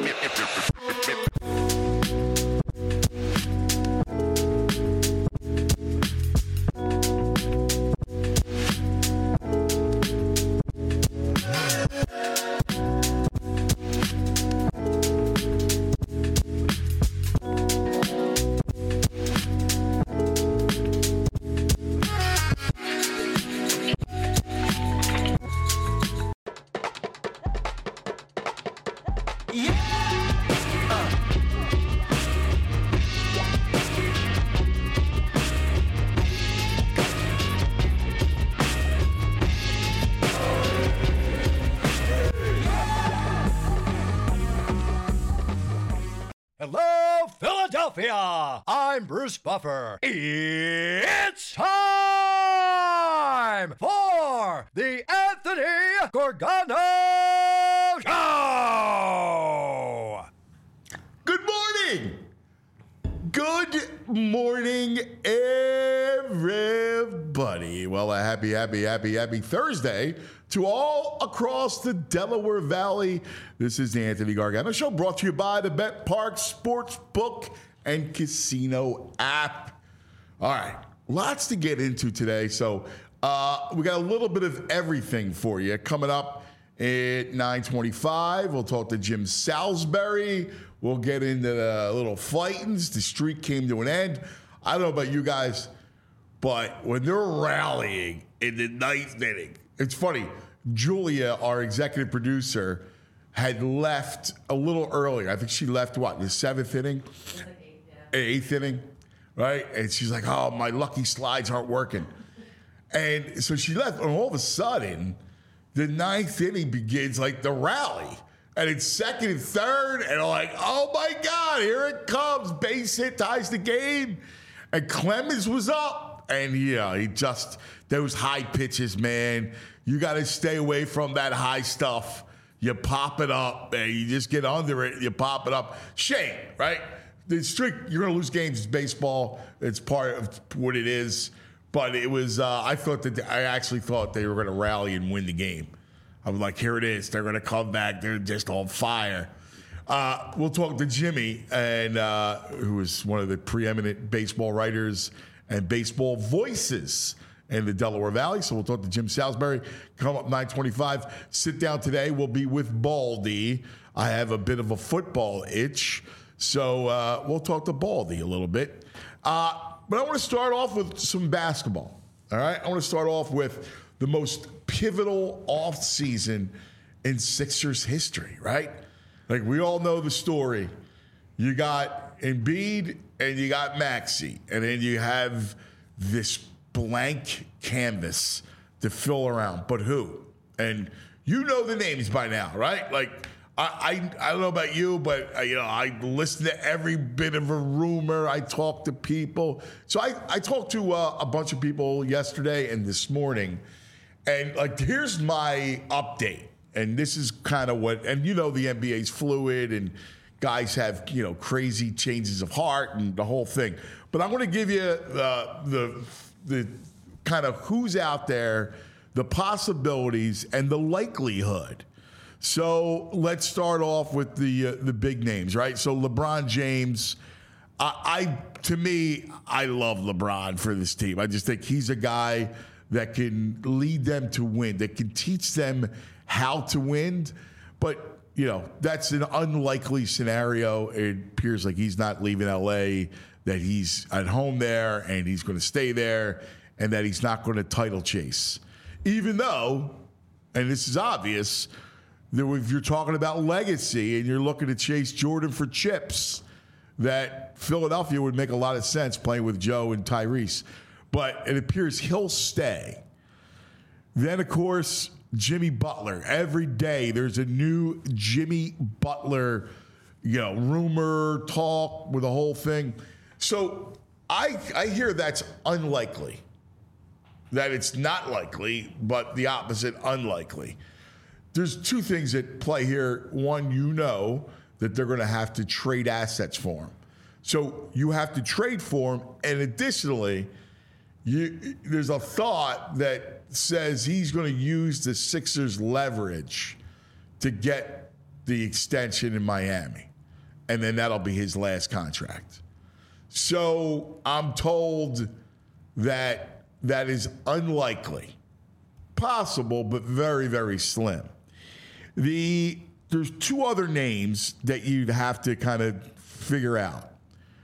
Hello, Philadelphia! I'm Bruce Buffer. It's time for the Anthony Gorgano Show! Good morning! Good morning, everybody. Well, a happy Thursday to all across the Delaware Valley. This is the Anthony Gargano Show, brought to you by the Bet Park Sportsbook and Casino app. All right, lots to get into today. So we got a little bit of everything for you coming up at 9:25. We'll talk to Jim Salisbury. We'll get into the little fightings. The streak came to an end. I don't know about you guys, but when they're rallying in the ninth inning, it's funny. Julia, our executive producer, had left a little earlier. I think she left, the seventh inning? Eighth inning, right? And she's like, oh, my lucky slides aren't working. And so she left, and all of a sudden, the ninth inning begins like the rally. And it's second and third, and I'm like, oh my God, here it comes. Base hit ties the game. And Clemens was up. And he just, those high pitches, man, you got to stay away from that high stuff. You pop it up, and you just get under it, you pop it up. Shame, right? The streak, you're going to lose games. It's baseball. It's part of what it is. But it was, I actually thought they were going to rally and win the game. I was like, here it is. They're going to come back. They're just on fire. We'll talk to Jimmy, and who is one of the preeminent baseball writers and baseball voices in the Delaware Valley. So we'll talk to Jim Salisbury. Come up 9:25. Sit down today. We'll be with Baldy. I have a bit of a football itch. So we'll talk to Baldy a little bit. But I want to start off with some basketball. All right? I want to start off with the most pivotal offseason in Sixers history, right? Like, we all know the story. You got Embiid and you got Maxey, and then you have this blank canvas to fill around. But who? And you know the names by now, right? Like, I don't know about you, but I listen to every bit of a rumor. I talk to people. So I talked to a bunch of people yesterday and this morning. And here's my update. And this is kind of what, and the NBA's fluid and guys have, crazy changes of heart and the whole thing. But I'm going to give you the kind of who's out there, the possibilities, and the likelihood. So let's start off with the big names, right? So LeBron James, to me, I love LeBron for this team. I just think he's a guy that can lead them to win, that can teach them how to win. But, that's an unlikely scenario. It appears like he's not leaving LA, that he's at home there and he's going to stay there, and that he's not going to title chase. Even though, and this is obvious, that if you're talking about legacy and you're looking to chase Jordan for chips, that Philadelphia would make a lot of sense playing with Joe and Tyrese. But it appears he'll stay. Then, of course, Jimmy Butler. Every day there's a new Jimmy Butler, rumor, talk with the whole thing. So I hear that's unlikely. That it's not likely, but the opposite, unlikely. There's two things at play here. One, that they're going to have to trade assets for him. So you have to trade for him, and additionally, there's a thought that says he's going to use the Sixers' leverage to get the extension in Miami. And then that'll be his last contract. So I'm told that that is unlikely. Possible, but very, very slim. There's two other names that you'd have to kind of figure out.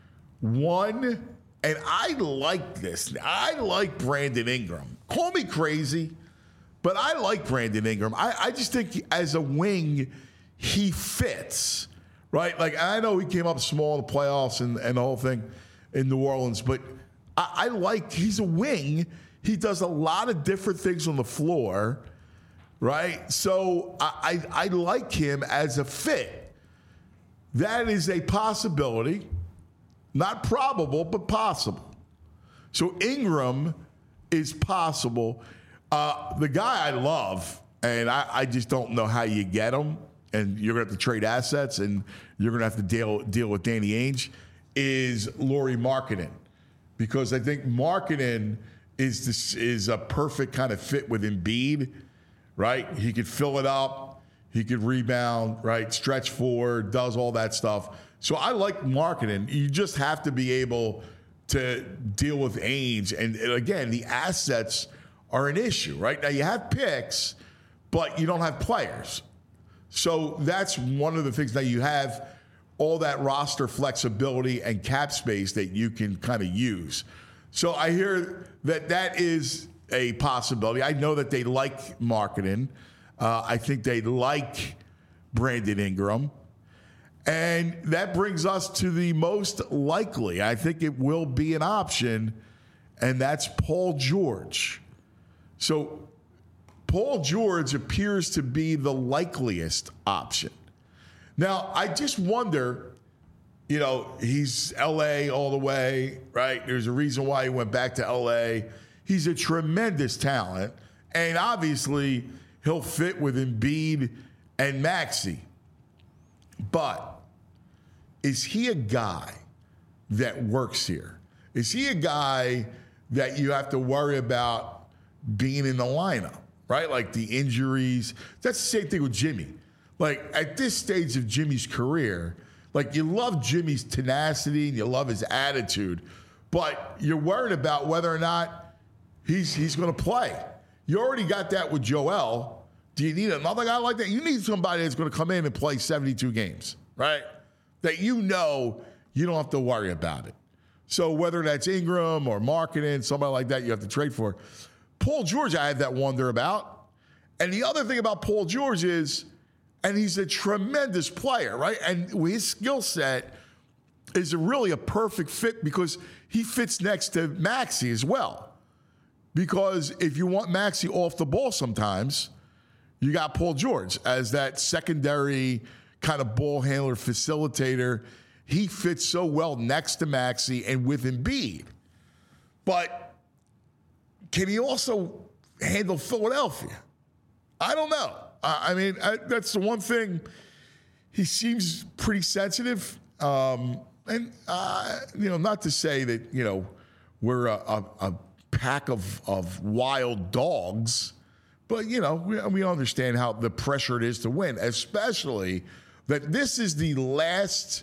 One, and I like this. I like Brandon Ingram. Call me crazy, but I like Brandon Ingram. I just think as a wing, he fits, right? Like, I know he came up small in the playoffs and the whole thing in New Orleans, but I like, he's a wing. He does a lot of different things on the floor, right? So I like him as a fit. That is a possibility. Not probable, but possible. So Ingram is possible. The guy I love, and I just don't know how you get him, and you're going to have to trade assets, and you're going to have to deal with Danny Ainge, is Lauri Markkanen. Because I think Markkanen is a perfect kind of fit with Embiid, right? He could fill it up. He could rebound, right? Stretch forward, does all that stuff. So I like Markkanen. You just have to be able to deal with Ainge. And again, the assets are an issue, right? Now you have picks, but you don't have players. So that's one of the things that you have all that roster flexibility and cap space that you can kind of use. So I hear that is a possibility. I know that they like Markkanen. I think they like Brandon Ingram. And that brings us to the most likely. I think it will be an option, and that's Paul George. So Paul George appears to be the likeliest option. Now, I just wonder, he's L.A. all the way, right? There's a reason why he went back to L.A. He's a tremendous talent, and obviously he'll fit with Embiid and Maxey. But is he a guy that works here? Is he a guy that you have to worry about being in the lineup, right? Like the injuries. That's the same thing with Jimmy. Like at this stage of Jimmy's career, like you love Jimmy's tenacity and you love his attitude, but you're worried about whether or not he's going to play. You already got that with Joel. Do you need another guy like that? You need somebody that's going to come in and play 72 games, right? That you don't have to worry about it. So whether that's Ingram or Markkanen, somebody like that you have to trade for. Paul George, I have that wonder about. And the other thing about Paul George is, and he's a tremendous player, right? And his skill set is really a perfect fit because he fits next to Maxey as well. Because if you want Maxey off the ball sometimes, you got Paul George as that secondary kind of ball handler, facilitator. He fits so well next to Maxey and with Embiid. But can he also handle Philadelphia? I don't know. That's the one thing. He seems pretty sensitive. Not to say that, we're a pack of wild dogs, but, we understand how the pressure it is to win, especially that this is the last,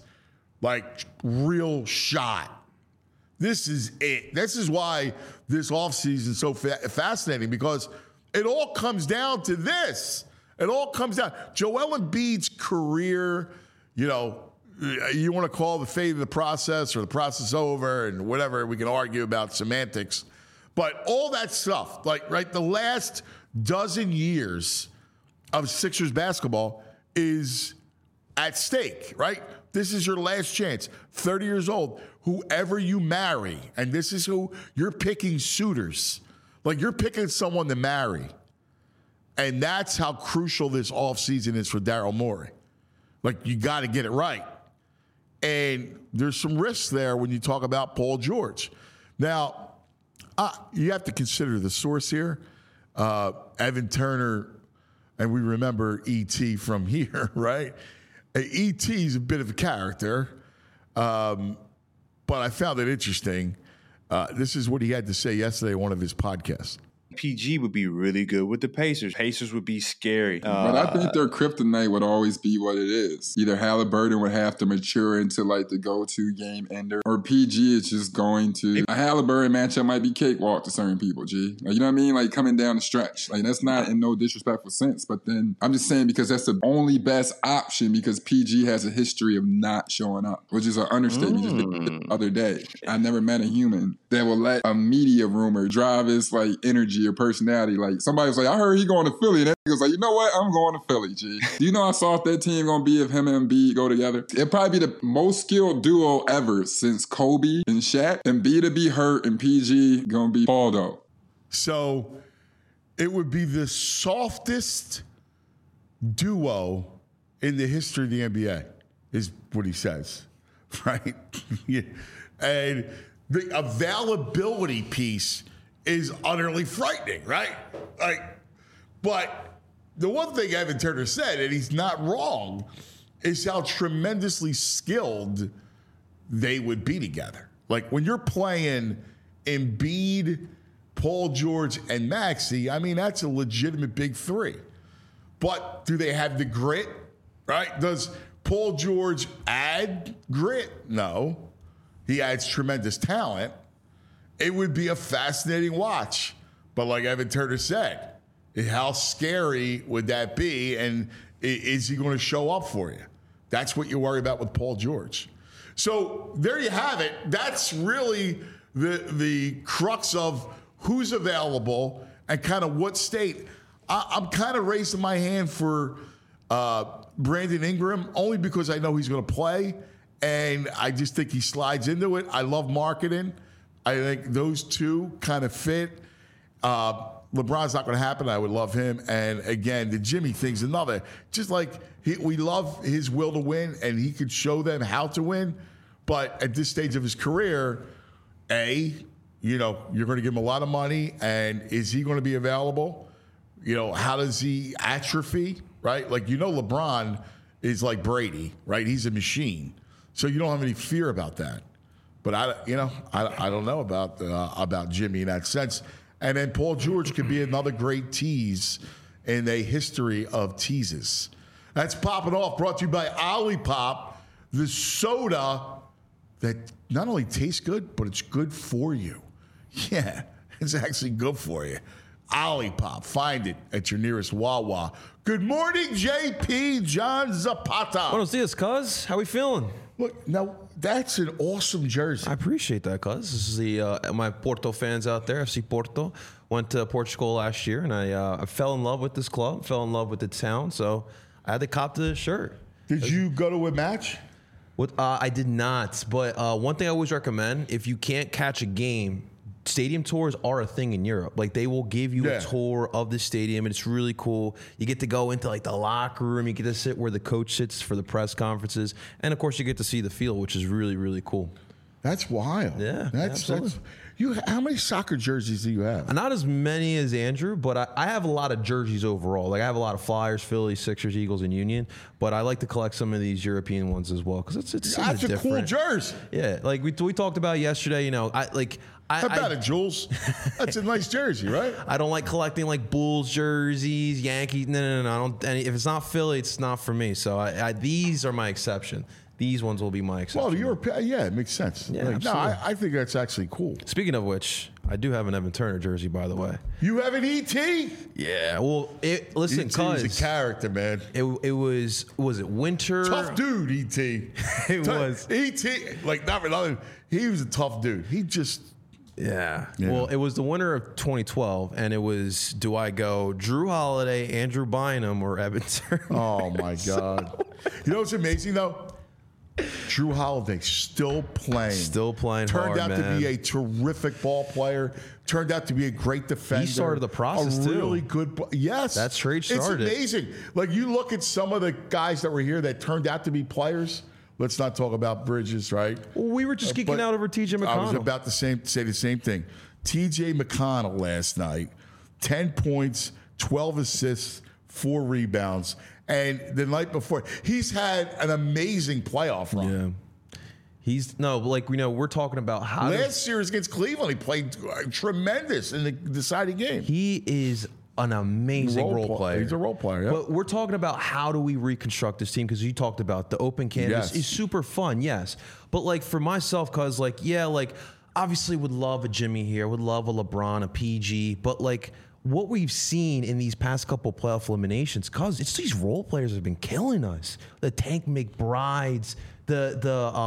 real shot. This is it. This is why this offseason is so fascinating, because it all comes down to this. It all comes down. Joel Embiid's career, you want to call the fate of the process or the process over and whatever. We can argue about semantics. But all that stuff, the last dozen years of Sixers basketball is at stake, right? This is your last chance. 30 years old, whoever you marry, and this is who you're picking suitors. You're picking someone to marry. And that's how crucial this offseason is for Daryl Morey. You got to get it right. And there's some risks there when you talk about Paul George. Now, you have to consider the source here. Evan Turner, and we remember E.T. from here, right? E.T. is a bit of a character, but I found it interesting. This is what he had to say yesterday on one of his podcasts. PG would be really good with the Pacers. Pacers would be scary. But I think their kryptonite would always be what it is. Either Halliburton would have to mature into like the go-to game ender, or PG is just going to. A Halliburton matchup might be cakewalk to certain people, G. Like, you know what I mean? Like coming down the stretch. Like that's not in no disrespectful sense. But then I'm just saying because that's the only best option because PG has a history of not showing up, which is an understatement. Just the other day, I never met a human that will let a media rumor drive his like energy or personality. Like somebody was like, I heard he going to Philly. And then he was like, you know what? I'm going to Philly, G. Do you know how soft that team going to be if him and Embiid go together? It'd probably be the most skilled duo ever since Kobe and Shaq. Embiid to be hurt and PG going to be Baldo. So it would be the softest duo in the history of the NBA, is what he says, right? Yeah. And the availability piece is utterly frightening, right? Like, but the one thing Evan Turner said, and he's not wrong, is how tremendously skilled they would be together. Like when you're playing Embiid, Paul George, and Maxey, I mean, that's a legitimate big three. But do they have the grit, right? Does Paul George add grit? No. He adds tremendous talent. It would be a fascinating watch. But like Evan Turner said, how scary would that be? And is he going to show up for you? That's what you worry about with Paul George. So there you have it. That's really the crux of who's available and kind of what state. I'm kind of raising my hand for Brandon Ingram only because I know he's going to play. And I just think he slides into it. I love marketing. I think those two kind of fit. LeBron's not going to happen. I would love him. And again, the Jimmy thing's another. Just like we love his will to win, and he could show them how to win. But at this stage of his career, you're going to give him a lot of money, and is he going to be available? How does he atrophy, right? Like, LeBron is like Brady, right? He's a machine. So you don't have any fear about that. But I don't know about Jimmy in that sense. And then Paul George could be another great tease in a history of teases. That's Popping Off, brought to you by Olipop, the soda that not only tastes good, but it's good for you. Yeah, it's actually good for you. Olipop, find it at your nearest Wawa. Good morning, JP, John Zapata. Buenos dias, cuz. How we feeling? Look, now that's an awesome jersey. I appreciate that, cuz. This is my Porto fans out there. FC Porto. Went to Portugal last year, and I fell in love with this club, fell in love with the town, so I had to cop the shirt. Did you go to a match? I did not, but one thing I always recommend, if you can't catch a game, stadium tours are a thing in Europe. Like, they will give you a tour of the stadium, and it's really cool. You get to go into like the locker room. You get to sit where the coach sits for the press conferences, and of course, you get to see the field, which is really, really cool. That's wild. Yeah, absolutely. How many soccer jerseys do you have? Not as many as Andrew, but I have a lot of jerseys overall. Like, I have a lot of Flyers, Phillies, Sixers, Eagles, and Union. But I like to collect some of these European ones as well because it's something different. That's a cool jersey. Yeah, like we talked about yesterday. How about it, Jules? That's a nice jersey, right? I don't like collecting like Bulls jerseys, Yankees. No. I don't. And if it's not Philly, it's not for me. So these are my exception. These ones will be my exception. Well, it makes sense. Yeah, I think that's actually cool. Speaking of which, I do have an Evan Turner jersey, by the way. You have an ET? Yeah. Well, listen, ET was a character, man. It was it winter? Tough dude, ET. It was. ET, like not for nothing. He was a tough dude. He just. Yeah. Well, it was the winter of 2012, and it was, do I go Drew Holiday, Andrew Bynum, or Evan Turner? Oh, my God. You know what's amazing, though? Drew Holiday still playing. Turned out to be a terrific ball player. Turned out to be a great defender. He started the process, too. Really good. Yes. That's trade started. It's amazing. Like, you look at some of the guys that were here that turned out to be players. Let's not talk about Bridges, right? Well, we were just geeking out over T.J. McConnell. I was about to say the same thing. T.J. McConnell last night, 10 points, 12 assists, 4 rebounds. And the night before, he's had an amazing playoff run. We're talking about how last series against Cleveland, he played tremendous in the deciding game. he is an amazing role player. He's a role player, yeah. But we're talking about how do we reconstruct this team, because you talked about the open canvas Yes. is super fun, yes. But like for myself, cause obviously would love a Jimmy here, would love a LeBron, a PG, but like what we've seen in these past couple playoff eliminations, cause it's these role players that have been killing us. The Tank McBrides, Kevin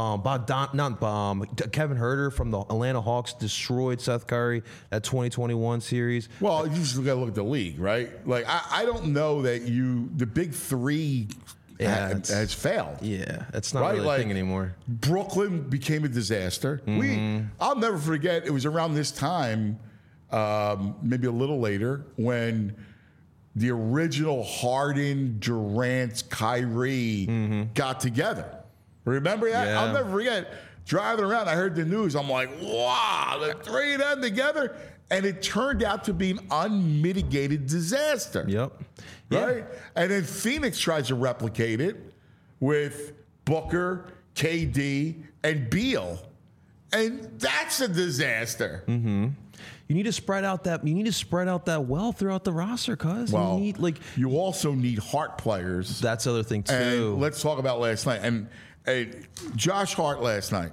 Huerter from the Atlanta Hawks destroyed Seth Curry at 2021 series. Well, you just got to look at the league, right? Like, I don't know that the big three has failed. Yeah, that's not Right, really a thing anymore. Brooklyn became a disaster. I'll never forget, it was around this time, maybe a little later, when the original Harden, Durant, Kyrie got together. Remember that? Yeah. I'll never forget. Driving around, I heard the news. I'm like, wow, the three of them together. And it turned out to be an unmitigated disaster. Yep. Right? And then Phoenix tries to replicate it with Booker, KD, and Beal. And that's a disaster. You need to spread out that well throughout the roster, cuz Well, you need you also need heart players. that's the other thing too. And let's talk about last night. And Josh Hart last night,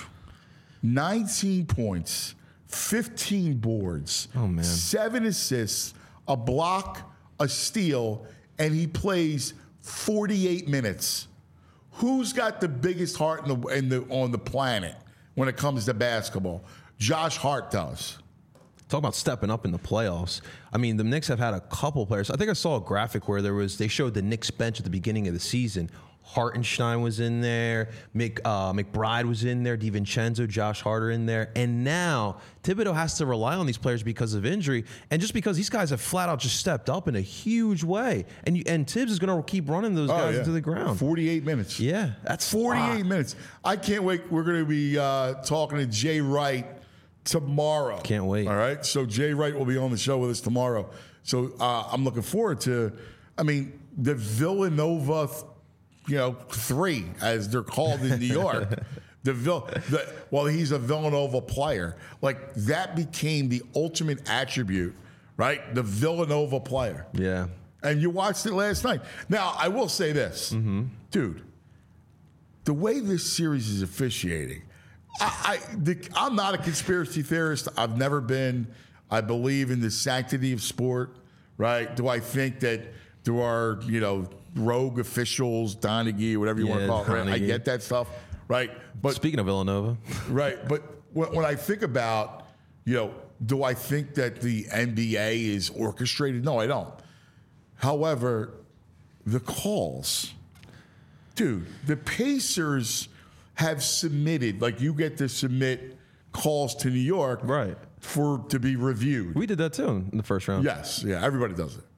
19 points, 15 boards, 7 assists, a block, a steal, and he plays 48 minutes. Who's got the biggest heart on the planet when it comes to basketball? Josh Hart does. Talk about stepping up in the playoffs. I mean, the Knicks have had a couple players. I think I saw a graphic where they showed the Knicks bench at the beginning of the season. Hartenstein was in there, McBride was in there, DiVincenzo, Josh Hart in there, and now Thibodeau has to rely on these players because of injury, and just because these guys have flat out just stepped up in a huge way, and Tibbs is going to keep running those guys into the ground. 48 minutes. Yeah, that's 48 minutes. I can't wait. We're going to be talking to Jay Wright tomorrow. Can't wait. All right. So Jay Wright will be on the show with us tomorrow. So I'm looking forward to, the Villanova, 3, as they're called in New York. He's a Villanova player. Like, that became the ultimate attribute, right? The Villanova player. Yeah. And you watched it last night. Now, I will say this. Dude, the way this series is officiating, I'm not a conspiracy theorist. I've never been. I believe in the sanctity of sport, right? Do I think that there are, rogue officials, Donaghy, whatever you want to call it, right? I get that stuff, right? But speaking of Villanova. Right. But when I think about, do I think that the NBA is orchestrated? No, I don't. However, the calls, dude, the Pacers have submitted, like, you get to submit calls to New York, right, to be reviewed. We did that too in the first round. Yes, yeah, everybody does it.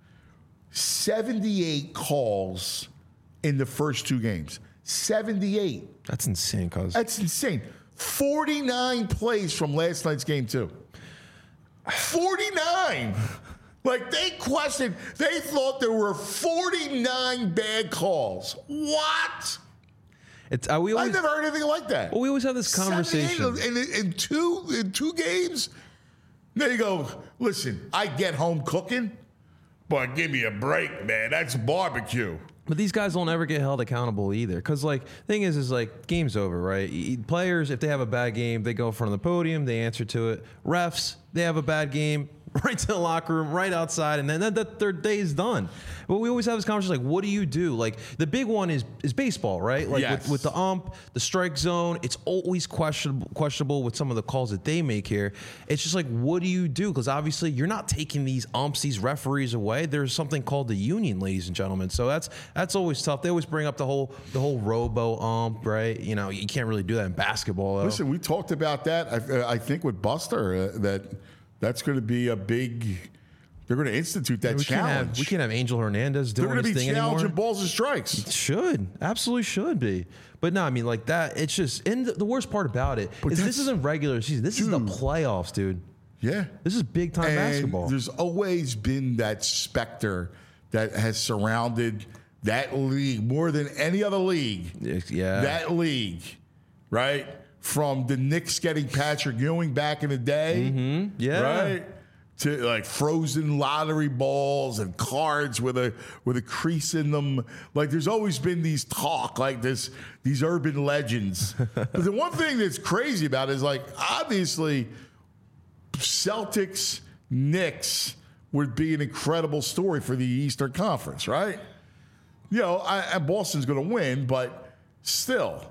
78 calls in the first 2 games. 78. That's insane, cuz. That's insane. 49 plays from last night's game too. 49. Like, they thought there were 49 bad calls. What? I've never heard anything like that. Well, we always have this conversation. In two games, there you go. Listen, I get home cooking, but give me a break, man. That's barbecue. But these guys don't ever get held accountable either. Because, thing is game's over, right? Players, if they have a bad game, they go in front of the podium, they answer to it. Refs, they have a bad game, right to the locker room, right outside, and then their day is done. But we always have this conversation, what do you do? The big one is baseball, right? Yes. with the ump, the strike zone, it's always questionable with some of the calls that they make here. It's just what do you do? Because obviously you're not taking these umps, these referees away. There's something called the union, ladies and gentlemen. So that's always tough. They always bring up the whole robo ump, right? You can't really do that in basketball, though. Listen, we talked about that, I think, with Buster, that's going to be a big. They're going to institute that challenge. We can't have Angel Hernandez doing his thing anymore. They're going to be challenging balls and strikes. It should. Absolutely should be. But no, that, it's just, and the worst part about it is this isn't regular season. This is the playoffs, dude. Yeah. This is big time basketball. There's always been that specter that has surrounded that league more than any other league. Yeah. That league right? From the Knicks getting Patrick Ewing back in the day, right? To like frozen lottery balls and cards with a crease in them. Like there's always been these talk like this, these urban legends. But the one thing that's crazy about it is like obviously Celtics, Knicks would be an incredible story for the Eastern Conference, right? You know, Boston's going to win, but still.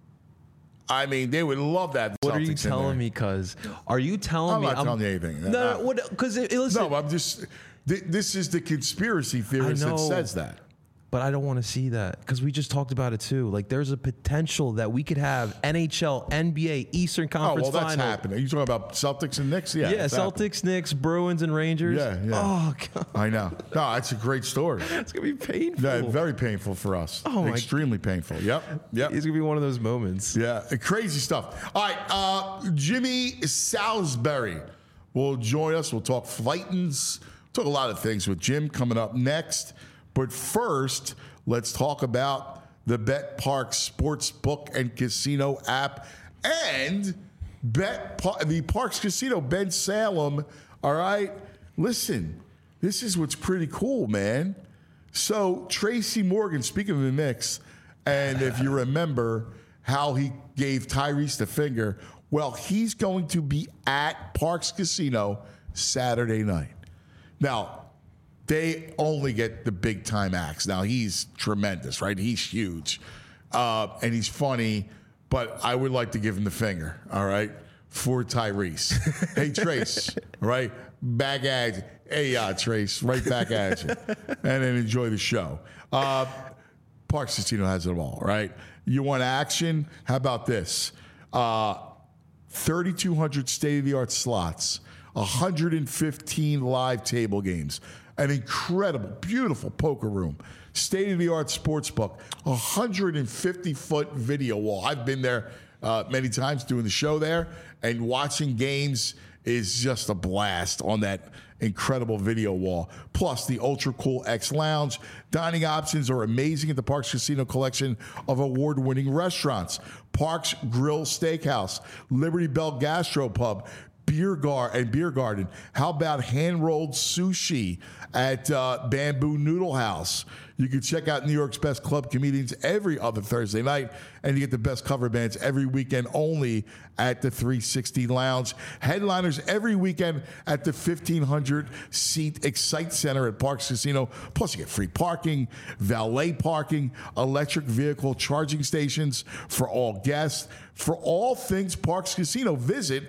I mean, they would love that. What are you telling me? Cuz are you telling me? I'm not telling you anything. No, because listen. No, I'm just. This is the conspiracy theorist that says that. But I don't want to see that because we just talked about it too. Like, there's a potential that we could have NHL, NBA, Eastern Conference Final. Final. That's happening. Are you talking about Celtics and Knicks? Yeah, Celtics, happening. Knicks, Bruins, and Rangers. Yeah. Oh, God. I know. No, it's a great story. It's going to be painful. Yeah, very painful for us. Oh, extremely painful. Yep. It's going to be one of those moments. Yeah, crazy stuff. All right, Jimmy Salisbury will join us. We'll talk Fightins. Talk a lot of things with Jim coming up next. But first, let's talk about the Bet Park Sportsbook and Casino app and the Parks Casino, Ben Salem. All right, listen, this is what's pretty cool, man. So Tracy Morgan, speaking of the Knicks, and if you remember how he gave Tyrese the finger, well, he's going to be at Parks Casino Saturday night. Now, they only get the big time acts. Now, he's tremendous, right? He's huge. And he's funny, but I would like to give him the finger, all right, for Tyrese. Hey, Trace, right? Back at you. Hey, Trace, right back at you. And then enjoy the show. Parks Casino has it all, right? You want action? How about this? 3,200 state-of-the-art slots, 115 live table games, an incredible, beautiful poker room, state-of-the-art sports book, 150-foot video wall. I've been there many times doing the show there, and watching games is just a blast on that incredible video wall. Plus, the Ultra Cool X Lounge. Dining options are amazing at the Parks Casino collection of award-winning restaurants. Parks Grill Steakhouse, Liberty Bell Gastropub, beer garden. How about hand-rolled sushi at Bamboo Noodle House? You can check out New York's best club comedians every other Thursday night, and you get the best cover bands every weekend only at the 360 Lounge. Headliners every weekend at the 1,500-seat Excite Center at Parks Casino. Plus, you get free parking, valet parking, electric vehicle charging stations for all guests. For all things Parks Casino, visit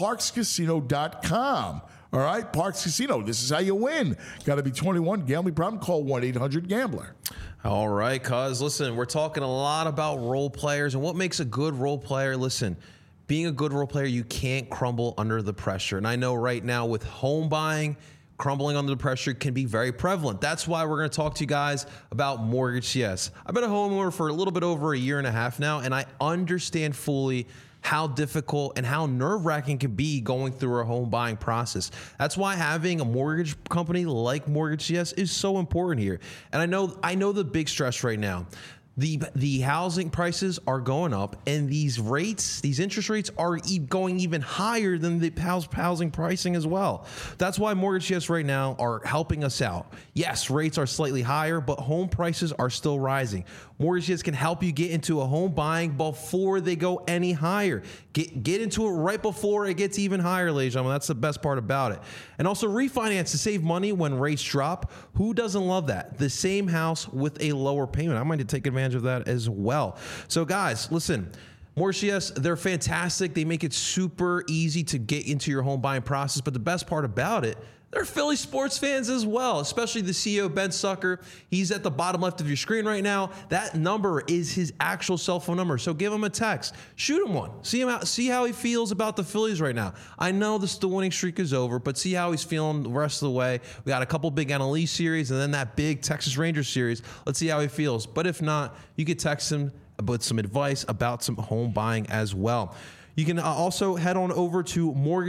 parkscasino.com. All right, Parks Casino. This is how you win. Got to be 21. Gambling problem? Call 1-800-GAMBLER. All right, cuz listen, we're talking a lot about role players and what makes a good role player. Listen, being a good role player, you can't crumble under the pressure. And I know right now with home buying, crumbling under the pressure can be very prevalent. That's why we're going to talk to you guys about Mortgage CS. I've been a homeowner for a little bit over a year and a half now, and I understand fully how difficult and how nerve-wracking it can be going through a home buying process. That's why having a mortgage company like Mortgage CS is so important here. And I know the big stress right now. The housing prices are going up, and these interest rates are going even higher than the housing pricing as well. That's why Mortgage CS right now are helping us out. Yes, rates are slightly higher, but home prices are still rising. Mortgage CS can help you get into a home buying before they go any higher. Get into it right before it gets even higher, ladies and gentlemen. That's the best part about it. And also refinance to save money when rates drop. Who doesn't love that? The same house with a lower payment. I might take advantage of that as well. So guys, listen, Mortgage CS, they're fantastic. They make it super easy to get into your home buying process. But the best part about it, they're Philly sports fans as well, especially the CEO, Ben Sucker. He's at the bottom left of your screen right now. That number is his actual cell phone number. So give him a text. Shoot him one. See how he feels about the Phillies right now. I know the winning streak is over, but see how he's feeling the rest of the way. We got a couple big NL East series and then that big Texas Rangers series. Let's see how he feels. But if not, you could text him with some advice about some home buying as well. You can also head on over to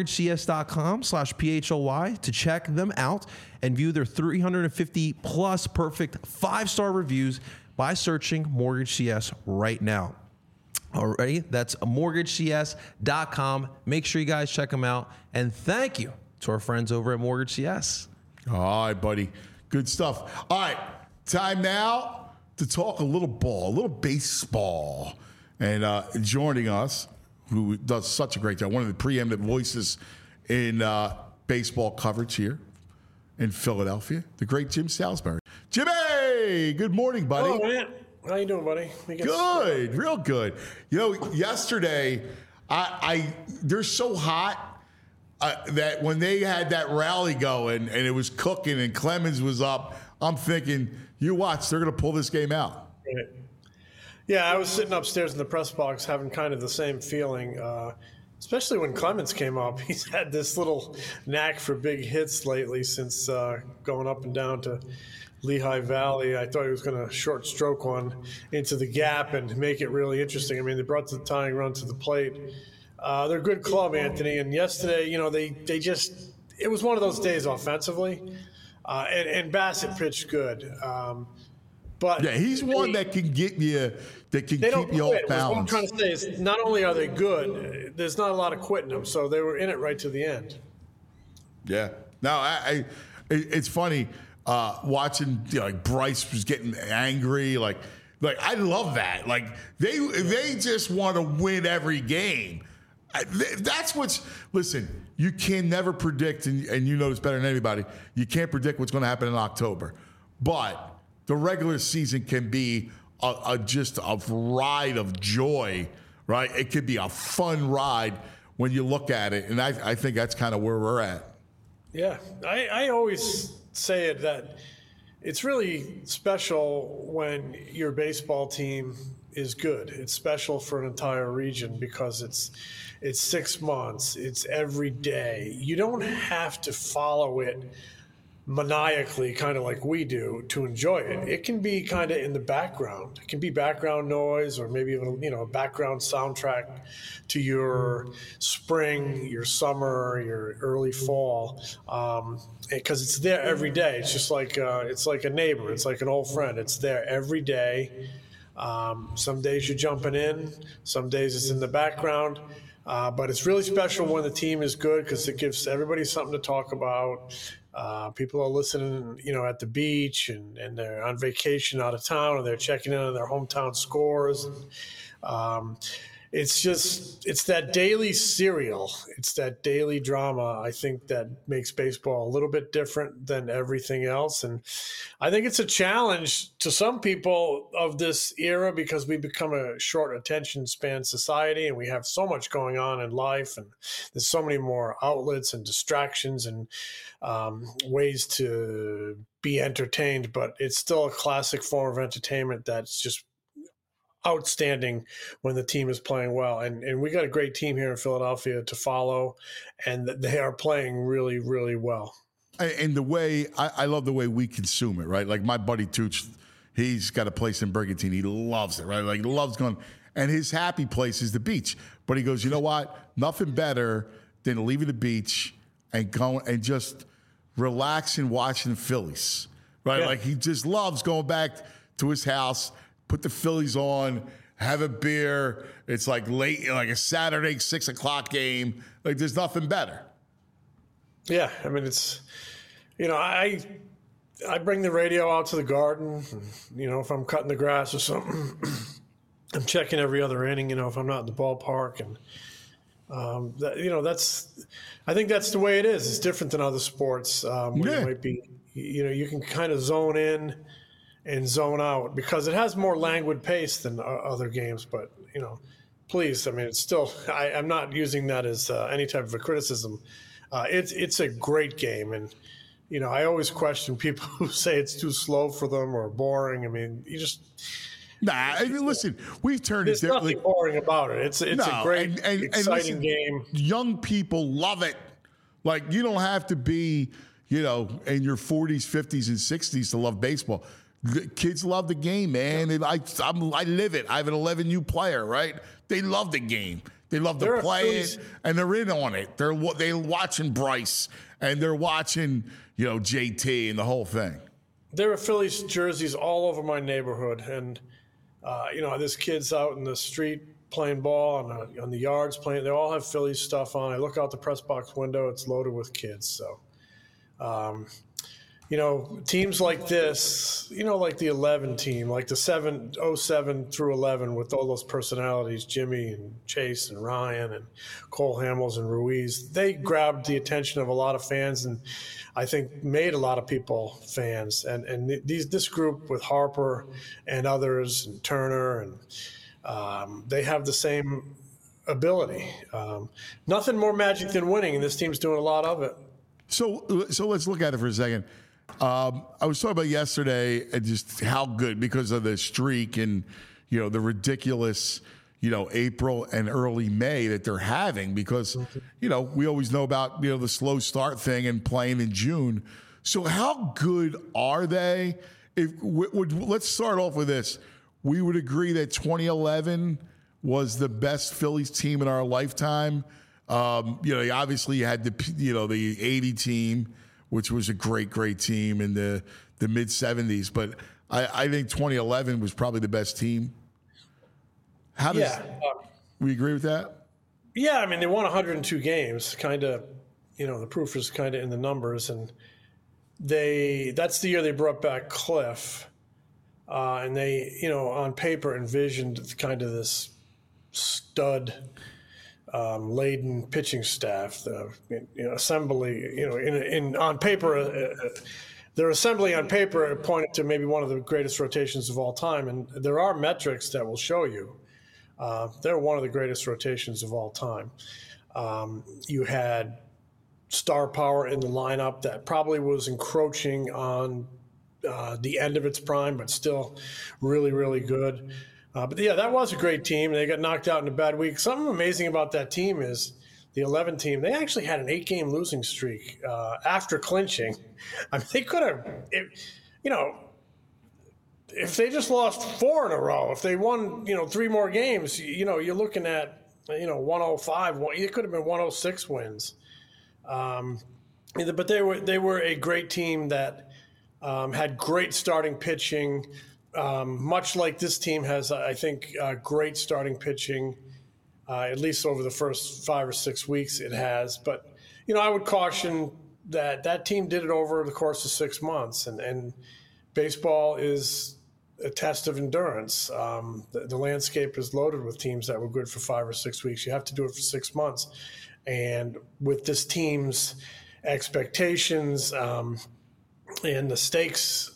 mortgagecs.com/PHLY to check them out and view their 350 plus perfect 5-star reviews by searching Mortgage CS right now. Alrighty, that's mortgagecs.com. Make sure you guys check them out. And thank you to our friends over at Mortgage CS. All right, buddy. Good stuff. All right, time now to talk a little ball, a little baseball. And joining us, who does such a great job, one of the preeminent voices in baseball coverage here in Philadelphia, the great Jim Salisbury. Jimmy, good morning, buddy. Oh, man. How you doing, buddy? Good, real good. You know, yesterday, they're so hot that when they had that rally going and it was cooking and Clemens was up, I'm thinking, you watch, they're going to pull this game out. Right. Yeah, I was sitting upstairs in the press box having kind of the same feeling, especially when Clemens came up. He's had this little knack for big hits lately since going up and down to Lehigh Valley. I thought he was going to short stroke one into the gap and make it really interesting. I mean, they brought the tying run to the plate. They're a good club, Anthony. And yesterday, you know, they just – it was one of those days offensively. And Bassett pitched good. But yeah, he's one that can get you – that can keep you off balance. What I'm trying to say is not only are they good, there's not a lot of quitting them. So they were in it right to the end. Yeah. No, it's funny – watching, you know, like Bryce was getting angry, like I love that. Like they just want to win every game. That's what's. Listen, you can never predict, and you know this better than anybody. You can't predict what's going to happen in October, but the regular season can be just a ride of joy, right? It could be a fun ride when you look at it, and I think that's kind of where we're at. Yeah, I always say it that it's really special when your baseball team is good. It's special for an entire region because it's 6 months. It's every day. You don't have to follow it maniacally, kind of like we do, to enjoy it. It can be kind of in the background. It can be background noise, or maybe even, you know, a background soundtrack to your spring, your summer, your early fall, because it's there every day. It's just like it's like a neighbor. It's like an old friend. It's there every day. Some days you're jumping in. Some days it's in the background. But it's really special when the team is good because it gives everybody something to talk about. People are listening, you know, at the beach and they're on vacation out of town, or they're checking in on their hometown scores. It's that daily serial. It's that daily drama, I think, that makes baseball a little bit different than everything else. And I think it's a challenge to some people of this era because we become a short attention span society and we have so much going on in life, and there's so many more outlets and distractions and ways to be entertained. But it's still a classic form of entertainment that's just outstanding when the team is playing well. And we got a great team here in Philadelphia to follow, and they are playing really, really well. And the way, I love the way we consume it, right? Like my buddy Tooch, he's got a place in Brigantine. He loves it, right? Like loves going, and his happy place is the beach. But he goes, you know what? Nothing better than leaving the beach and going and just relaxing, watching the Phillies, right? Yeah. Like he just loves going back to his house, put the Phillies on, have a beer. It's like late, like a Saturday 6 o'clock game. Like there's nothing better. Yeah, I mean, it's, you know, I bring the radio out to the garden. And, you know, if I'm cutting the grass or something, I'm checking every other inning. You know, if I'm not in the ballpark, and you know, I think that's the way it is. It's different than other sports where you might be, you know, you can kind of zone in and zone out because it has more languid pace than other games. But, you know, please, I mean, it's still, I'm not using that as any type of a criticism. It's a great game. And, you know, I always question people who say it's too slow for them or boring. I mean, you just... Nah, I mean, listen, we've turned it. There's nothing boring about it. It's a great, exciting game. Young people love it. Like, you don't have to be, you know, in your 40s, 50s, and 60s to love baseball. The kids love the game, man. And I live it. I have an 11U player, right? They love the game. They love to play it, and they're in on it. They're watching Bryce, and they're watching, you know, JT and the whole thing. There are Phillies jerseys all over my neighborhood, and you know, this kid's out in the street playing ball on the yards playing. They all have Phillies stuff on. I look out the press box window; it's loaded with kids. So, teams like this, like the 11 team, like the 07 through 11 with all those personalities, Jimmy and Chase and Ryan and Cole Hamels and Ruiz, they grabbed the attention of a lot of fans and I think made a lot of people fans. And this group with Harper and others and Turner, and they have the same ability. Nothing more magic than winning, and this team's doing a lot of it. So let's look at it for a second. I was talking about yesterday and just how good because of the streak and, the ridiculous, April and early May that they're having because, we always know about, the slow start thing and playing in June. So how good are they? Let's start off with this. We would agree that 2011 was the best Phillies team in our lifetime. Obviously you had the 80 team, which was a great team in the mid 70s. But I think 2011 was probably the best team. We agree with that? Yeah, I mean, they won 102 games, kind of, the proof is kind of in the numbers. And that's the year they brought back Cliff. And they, on paper envisioned kind of this stud laden pitching staff, the assembly, on paper, their assembly on paper pointed to maybe one of the greatest rotations of all time. And there are metrics that will show you they're one of the greatest rotations of all time. You had star power in the lineup that probably was encroaching on the end of its prime, but still really, really good. But yeah, that was a great team. They got knocked out in a bad week. Something amazing about that team is the 11 team, they actually had an 8-game losing streak after clinching. I mean, they could have, if they just lost 4 in a row, if they won, 3 more games, you're looking at, 105. It could have been 106 wins. But they were a great team that had great starting pitching. Much like this team has, I think, great starting pitching, at least over the first 5 or 6 weeks it has. But, I would caution that team did it over the course of 6 months. And baseball is a test of endurance. The landscape is loaded with teams that were good for 5 or 6 weeks. You have to do it for 6 months. And with this team's expectations and the stakes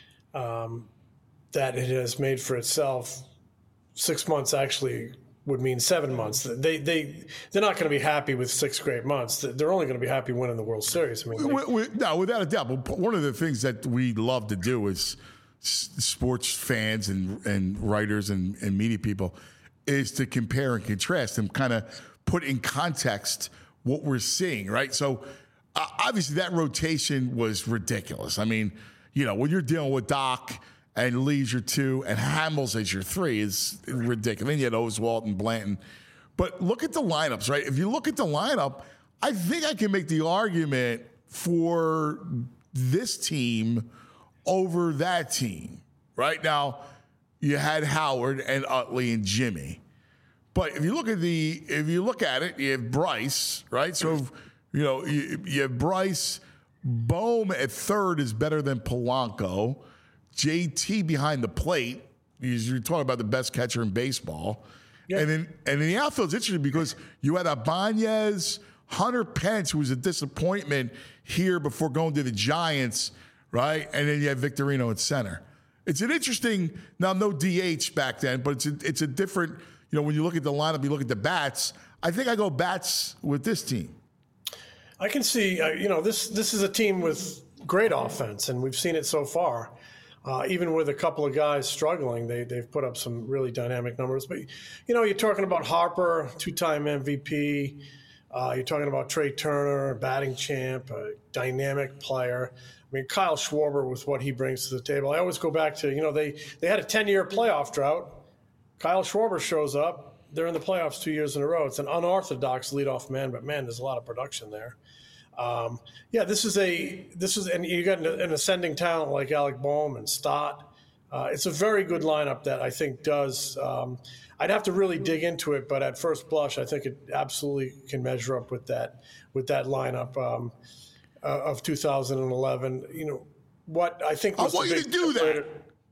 that it has made for itself, 6 months actually would mean 7 months. They're not going to be happy with 6 great months. They're only going to be happy winning the World Series. I mean, no, without a doubt. But one of the things that we love to do as sports fans and writers and media people is to compare and contrast and kind of put in context what we're seeing, right? So obviously that rotation was ridiculous. I mean, when you're dealing with Doc and Lee's your 2 and Hamels as your 3 is ridiculous. Then you had Oswalt and Blanton. But look at the lineups, right? If you look at the lineup, I think I can make the argument for this team over that team. Right now, you had Howard and Utley and Jimmy. But if you look at it, you have Bryce, right? So, you have Bryce. Bohm at third is better than Polanco. JT behind the plate. You're talking about the best catcher in baseball. Yeah. And in the outfield, it's interesting because you had Ibanez, Hunter Pence, who was a disappointment here before going to the Giants, right? And then you have Victorino at center. It's an interesting, now no DH back then, but it's a different, when you look at the lineup, you look at the bats. I think I go bats with this team. I can see, this is a team with great offense, and we've seen it so far. Even with a couple of guys struggling, they've put up some really dynamic numbers. But, you're talking about Harper, 2-time MVP. You're talking about Trey Turner, batting champ, a dynamic player. I mean, Kyle Schwarber with what he brings to the table. I always go back to, they had a 10-year playoff drought. Kyle Schwarber shows up. They're in the playoffs 2 years in a row. It's an unorthodox leadoff man, but man, there's a lot of production there. This is and you got an ascending talent like Alec Bohm and Stott. It's a very good lineup that I think does. I'd have to really dig into it, but at first blush, I think it absolutely can measure up with that lineup of 2011. You know what I think. I want you to do that.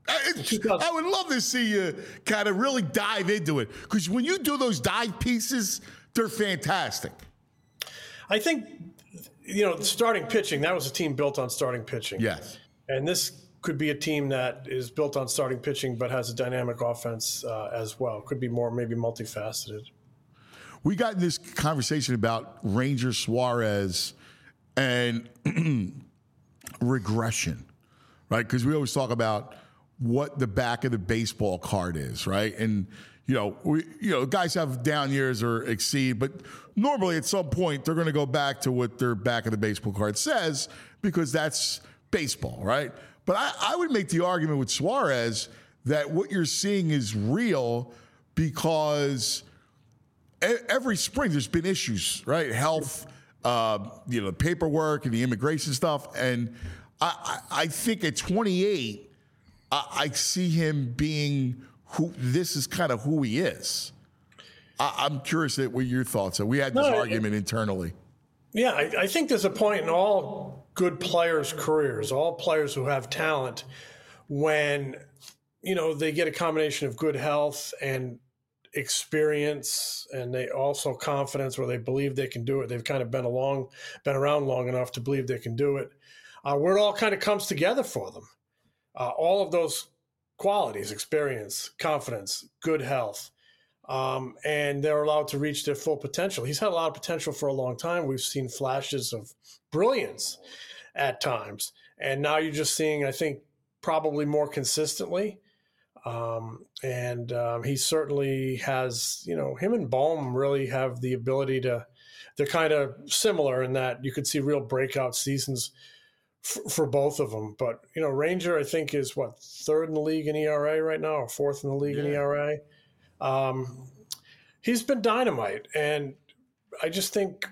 I would love to see you kind of really dive into it, because when you do those dive pieces, they're fantastic. I think, the starting pitching, that was a team built on starting pitching. Yes. And this could be a team that is built on starting pitching but has a dynamic offense as well. Could be more maybe multifaceted. We got in this conversation about Ranger Suarez and regression, right? Because we always talk about what the back of the baseball card is, right? And guys have down years or exceed, but normally at some point they're going to go back to what their back of the baseball card says, because that's baseball, right? But I would make the argument with Suarez that what you're seeing is real, because every spring there's been issues, right? Health, the paperwork and the immigration stuff. And I think at 28, I see him being this is kind of who he is. I'm curious what your thoughts are. We had this argument internally. Yeah, I think there's a point in all good players' careers, all players who have talent, when, they get a combination of good health and experience, and they also confidence, where they believe they can do it. They've kind of been around long enough to believe they can do it, where it all kind of comes together for them. All of those qualities, experience, confidence, good health, and they're allowed to reach their full potential. He's had a lot of potential for a long time. We've seen flashes of brilliance at times, and now you're just seeing, I think, probably more consistently. He certainly has, him and Bohm really have the ability they're kind of similar in that you could see real breakout seasons for both of them. But, Ranger, I think, is third in the league in ERA right now, or fourth in the league in ERA. He's been dynamite. And I just think,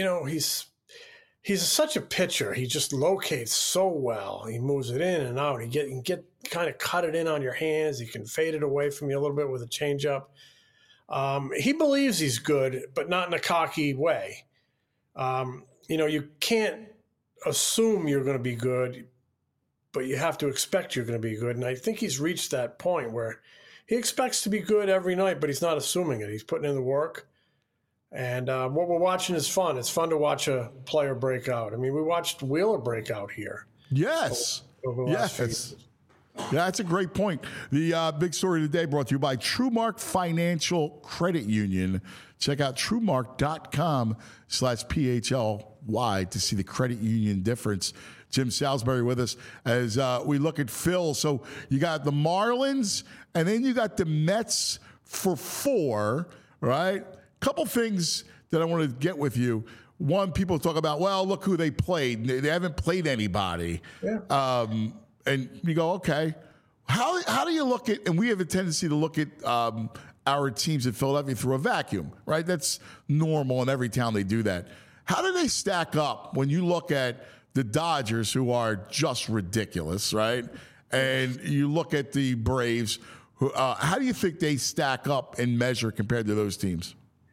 he's such a pitcher. He just locates so well. He moves it in and out. He can get kind of cut it in on your hands. He can fade it away from you a little bit with a changeup. He believes he's good, but not in a cocky way. You can't assume you're going to be good, but you have to expect you're going to be good. And I think he's reached that point where he expects to be good every night, but he's not assuming it. He's putting in the work. And what we're watching is fun. It's fun to watch a player break out. I mean, we watched Wheeler break out here. Yes. Over the last few years. Yeah, that's a great point. The big story today brought to you by TrueMark Financial Credit Union. Check out TrueMark.com/PHLY to see the credit union difference. Jim Salisbury with us as we look at Phil. So you got the Marlins, and then you got the Mets for 4, right? Couple things that I want to get with you. One, people talk about, well, look who they played. They haven't played anybody. Yeah. And you go, okay, how do you look at, and we have a tendency to look at our teams in Philadelphia through a vacuum, right? That's normal in every town they do that. How do they stack up when you look at the Dodgers, who are just ridiculous, right? And you look at the Braves, who, how do you think they stack up and measure compared to those teams?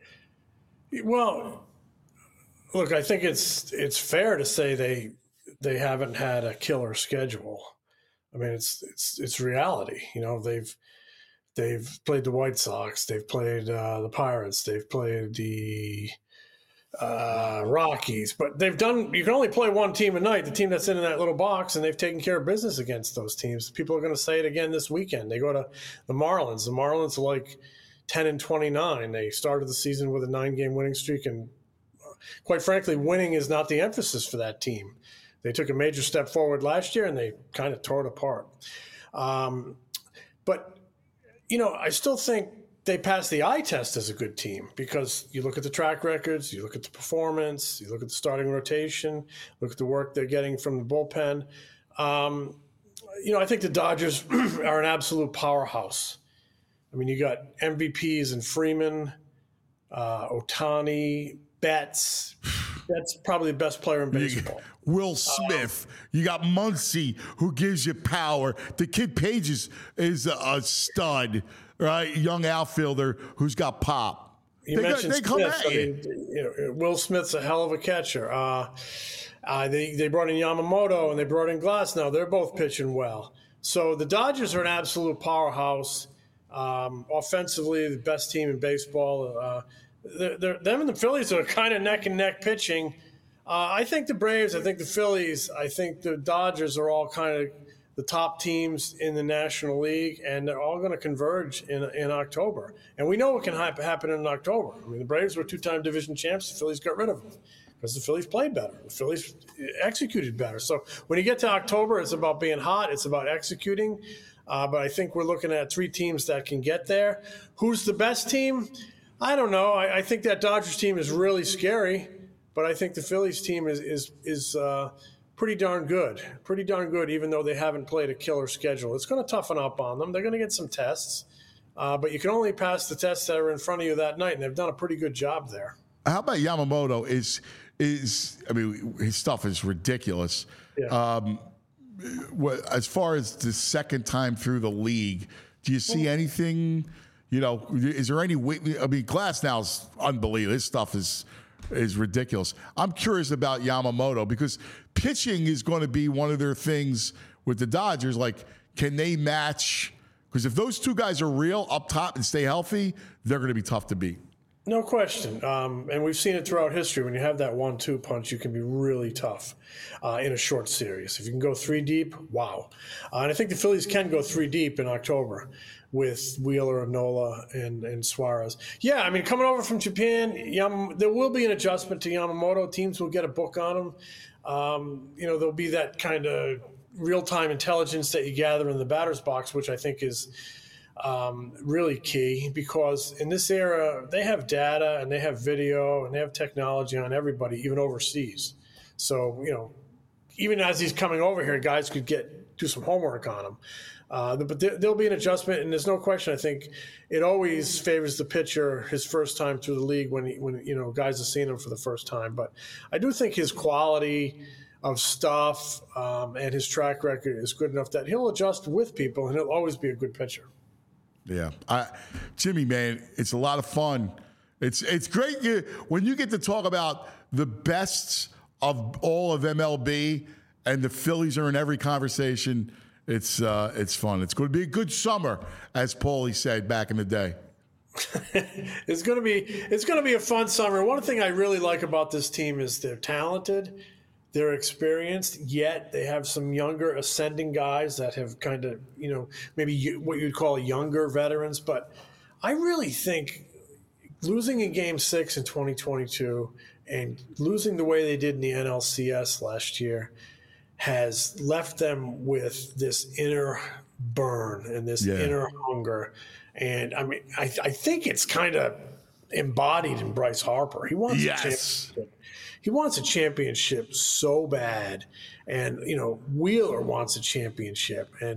Well, look, I think it's fair to say they haven't had a killer schedule. I mean, it's reality. They've played the White Sox, they've played the Pirates, they've played the Rockies, but you can only play one team a night, the team that's in that little box, and they've taken care of business against those teams. People are going to say it again this weekend. They go to the Marlins. The Marlins are like 10-29. They started the season with a 9-game winning streak, and quite frankly, winning is not the emphasis for that team. They took a major step forward last year, and they kind of tore it apart. But, I still think they passed the eye test as a good team, because you look at the track records, you look at the performance, you look at the starting rotation, look at the work they're getting from the bullpen. I think the Dodgers are an absolute powerhouse. I mean, you got MVPs in Freeman, Ohtani, Betts, That's probably the best player in baseball. Will Smith. You got Muncy, who gives you power. The kid Page is a stud, right? Young outfielder who's got pop. They come at you. Will Smith's a hell of a catcher. They brought in Yamamoto and they brought in Glasnow. They're both pitching well. So the Dodgers are an absolute powerhouse. Offensively, the best team in baseball. Them and the Phillies are kind of neck and neck pitching. I think the Braves, I think the Phillies, I think the Dodgers are all kind of the top teams in the National League, and they're all going to converge in October. And we know what can happen in October. I mean, the Braves were two-time division champs. The Phillies got rid of them because the Phillies played better. The Phillies executed better. So when you get to October, it's about being hot. It's about executing. But I think we're looking at three teams that can get there. Who's the best team? I don't know. I think that Dodgers team is really scary, but I think the Phillies team is pretty darn good. Pretty darn good, even though they haven't played a killer schedule. It's going to toughen up on them. They're going to get some tests, but you can only pass the tests that are in front of you that night, and they've done a pretty good job there. How about Yamamoto? I mean, his stuff is ridiculous. Yeah. As far as the second time through the league, do you see anything? Is there any way? I mean, Glasnow's unbelievable. His stuff is ridiculous. I'm curious about Yamamoto because pitching is going to be one of their things with the Dodgers. Like, can they match? Because if those two guys are real up top and stay healthy, they're going to be tough to beat. No question. And we've seen it throughout history. When you have that 1-2 punch, you can be really tough in a short series. If you can go three deep, wow. And I think the Phillies can go three deep in October with Wheeler, Nola, and Suarez. Yeah, I mean, coming over from Japan, there will be an adjustment to Yamamoto. Teams will get a book on him. There'll be that kind of real-time intelligence that you gather in the batter's box, which I think is really key, because in this era they have data and they have video and they have technology on everybody, even overseas. So even as he's coming over here, guys could do some homework on him. But there'll be an adjustment, and there's no question. I think it always favors the pitcher his first time through the league when guys have seen him for the first time. But I do think his quality of stuff and his track record is good enough that he'll adjust with people, and he'll always be a good pitcher. Yeah. Jimmy, man, it's a lot of fun. It's great when you get to talk about the best of all of MLB, and the Phillies are in every conversation. It's fun. It's going to be a good summer, as Paulie said back in the day. It's going to be a fun summer. One thing I really like about this team is they're talented. They're experienced, yet they have some younger ascending guys that have kind of, maybe what you'd call younger veterans. But I really think losing in Game 6 in 2022 and losing the way they did in the NLCS last year has left them with this inner burn and this inner hunger. And, I mean, I think it's kind of embodied in Bryce Harper. He wants a championship. He wants a championship so bad, and Wheeler wants a championship, and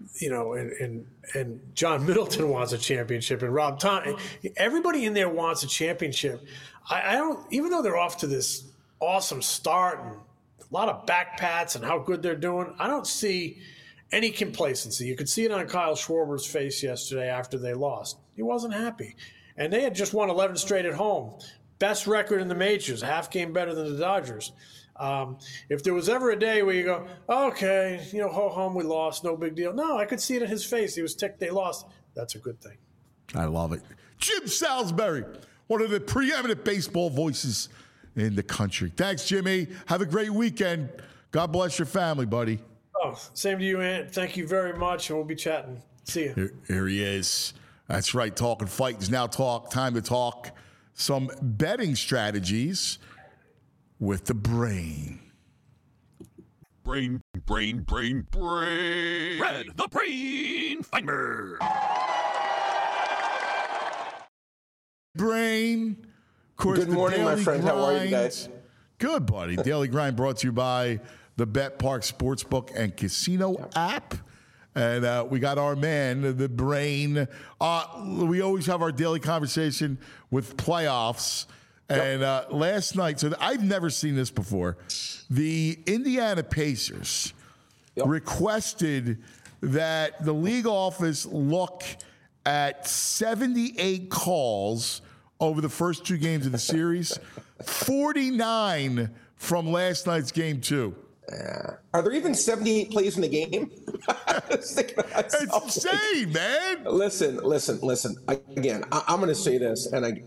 and John Middleton wants a championship, and Rob Thompson. Everybody in there wants a championship. I don't, even though they're off to this awesome start and a lot of back pats and how good they're doing, I don't see any complacency. You could see it on Kyle Schwarber's face yesterday after they lost. He wasn't happy, and they had just won 11 straight at home. Best record in the majors, a half game better than the Dodgers. If there was ever a day where you go, okay, ho hum, we lost, no big deal. No, I could see it in his face. He was ticked they lost. That's a good thing. I love it. Jim Salisbury, one of the preeminent baseball voices in the country. Thanks, Jimmy. Have a great weekend. God bless your family, buddy. Oh, same to you, Ant. Thank you very much, and we'll be chatting. See you. Here he is. That's right. Talking fight is now time to talk some betting strategies with the brain. Brain. Red, the Brain Finder. Brain. Of course, good morning, my friend. How are you guys? Good, buddy. Daily Grind brought to you by the Bet Park Sportsbook and Casino app. And we got our man, the Brain. We always have our daily conversation with playoffs. And last night, so I've never seen this before. The Indiana Pacers requested that the league office look at 78 calls over the first 2 games of the series, 49 from last night's game 2. Are there even 78 plays in the game? It's insane, man. Listen. Again, I'm going to say this, and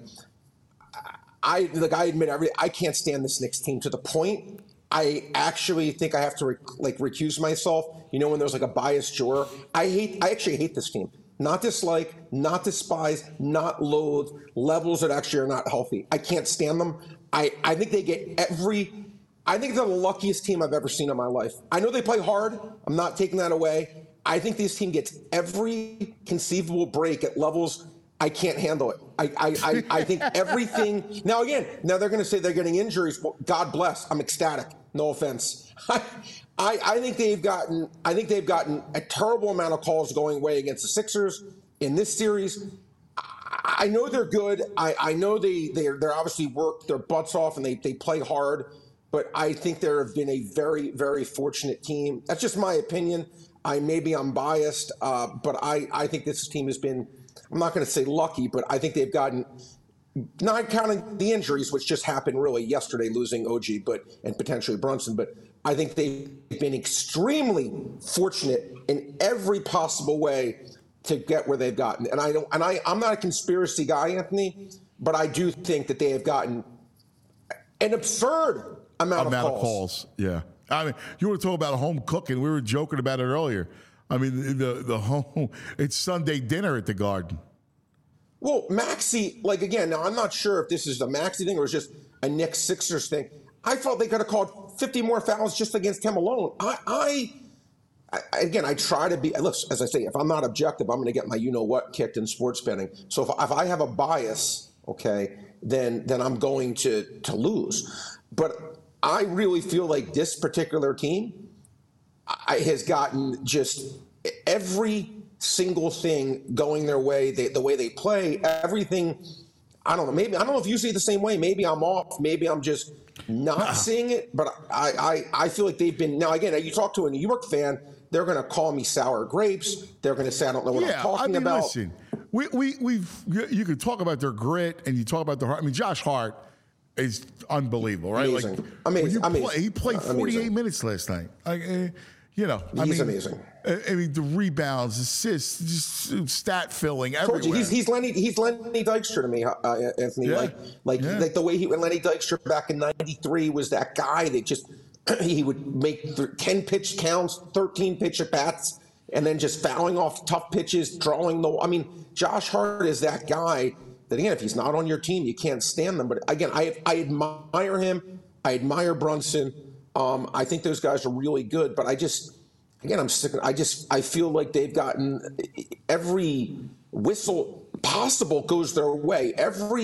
I admit I can't stand this Knicks team to the point I actually think I have to recuse myself. You know, when there's like a biased juror, I actually hate this team. Not dislike, not despise, not loathe, levels that actually are not healthy. I can't stand them. I think they get I think they're the luckiest team I've ever seen in my life. I know they play hard. I'm not taking that away. I think this team gets every conceivable break at levels I can't handle it. I think everything. Now they're going to say they're getting injuries. Well, God bless. I'm ecstatic. No offense. I think they've gotten a terrible amount of calls going away against the Sixers in this series. I know they're good. I know they're obviously worked their butts off and they play hard. But I think there have been a very, very fortunate team. That's just my opinion. Maybe I'm biased, but I think this team has been, I'm not going to say lucky, but I think they've gotten, not counting the injuries, which just happened really yesterday, losing OG and potentially Brunson, but I think they've been extremely fortunate in every possible way to get where they've gotten. And I'm not a conspiracy guy, Anthony, but I do think that they have gotten an absurd amount of calls. Yeah. I mean, you want to talk about home cooking. We were joking about it earlier. I mean, the home, it's Sunday dinner at the Garden. Well, Maxey, again, now I'm not sure if this is a Maxey thing or it's just a Knicks Sixers thing. I felt they could have called 50 more fouls just against him alone. Again, I try to be, look, as I say, if I'm not objective, I'm going to get my you-know-what kicked in sports betting. So if I have a bias, okay, then I'm going to lose. But I really feel like this particular team has gotten just every single thing going their way, the way they play, everything. I don't know. Maybe I don't know if you see it the same way. Maybe I'm off. Maybe I'm just not seeing it. But I feel like they've been. Now again, you talk to a New York fan, they're going to call me sour grapes. They're going to say I don't know what I'm talking about. Listen, you can talk about their grit and you talk about their heart. I mean, Josh Hart is unbelievable, right? Amazing. Amazing. He played 48 minutes last night. He's amazing. I mean, the rebounds, assists, just stat filling everywhere. He's Lenny Dykstra to me, Anthony. Yeah. The way when Lenny Dykstra back in '93 was that guy that just he would make 10 pitch counts, 13 pitch at bats, and then just fouling off tough pitches, I mean, Josh Hart is that guy. That again, if he's not on your team, you can't stand them. But again, I admire him. I admire Brunson. I think those guys are really good. But I'm sick. I feel like they've gotten every whistle possible goes their way.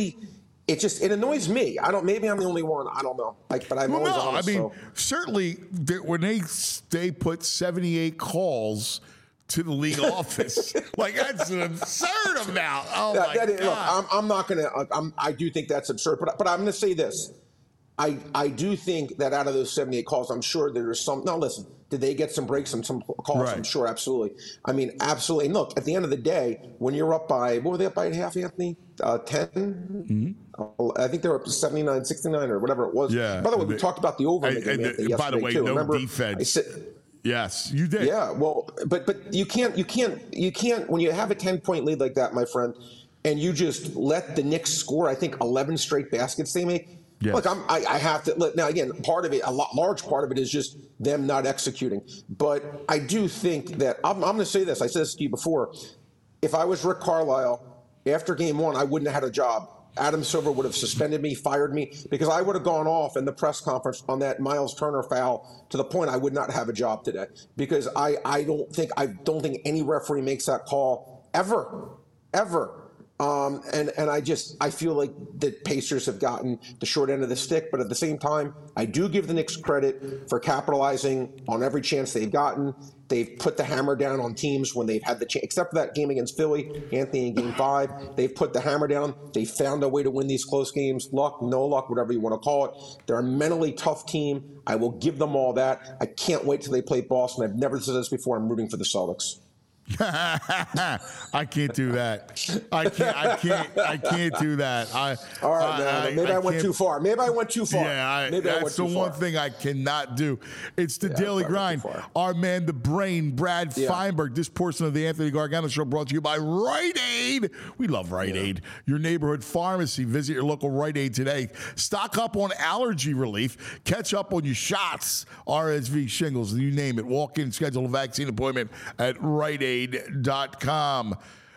It annoys me. Maybe I'm the only one. I don't know. But I'm always honest. Certainly when they put 78 calls to the league office. That's an absurd amount. Oh, my God. Look, I'm not going to I do think that's absurd. But I'm going to say this. I do think that out of those 78 calls, I'm sure there's some. Now, listen, did they get some breaks and some calls? Right. I'm sure, absolutely. I mean, absolutely. And look, at the end of the day, when you're up by, what were they up by at half, Anthony? 10? Mm-hmm. I think they were up to 79, 69 or whatever it was. Yeah. By the way, we talked about the over in the game yesterday, by the way, too. no Remember, defense. Yes, you did. Yeah, well, but you can't when you have a 10-point lead like that, my friend, and you just let the Knicks score, I think 11 straight baskets they make. Yes. Look, I have to look now. Again, large part of it is just them not executing. But I do think that I'm going to say this. I said this to you before. If I was Rick Carlisle after Game 1, I wouldn't have had a job. Adam Silver would have suspended me, fired me, because I would have gone off in the press conference on that Miles Turner foul to the point I would not have a job today. Because I don't think any referee makes that call ever. And I feel like the Pacers have gotten the short end of the stick, but at the same time, I do give the Knicks credit for capitalizing on every chance they've gotten. They've put the hammer down on teams when they've had the chance, except for that game against Philly, Anthony, in Game 5. They've put the hammer down. They found a way to win these close games. Luck, no luck, whatever you want to call it. They're a mentally tough team. I will give them all that. I can't wait till they play Boston. I've never said this before. I'm rooting for the Celtics. I can't do that. I can't do that. All right, man. Maybe I went too far. Yeah, that's the one thing I cannot do. It's the Daily Grind. Our man, the brain, Brad Feinberg. This portion of the Anthony Gargano Show brought to you by Rite Aid. We love Rite Aid. Your neighborhood pharmacy. Visit your local Rite Aid today. Stock up on allergy relief. Catch up on your shots, RSV, shingles, you name it. Walk in, schedule a vaccine appointment at Rite Aid. Tonight,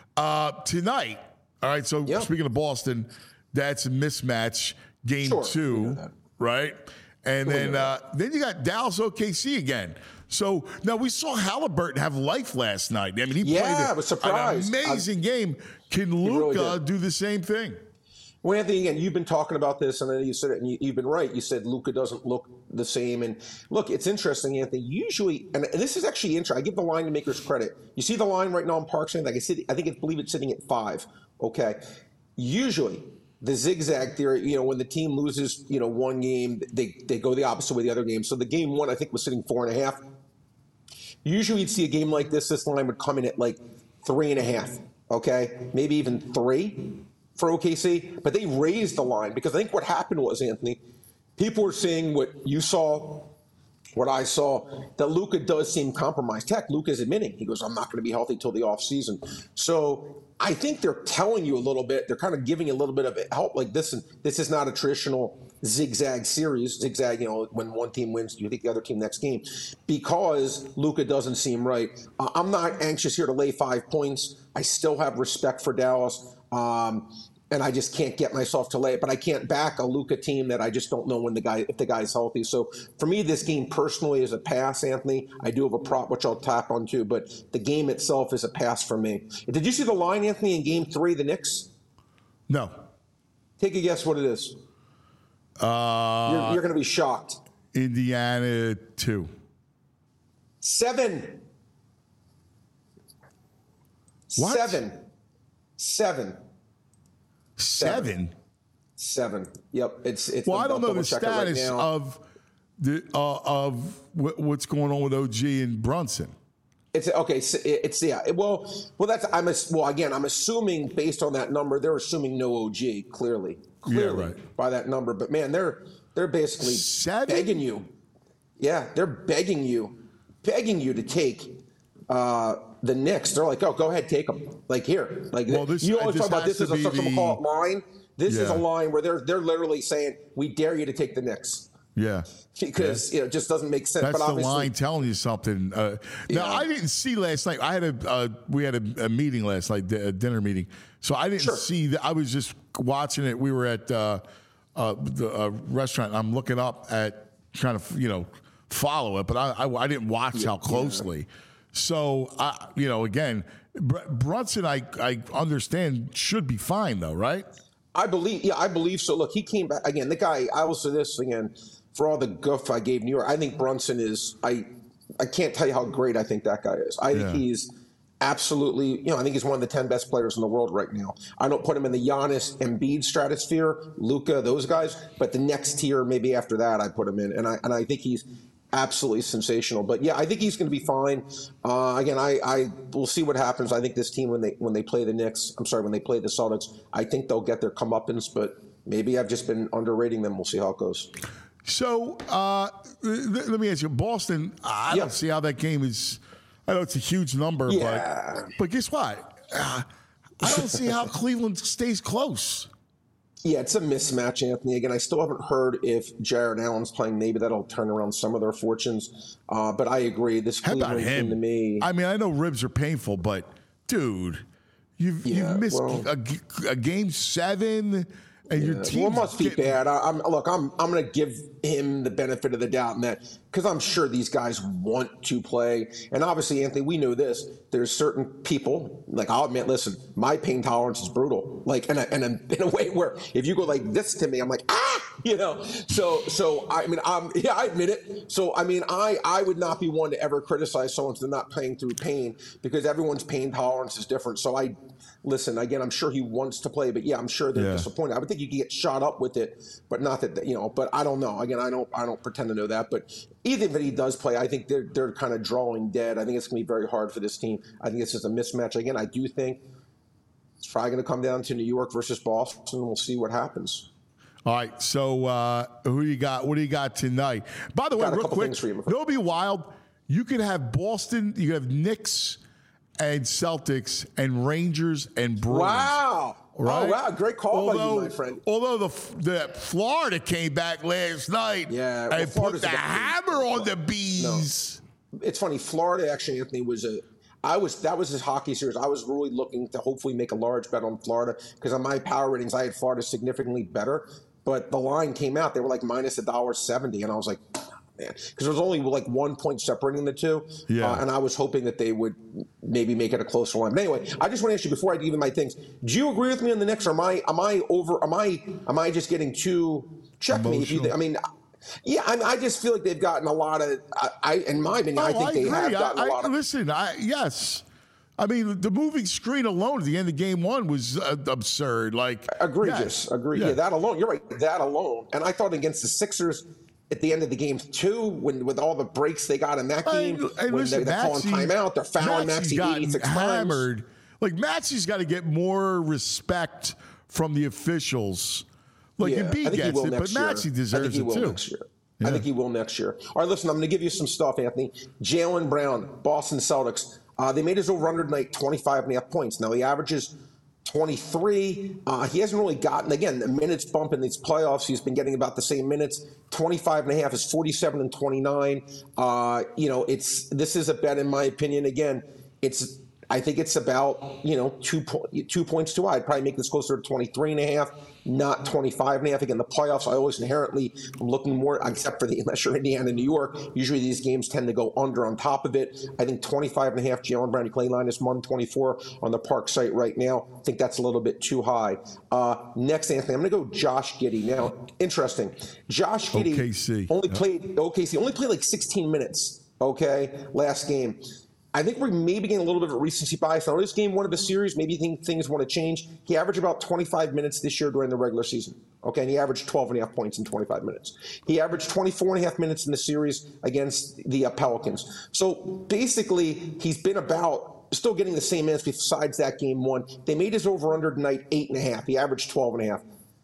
all right, so speaking of Boston, that's a mismatch, game 2, right? And then you got Dallas OKC again. So now we saw Halliburton have life last night. I mean, he played I was surprised. An amazing game. Can Luka really do the same thing? Well, Anthony, again, you've been talking about this, and then you said it, and you've been right. You said Luka doesn't look the same. And look, it's interesting, Anthony. Usually, and this is actually interesting. I give the line makers credit. You see the line right now on Parks? Like I believe it's sitting at 5. Okay. Usually, the zigzag theory, when the team loses, one game, they go the opposite way the other game. So the game 1, I think, was sitting 4.5. Usually, you'd see a game like this line would come in at like 3.5. Okay, maybe even 3. For OKC, but they raised the line because I think what happened was, Anthony, people were seeing what you saw, what I saw, that Luka does seem compromised. Heck, Luka's admitting, he goes, I'm not going to be healthy till the offseason. So I think they're telling you a little bit, they're kind of giving you a little bit of help. Like this is not a traditional zigzag series. Zigzag, when one team wins, you think the other team next game, because Luka doesn't seem right. I'm not anxious here to lay 5 points. I still have respect for Dallas. And I just can't get myself to lay it. But I can't back a Luka team that I just don't know if the guy's healthy. So for me, this game personally is a pass, Anthony. I do have a prop, which I'll tap on too, but the game itself is a pass for me. Did you see the line, Anthony, in game 3, the Knicks? No. Take a guess what it is. You're going to be shocked. Indiana 2. 7. What? 7. 7. Yep. It's. Well, I don't know the status of what's going on with OG and Brunson. It's okay. It's Well, that's I'm assuming based on that number, they're assuming no OG. Clearly, right. By that number. But man, they're basically 7? begging you. Yeah, they're begging you to take. The Knicks, they're like, oh, go ahead, take them. Like here, like you always talk about this as a someone call it line. This is a line where they're literally saying, we dare you to take the Knicks. Yeah, because it just doesn't make sense. That's but the line telling you something. Now I didn't see last night. We had a meeting last night, a dinner meeting. So I didn't see that. I was just watching it. We were at the restaurant. I'm looking up at trying to follow it, but I didn't watch how closely. Yeah. So, again, Brunson, I understand, should be fine, though, right? I believe so. Look, he came back. Again, the guy, I will say this again, for all the guff I gave New York, I think Brunson is, I can't tell you how great I think that guy is. I think he's absolutely, I think he's one of the 10 best players in the world right now. I don't put him in the Giannis, Embiid stratosphere, Luka, those guys, but the next tier, maybe after that, I put him in. And I think he's absolutely sensational. But yeah, I think he's going to be fine. Again, I will see what happens. I think this team when they play the Knicks, when they play the Celtics, I think they'll get their comeuppance. But maybe I've just been underrating them. We'll see how it goes. So let me ask you, Boston. I don't see how that game is. I know it's a huge number, but guess what? I don't see how Cleveland stays close. Yeah, it's a mismatch, Anthony. Again, I still haven't heard if Jared Allen's playing. Maybe that'll turn around some of their fortunes. But I agree. This Cleveland team to me. I mean, I know ribs are painful, but dude, you've missed a game 7, and your team. Well, it must be bad. I'm going to give him the benefit of the doubt in that because I'm sure these guys want to play. And obviously, Anthony, we know this. There's certain people, like I'll admit, listen, my pain tolerance is brutal. Like, and in a way where if you go like this to me, I'm like, you know. So I mean, I admit it. So I mean, I would not be one to ever criticize someone for not playing through pain, because everyone's pain tolerance is different. So listen, again, I'm sure he wants to play, but yeah, I'm sure they're disappointed. I would think you could get shot up with it, but not that, you know, but I don't know. Again, I don't pretend to know that, but even if he does play, I think they're kind of drawing dead. I think it's going to be very hard for this team. I think it's just a mismatch. Again, I do think it's probably going to come down to New York versus Boston, and we'll see what happens. All right, so who do you got? What do you got tonight? By the way, real quick, it'll be wild. You could have Boston, you could have Knicks and Celtics and Rangers and Bruins. Wow. Right? Oh, wow. Great call by you, my friend. Although the Florida came back last night and put the hammer on the Bees. No. It's funny. Florida, actually, Anthony, that was his hockey series. I was really looking to hopefully make a large bet on Florida, because on my power ratings, I had Florida significantly better. But the line came out. They were like minus $1.70. And I was like, man, because there was only like 1 point separating the two. Yeah. And I was hoping that they would maybe make it a closer line. But anyway, I just want to ask you before I give you my things. Do you agree with me on the Knicks, or am I just getting too check me? Yeah, I just feel like they've gotten a lot of. In my opinion, I think they have gotten a lot of. Listen, yes. I mean, the moving screen alone at the end of game one was absurd. Like, egregious. Agree. Yeah, that alone. You're right. That alone. And I thought against the Sixers at the end of the game too, with all the breaks they got in that game, when they're calling timeout, they're fouling Maxey 86 hammered. times. Like, Maxey's got to get more respect from the officials. Like, Embiid gets it, but Maxey deserves it too. I think he will next year. All right, listen, I'm going to give you some stuff, Anthony. Jaylen Brown, Boston Celtics. They made his over-under tonight 25.5 points. Now, he averages 23. He hasn't really gotten, again, the minutes bump in these playoffs. He's been getting about the same minutes. 25.5 is 47 and 29. This is a bet, in my opinion. Again, I think it's about, 2 points too high. I'd probably make this closer to 23.5, not 25.5. Again, the playoffs, I always inherently am looking more, except for unless you're Indiana, New York. Usually these games tend to go under on top of it. I think 25.5, Jaylen Brown, Clay line is 124 on the Park site right now. I think that's a little bit too high. Next, Anthony, I'm going to go Josh Giddey. Now, interesting. Josh Giddey only played like 16 minutes, last game. I think we're maybe getting a little bit of a recency bias. Now, this game one of the series, maybe things want to change. He averaged about 25 minutes this year during the regular season. And he averaged 12.5 points in 25 minutes. He averaged 24.5 minutes in the series against the Pelicans. So basically, he's been about still getting the same minutes besides that game one. They made his over-under tonight 8.5. He averaged 12.5.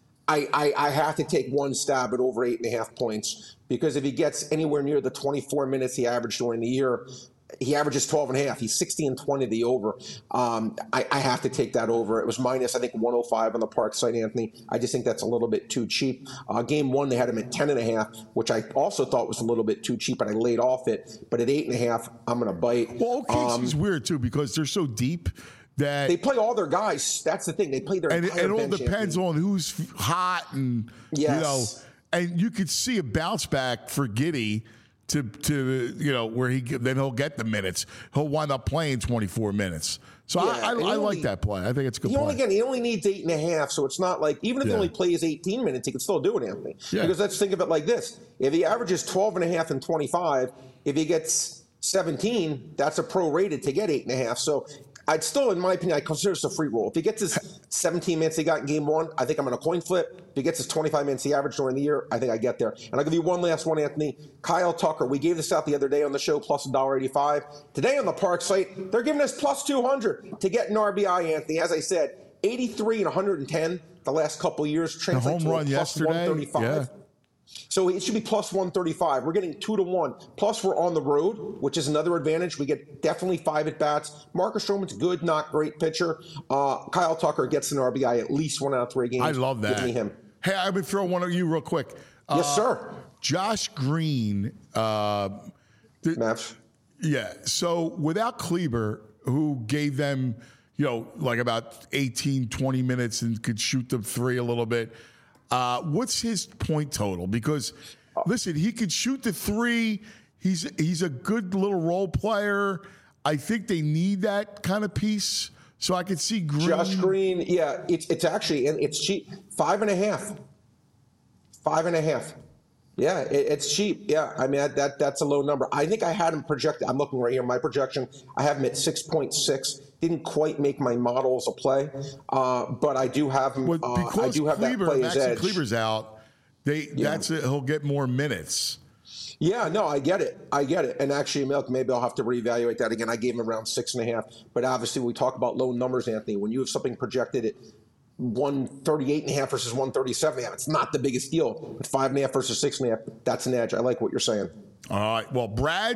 I have to take one stab at over 8.5 points, because if he gets anywhere near the 24 minutes he averaged during the year, he averages 12.5. He's 60 and 20 the over. I have to take that over. It was minus, I think, 105 on the Park site, Anthony. I just think that's a little bit too cheap. Game one, they had him at 10.5, which I also thought was a little bit too cheap, and I laid off it. But at 8.5, I'm going to bite. Well, OKC's weird, too, because they're so deep that they play all their guys. That's the thing. They play their entire and it all bench, depends Anthony. on who's hot and, and you could see a bounce back for Giddey to where he'll get the minutes. He'll wind up playing 24 minutes. So I like that play. I think it's a good play. He only needs 8.5, so it's not like, even if he only plays 18 minutes, he can still do it, Anthony. Yeah. Because let's think of it like this. If he averages 12.5 and 25, if he gets 17, that's a prorated to get 8.5. So I'd still, in my opinion, I consider this a free roll. If he gets his 17 minutes he got in game one, I think I'm going to coin flip. If he gets his 25 minutes he averaged during the year, I think I get there. And I'll give you one last one, Anthony. Kyle Tucker. We gave this out the other day on the show, plus $1.85. Today on the Park site, they're giving us plus 200 to get an RBI, Anthony. As I said, 83 and 110 the last couple of years. Translates home run to plus yesterday. 135. Yeah. So it should be plus 135. We're getting 2-1. Plus, we're on the road, which is another advantage. We get definitely 5 at-bats. Marcus Stroman's good, not great pitcher. Kyle Tucker gets an RBI at least 1 out of 3 games. I love that. Give me him. Hey, I'm going to throw one at you real quick. Yes, sir. Josh Green. Mavs. Yeah. So without Kleber, who gave them, like about 18, 20 minutes and could shoot them 3 a little bit, what's his point total? Because listen, he could shoot the three. He's a good little role player. I think they need that kind of piece. So I could see Green. Josh Green, yeah, it's actually, and it's cheap. 5.5. 5.5. Yeah, it's cheap. Yeah, I mean that's a low number. I think I had him projected. I'm looking right here. My projection, I have him at 6.6. Didn't quite make my models a play, but I do have him. Because I do have that play as edge. Kleber's out. That's it. He'll get more minutes. Yeah, no, I get it. And actually, Milk, maybe I'll have to reevaluate that again. I gave him around 6.5. But obviously, we talk about low numbers, Anthony. When you have something projected at 138.5 versus 137.5, it's not the biggest deal. But 5.5 versus 6.5, that's an edge. I like what you're saying. All right. Well,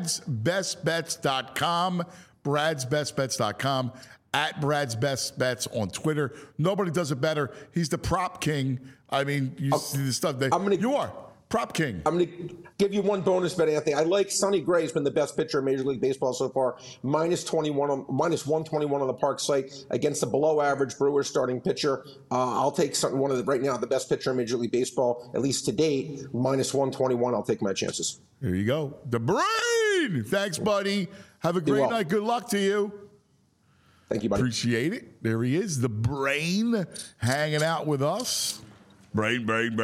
Brad'sBestBets.com. Brad'sBestBets.com. At Brad's Best Bets on Twitter. Nobody does it better. He's the prop king. I mean, you see the stuff that you are. Prop king. I'm going to give you one bonus bet, Anthony. I like Sonny Gray. He's been the best pitcher in Major League Baseball so far. minus 121 on the Park site against the below-average Brewers starting pitcher. I'll take right now the best pitcher in Major League Baseball, at least to date. minus 121. I'll take my chances. There you go. The Brain. Thanks, buddy. Have a great night. Good luck to you. Thank you, buddy. Appreciate it. There he is, the Brain, hanging out with us. Brain. You getting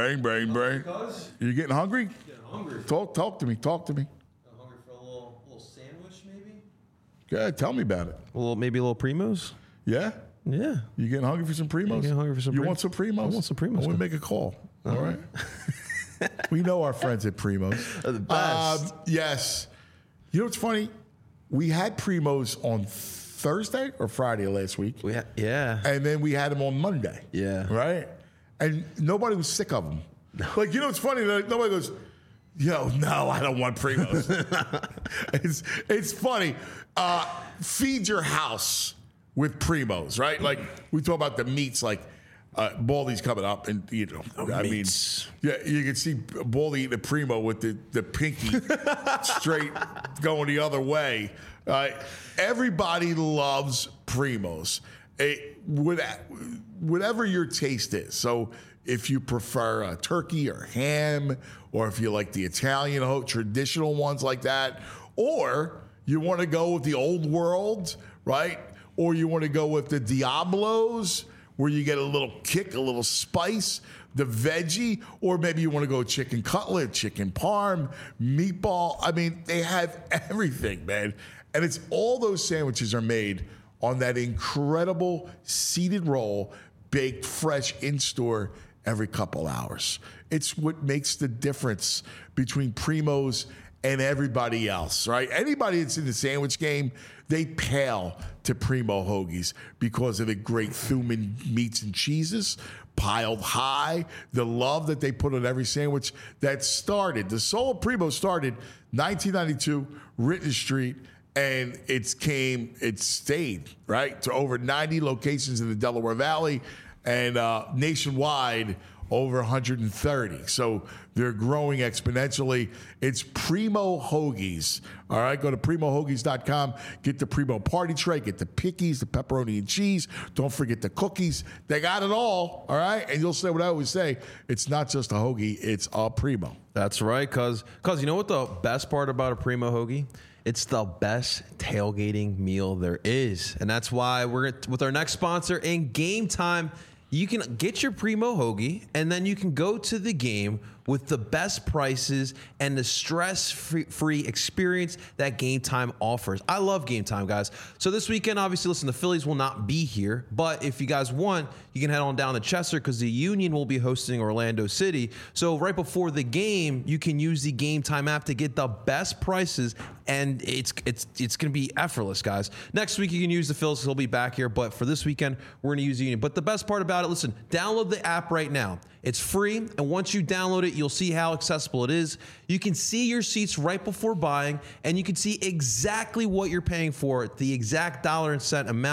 hungry? Getting hungry. Talk to me. I'm hungry for a little sandwich, maybe. Good. Tell me about it. Maybe a little Primos. Yeah. Yeah. You getting hungry for some Primos? Getting hungry for some. You want some Primos? I want some Primos. I want to make a call. All right. We know our friends at Primos. They're the best. Yes. You know what's funny? We had Primos on Thursday or Friday last week. Yeah. And then we had them on Monday. Yeah. Right? And nobody was sick of them. Like, you know, it's funny. Like, nobody goes, no, I don't want Primos. it's funny. Feed your house with Primos, right? Like, we talk about the meats, like Baldy's coming up, and, you know, I mean, yeah, you can see Baldy eating a Primo with the pinky straight going the other way. Everybody loves Primos. Whatever your taste is. So if you prefer turkey or ham, or if you like the Italian traditional ones like that, or you want to go with the old world, right? Or you want to go with the Diablos, where you get a little kick, a little spice, the veggie, or maybe you want to go chicken cutlet, chicken parm, meatball. I mean, they have everything, man. And it's all those sandwiches are made on that incredible seeded roll, baked fresh in-store every couple hours. It's what makes the difference between Primos and everybody else, right? Anybody that's in the sandwich game, they pale to Primo hoagies because of the great Thuman meats and cheeses piled high, the love that they put on every sandwich that started. The soul of Primo started 1992, Ritten Street, and it stayed, right, to over 90 locations in the Delaware Valley and nationwide over 130. So they're growing exponentially. It's Primo Hoagies. All right, go to primohoagies.com. Get the Primo party tray. Get the pickies, the pepperoni and cheese. Don't forget the cookies. They got it all right? And you'll say what I always say. It's not just a hoagie. It's a Primo. That's right, cuz you know what the best part about a Primo hoagie? It's the best tailgating meal there is. And that's why we're with our next sponsor in Game Time. You can get your Primo hoagie, and then you can go to the game with the best prices and the stress-free experience that Game Time offers. I love Game Time, guys. So this weekend, obviously, listen, the Phillies will not be here, but if you guys want, you can head on down to Chester because the Union will be hosting Orlando City. So right before the game, you can use the Game Time app to get the best prices, and it's going to be effortless, guys. Next week, you can use the Phillies. They'll be back here, but for this weekend, we're going to use the Union. But the best part about it, listen, download the app right now. It's free, and once you download it, you'll see how accessible it is. You can see your seats right before buying, and you can see exactly what you're paying for, the exact dollar and cent amount.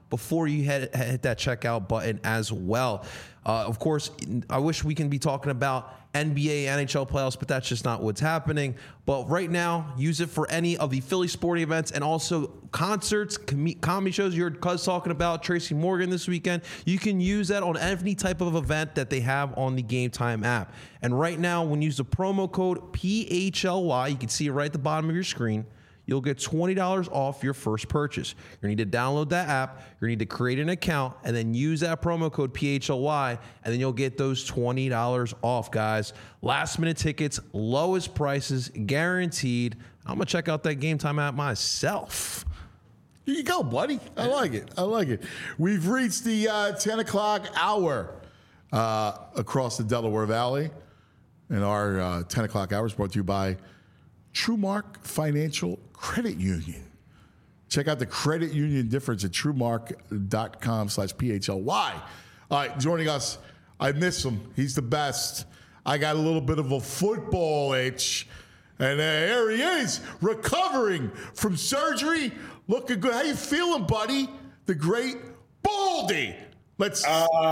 before you hit that checkout button as well. Of course, I wish we can be talking about NBA, NHL playoffs, but that's just not what's happening. But right now, use it for any of the Philly sporting events and also concerts, comedy shows. You heard Cuz talking about Tracy Morgan this weekend. You can use that on any type of event that they have on the Game Time app. And right now, when you use the promo code PHLY, you can see it right at the bottom of your screen, you'll get $20 off your first purchase. You're going to need to download that app. You're going to need to create an account and then use that promo code PHLY, and then you'll get those $20 off, guys. Last minute tickets, lowest prices, guaranteed. I'm going to check out that Game Time app myself. Here you go, buddy. I like it. We've reached the 10 o'clock hour across the Delaware Valley. And our 10 o'clock hour is brought to you by TrueMark Financial Credit Union. Check out the credit union difference at truemark.com/PHLY. All right, joining us, I miss him. He's the best. I got a little bit of a football itch. And there he is, recovering from surgery, looking good. How you feeling, buddy? The great Baldy. It's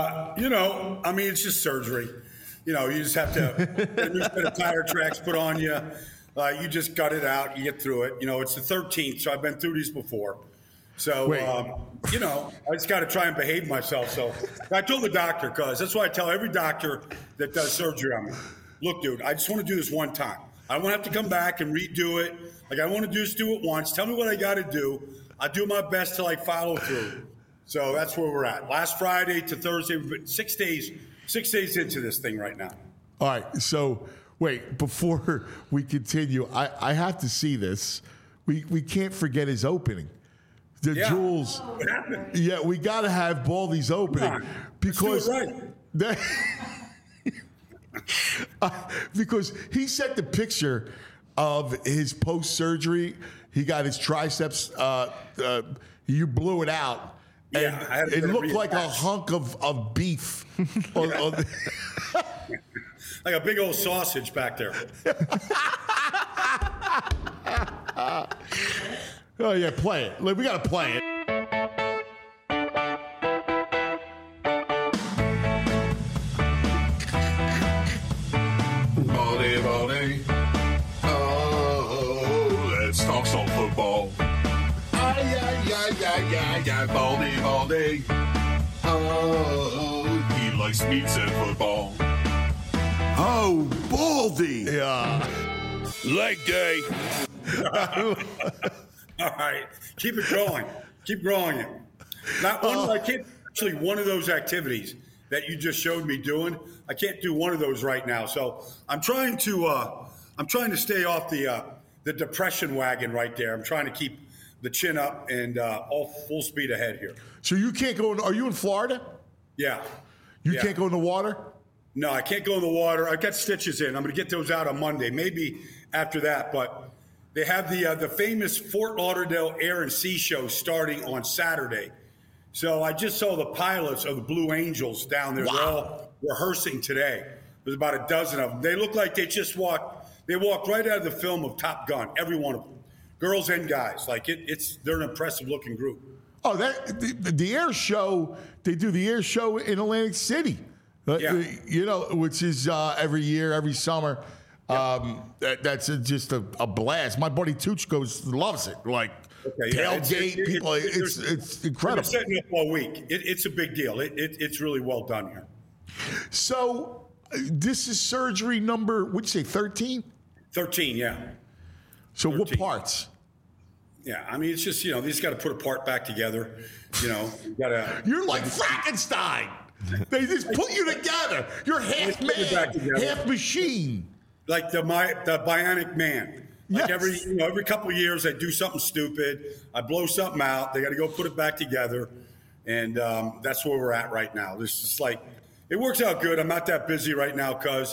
just surgery. You just have to get a new set of tire tracks put on you. You just gut it out. You get through it. It's the 13th, so I've been through these before. So, I just got to try and behave myself. So I told the doctor, because that's why I tell every doctor that does surgery on me, look, dude, I just want to do this one time. I don't want to have to come back and redo it. I want to just do it once. Tell me what I got to do. I'll do my best to follow through. So that's where we're at. Last Friday to Thursday, we've been 6 days into this thing right now. All right. So wait, before we continue, I have to see this. We can't forget his opening. The Jules. What happened? Yeah, we got to have Baldy's opening because let's do it right. Because he sent the picture of his post-surgery. He got his triceps. You blew it out. Yeah, and it looked like a hunk of beef. Like a big old sausage back there. Oh, yeah, play it. We got to play it. Baldy. Oh, let's talk some football. Baldy. Oh, he likes meats and football. Oh, Baldy. Yeah. Leg day. All right, keep it going. Keep growing it. Not one. I can't actually one of those activities that you just showed me doing. I can't do one of those right now. So I'm trying to stay off the depression wagon right there. I'm trying to keep the chin up and all full speed ahead here. So you can't go in. Are you in Florida? Yeah. You can't go in the water? No, I can't go in the water. I've got stitches in. I'm going to get those out on Monday, maybe after that. But they have the famous Fort Lauderdale Air and Sea Show starting on Saturday. So I just saw the pilots of the Blue Angels down there. Wow. They're all rehearsing today. There's about a dozen of them. They look like they just walked. They walked right out of the film of Top Gun, every one of them. Girls and guys. They're an impressive looking group. Oh, the air show, they do the air show in Atlantic City. Which is every year, every summer. That's just a blast. My buddy Tooch loves it. Tailgate people. It's incredible. It's setting up all week. It's a big deal. It's really well done here. So this is surgery number, what'd you say, 13? 13, yeah. So 13. What parts? Yeah, I mean, it's just, they just got to put a part back together. You're like Frankenstein. They just put you together. You're half man, half machine. Like the Bionic Man. Yes. Every couple of years, I do something stupid. I blow something out. They got to go put it back together. And that's where we're at right now. It's just it works out good. I'm not that busy right now because,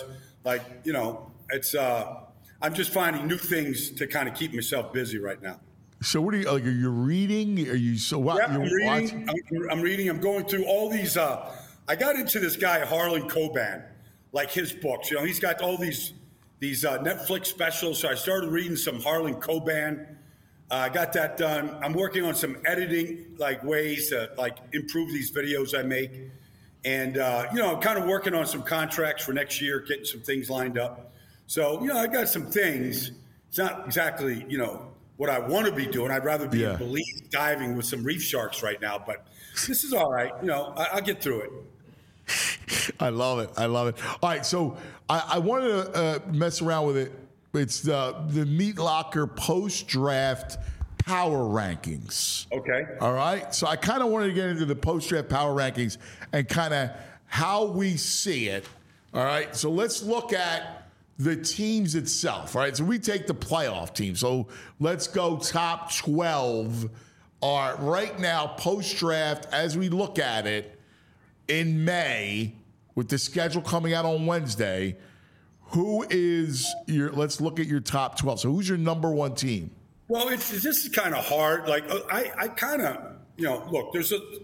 it's I'm just finding new things to kind of keep myself busy right now. So what are you, are you reading? Are you, so what? Yeah, I'm reading. I'm going through all these. I got into this guy, Harlan Coben, his books. He's got all these Netflix specials. So I started reading some Harlan Coben. I got that done. I'm working on some editing, like ways to like improve these videos I make. And, I'm kind of working on some contracts for next year, getting some things lined up. So, I got some things. It's not exactly, what I want to be doing. I'd rather be in Belize diving with some reef sharks right now. But this is all right. I'll get through it. I love it. All right, so I wanted to mess around with it. It's the Meat Locker post-draft power rankings. Okay. All right. So I kind of wanted to get into the post-draft power rankings and kind of how we see it. All right. So let's look at the teams itself. All right. So we take the playoff team. So let's go top 12 are right now post-draft as we look at it in May with the schedule coming out on Wednesday. Who is let's look at your top 12. So who's your number one team? Well, this is kind of hard. Like I kind of, look,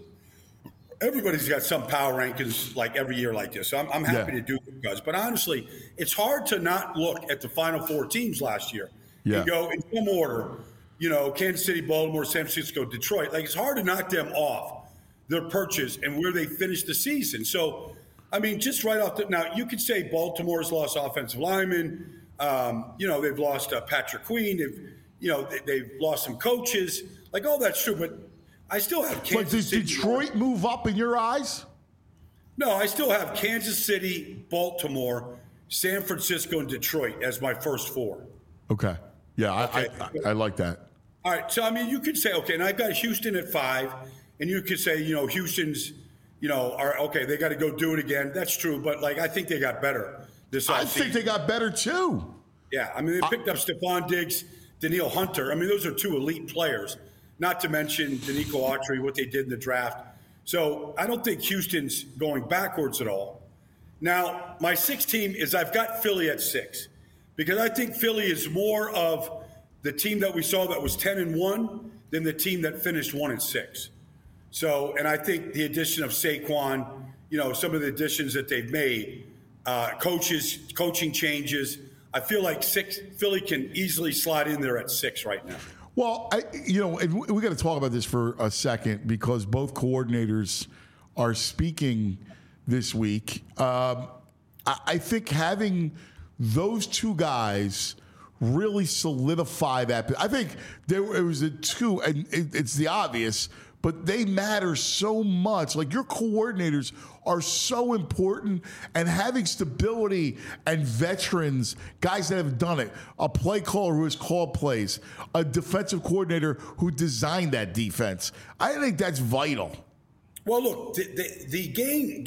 everybody's got some power rankings like every year like this. So I'm happy to do it, guys. But honestly, it's hard to not look at the final four teams last year and go in some order, Kansas City, Baltimore, San Francisco, Detroit. Like it's hard to knock them off their perches and where they finished the season. So, I mean, just right off now, you could say Baltimore's lost offensive linemen. They've lost Patrick Queen. They've lost some coaches. Like all that's true, but I still have Kansas City. But does Detroit move up in your eyes? No, I still have Kansas City, Baltimore, San Francisco, and Detroit as my first four. Okay. Yeah, okay. I like that. All right. So, I mean, you could say, okay, and I've got Houston at 5, and you could say, Houston's, are okay, they got to go do it again. That's true. But, I think they got better this offseason. I think they got better, too. Yeah. I mean, they picked up Stephon Diggs, Danielle Hunter. I mean, those are two elite players, not to mention Danico Autry, what they did in the draft. So I don't think Houston's going backwards at all. Now, my 6th team is I've got Philly at 6 because I think Philly is more of the team that we saw that was 10-1 than the team that finished 1-6. So, and I think the addition of Saquon, some of the additions that they've made, coaching changes, I feel like Philly can easily slide in there at 6 right now. Well, and we got to talk about this for a second because both coordinators are speaking this week. I think having those two guys really solidify that. I think it was a two, and it's the obvious, but they matter so much. Like your coordinators are so important, and having stability and veterans, guys that have done it, a play caller who has called plays, a defensive coordinator who designed that defense. I think that's vital. Well, look, the game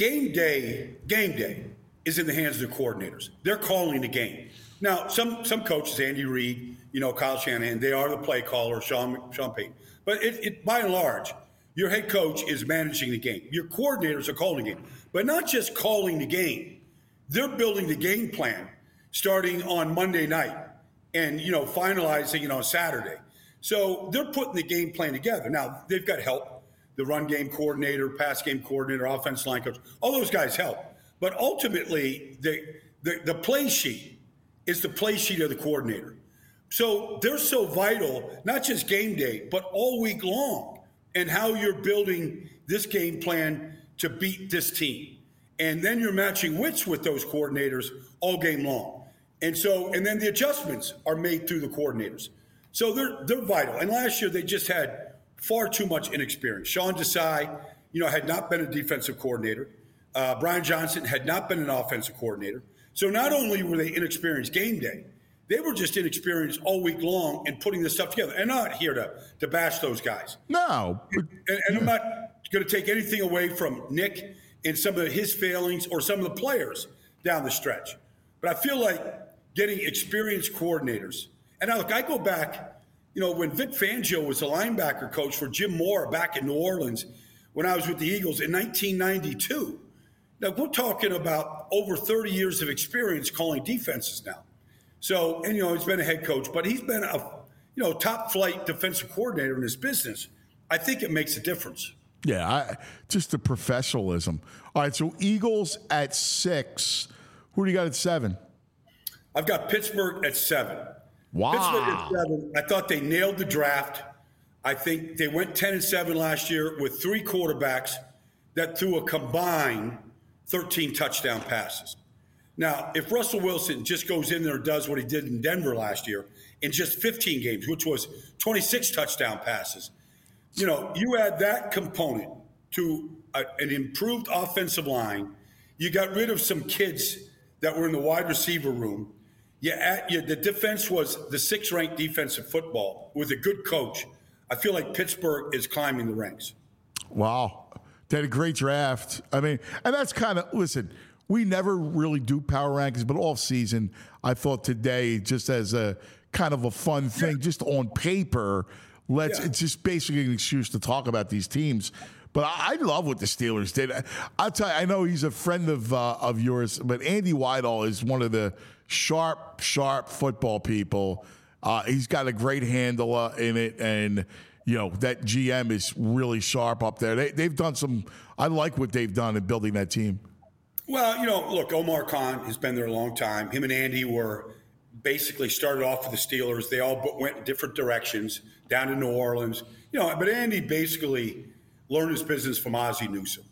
day is in the hands of the coordinators. They're calling the game. Now, some coaches, Andy Reid, Kyle Shanahan, they are the play caller, Sean Payton. But it by and large, your head coach is managing the game. Your coordinators are calling the game. But not just calling the game. They're building the game plan starting on Monday night and, finalizing on Saturday. So they're putting the game plan together. Now, they've got help. The run game coordinator, pass game coordinator, offensive line coach, all those guys help. But ultimately, the play sheet is the play sheet of the coordinator. So they're so vital, not just game day, but all week long, and how you're building this game plan to beat this team. And then you're matching wits with those coordinators all game long. And then the adjustments are made through the coordinators. So they're vital. And last year they just had far too much inexperience. Sean Desai, had not been a defensive coordinator. Brian Johnson had not been an offensive coordinator. So not only were they inexperienced game day, they were just inexperienced all week long in putting this stuff together. And I'm not here to bash those guys. No. And I'm not going to take anything away from Nick and some of his failings or some of the players down the stretch. But I feel like getting experienced coordinators. And now, look, I go back, when Vic Fangio was the linebacker coach for Jim Moore back in New Orleans when I was with the Eagles in 1992. Now, we're talking about over 30 years of experience calling defenses now. So, and, he's been a head coach, but he's been a, top flight defensive coordinator in his business. I think it makes a difference. Yeah, just the professionalism. All right, so Eagles at 6. Who do you got at 7? I've got Pittsburgh at 7. Wow. Pittsburgh at 7. I thought they nailed the draft. I think they went 10-7 last year with 3 quarterbacks that threw a combined 13 touchdown passes. Now, if Russell Wilson just goes in there and does what he did in Denver last year in just 15 games, which was 26 touchdown passes, you add that component to an improved offensive line. You got rid of some kids that were in the wide receiver room. The defense was the 6th-ranked defense in football with a good coach. I feel like Pittsburgh is climbing the ranks. Wow. They had a great draft. I mean, and that's kind of, listen, we never really do power rankings, but off season, I thought today, just as a kind of a fun thing, just on paper, it's just basically an excuse to talk about these teams. But I love what the Steelers did. I'll tell you, I know he's a friend of yours, but Andy Weidel is one of the sharp football people. He's got a great handle in it, and that GM is really sharp up there. They've done some. I like what they've done in building that team. Well, look, Omar Khan has been there a long time. Him and Andy were basically started off with the Steelers. They all went in different directions down to New Orleans. But Andy basically learned his business from Ozzie Newsome.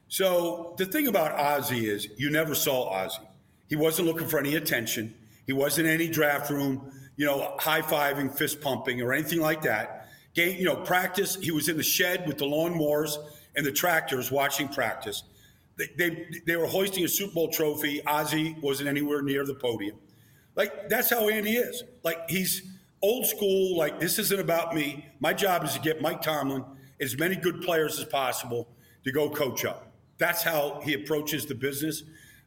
So the thing about Ozzie is you never saw Ozzie. He wasn't looking for any attention. He wasn't in any draft room, high-fiving, fist-pumping, or anything like that. Practice, he was in the shed with the lawnmowers and the tractors watching practice. They were hoisting a Super Bowl trophy. Ozzie wasn't anywhere near the podium. That's how Andy is. He's old school. This isn't about me. My job is to get Mike Tomlin as many good players as possible to go coach up. That's how he approaches the business.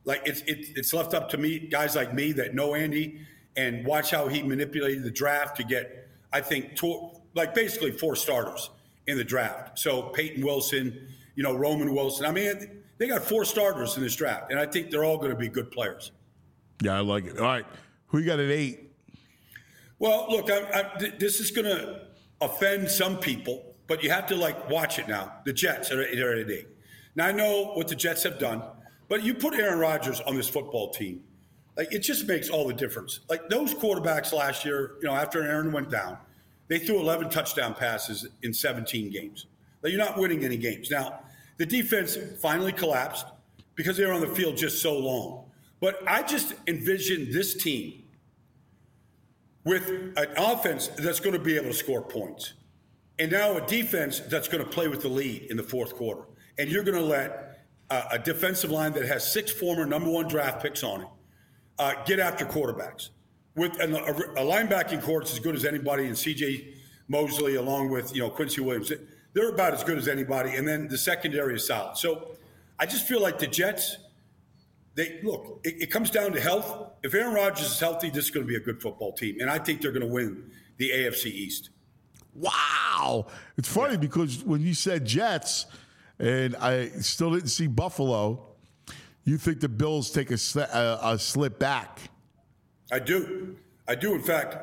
It's left up to me, guys like me that know Andy, and watch how he manipulated the draft to get, I think, basically 4 starters in the draft. So Peyton Wilson, Roman Wilson. I mean, they got 4 starters in this draft, and I think they're all going to be good players. Yeah, I like it. All right, who you got at 8? Well, look, this is going to offend some people, but you have to watch it now. The Jets are at 8. Now I know what the Jets have done, but you put Aaron Rodgers on this football team, it just makes all the difference. Those quarterbacks last year, after Aaron went down, they threw 11 touchdown passes in 17 games. You're not winning any games. Now, the defense finally collapsed because they were on the field just so long. But I just envision this team with an offense that's going to be able to score points. And now a defense that's going to play with the lead in the fourth quarter. And you're going to let a defensive line that has 6 former number 1 draft picks on it get after quarterbacks. With a linebacking core that's as good as anybody, and C.J. Mosley along with Quincy Williams. They're about as good as anybody. And then the secondary is solid. So I just feel like the Jets, it comes down to health. If Aaron Rodgers is healthy, this is going to be a good football team. And I think they're going to win the AFC East. Wow. It's funny because when you said Jets, and I still didn't see Buffalo, you think the Bills take a slip back. I do. In fact,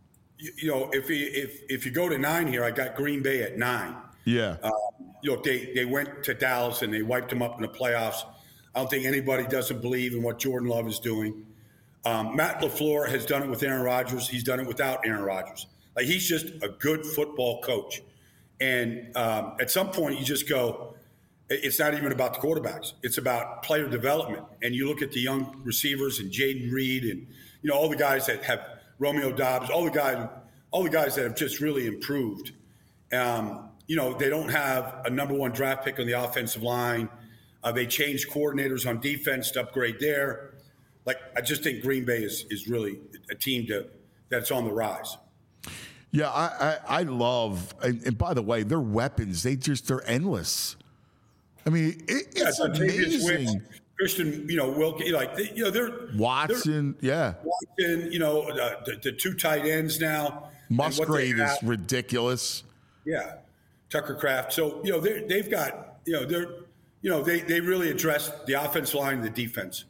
if you go to 9 here, I got Green Bay at 9. Yeah. They went to Dallas and they wiped them up in the playoffs. I don't think anybody doesn't believe in what Jordan Love is doing. Matt LaFleur has done it with Aaron Rodgers. He's done it without Aaron Rodgers. He's just a good football coach. And at some point, you just go, it's not even about the quarterbacks. It's about player development. And you look at the young receivers and Jaden Reed and all the guys that have Romeo Dobbs, all the guys that have just really improved. They don't have a number 1 draft pick on the offensive line. They changed coordinators on defense to upgrade there. I just think Green Bay is really a team that's on the rise. Yeah, I love, and by the way, their weapons, they're endless. I mean, it's amazing. Christian, Wilkie, they're Watson, Watson, the 2 tight ends now. Musgrave is ridiculous. Yeah, Tucker Kraft. So they've got they really addressed the offensive line and the defense.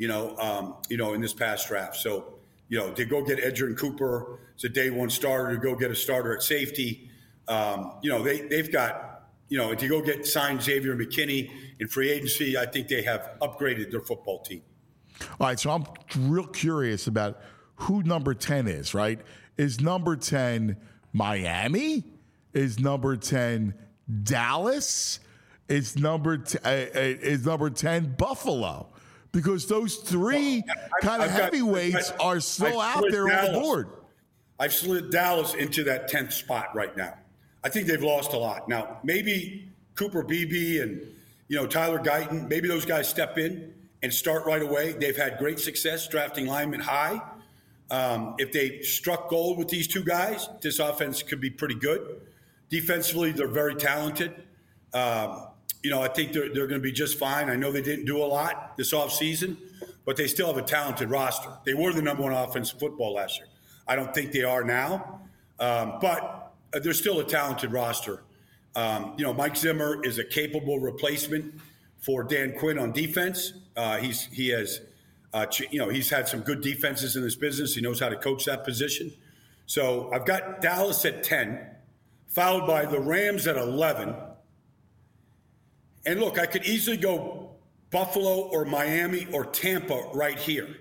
In this past draft. So they go get Edgerrin Cooper. It's a day 1 starter to go get a starter at safety. They've got. If you go sign Xavier McKinney in free agency, I think they have upgraded their football team. All right, so I'm real curious about who number 10 is, right? Is number 10 Miami? Is number 10 Dallas? Is number 10 Buffalo? Because those three kind of heavyweights are still out there on the board. I've slid Dallas into that 10th spot right now. I think they've lost a lot. Now, maybe Cooper Beebe and Tyler Guyton, maybe those guys step in and start right away. They've had great success drafting linemen high. If they struck gold with these two guys, this offense could be pretty good. Defensively, they're very talented. I think they're going to be just fine. I know they didn't do a lot this offseason, but they still have a talented roster. They were the number one offense in football last year. I don't think they are now, but they're still a talented roster. Mike Zimmer is a capable replacement for Dan Quinn on defense. He's had some good defenses in this business. He knows how to coach that position. So I've got Dallas at 10, followed by the Rams at 11. And look, I could easily go Buffalo or Miami or Tampa right here.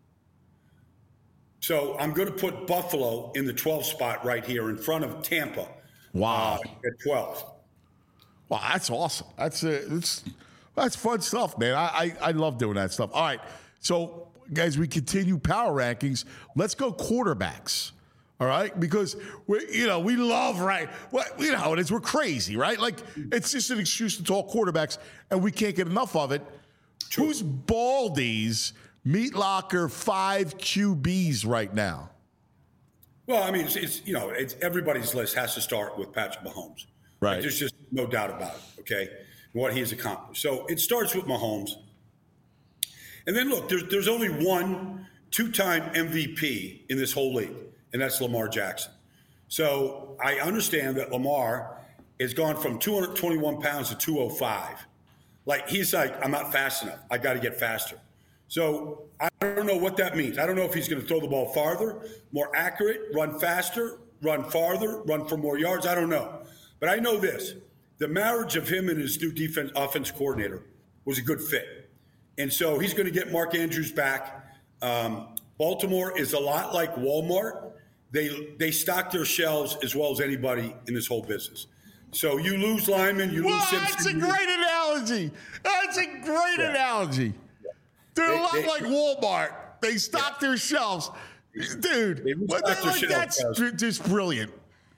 So I'm going to put Buffalo in the 12th spot right here in front of Tampa. Wow. At 12. Wow, that's awesome. That's fun stuff, man. I love doing that stuff. All right. So, guys, we continue power rankings. Let's go quarterbacks. All right, because we love it is. We're crazy, right? Like it's just an excuse to talk quarterbacks, and we can't get enough of it. True. Who's Baldy's Meat Locker 5 QBs right now? Well, I mean, it's everybody's list has to start with Patrick Mahomes. Right. Like, there's just no doubt about it. Okay, what he has accomplished. So it starts with Mahomes, and then look, there's only one 2-time MVP in this whole league. And that's Lamar Jackson. So I understand that Lamar has gone from 221 pounds to 205. He's like, I'm not fast enough. I got to get faster. So I don't know what that means. I don't know if he's going to throw the ball farther, more accurate, run faster, run farther, run for more yards. I don't know. But I know this. The marriage of him and his new offense coordinator was a good fit. And so he's going to get Mark Andrews back. Baltimore is a lot like Walmart. They stock their shelves as well as anybody in this whole business. So you lose Lyman, you lose Simpson. That's a great analogy. That's a great analogy. They're a lot like Walmart. They stock their shelves. Dude, that's just brilliant.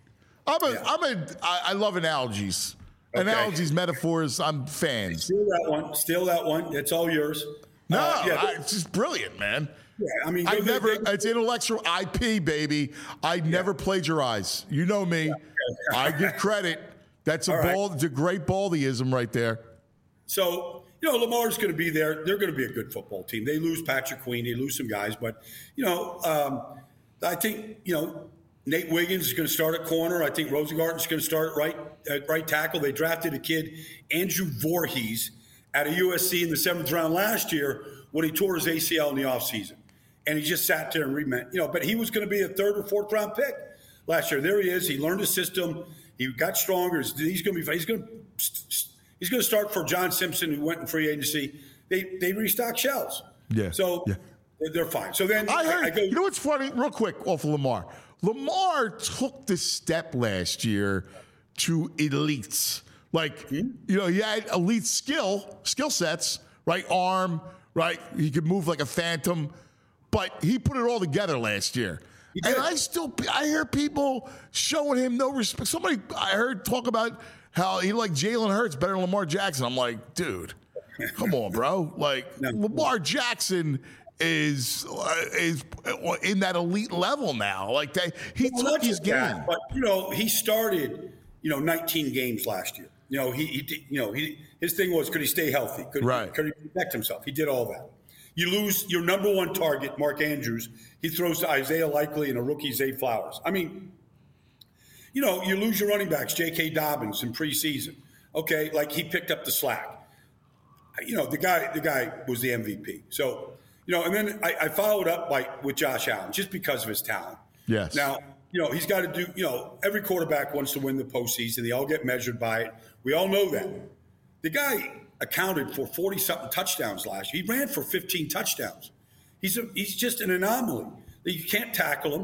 I love analogies. Okay. Analogies, metaphors, I'm fans. Steal that one. It's all yours. It's just brilliant, man. Yeah, I mean, it's intellectual IP, baby. I never plagiarize. You know me. Yeah, okay. I give credit. That's it's a great Baldyism right there. So, Lamar's going to be there. They're going to be a good football team. They lose Patrick Queen. They lose some guys. But, I think, Nate Wiggins is going to start at corner. I think Rosengarten's going to start at right tackle. They drafted a kid, Andrew Voorhees, out of USC in the 7th round last year when he tore his ACL in the offseason. And he just sat there and but he was going to be a 3rd or 4th round pick last year. There he is. He learned his system. He got stronger. He's going to start for John Simpson, who went in free agency. They restock shells. Yeah. So they're fine. So then I heard, you know what's funny? Real quick off of Lamar. Lamar took the step last year to elites. He had elite skill sets, right? Arm, right? He could move like a phantom. But he put it all together last year. And I hear people showing him no respect. Somebody I heard talk about how he liked Jalen Hurts better than Lamar Jackson. I'm like, dude, come on, bro. Lamar Jackson is in that elite level now. He took his game. But he started 19 games last year. His thing was, could he stay healthy? Could he protect himself? He did all that. You lose your number one target, Mark Andrews. He throws to Isaiah Likely and a rookie, Zay Flowers. I mean, you lose your running backs, J.K. Dobbins in preseason. Okay, he picked up the slack. The guy was the MVP. So, and then I followed up with Josh Allen just because of his talent. Yes. Now, he's got to do, every quarterback wants to win the postseason. They all get measured by it. We all know that. The guy accounted for 40-something touchdowns last year. He ran for 15 touchdowns. He's just an anomaly. You can't tackle him.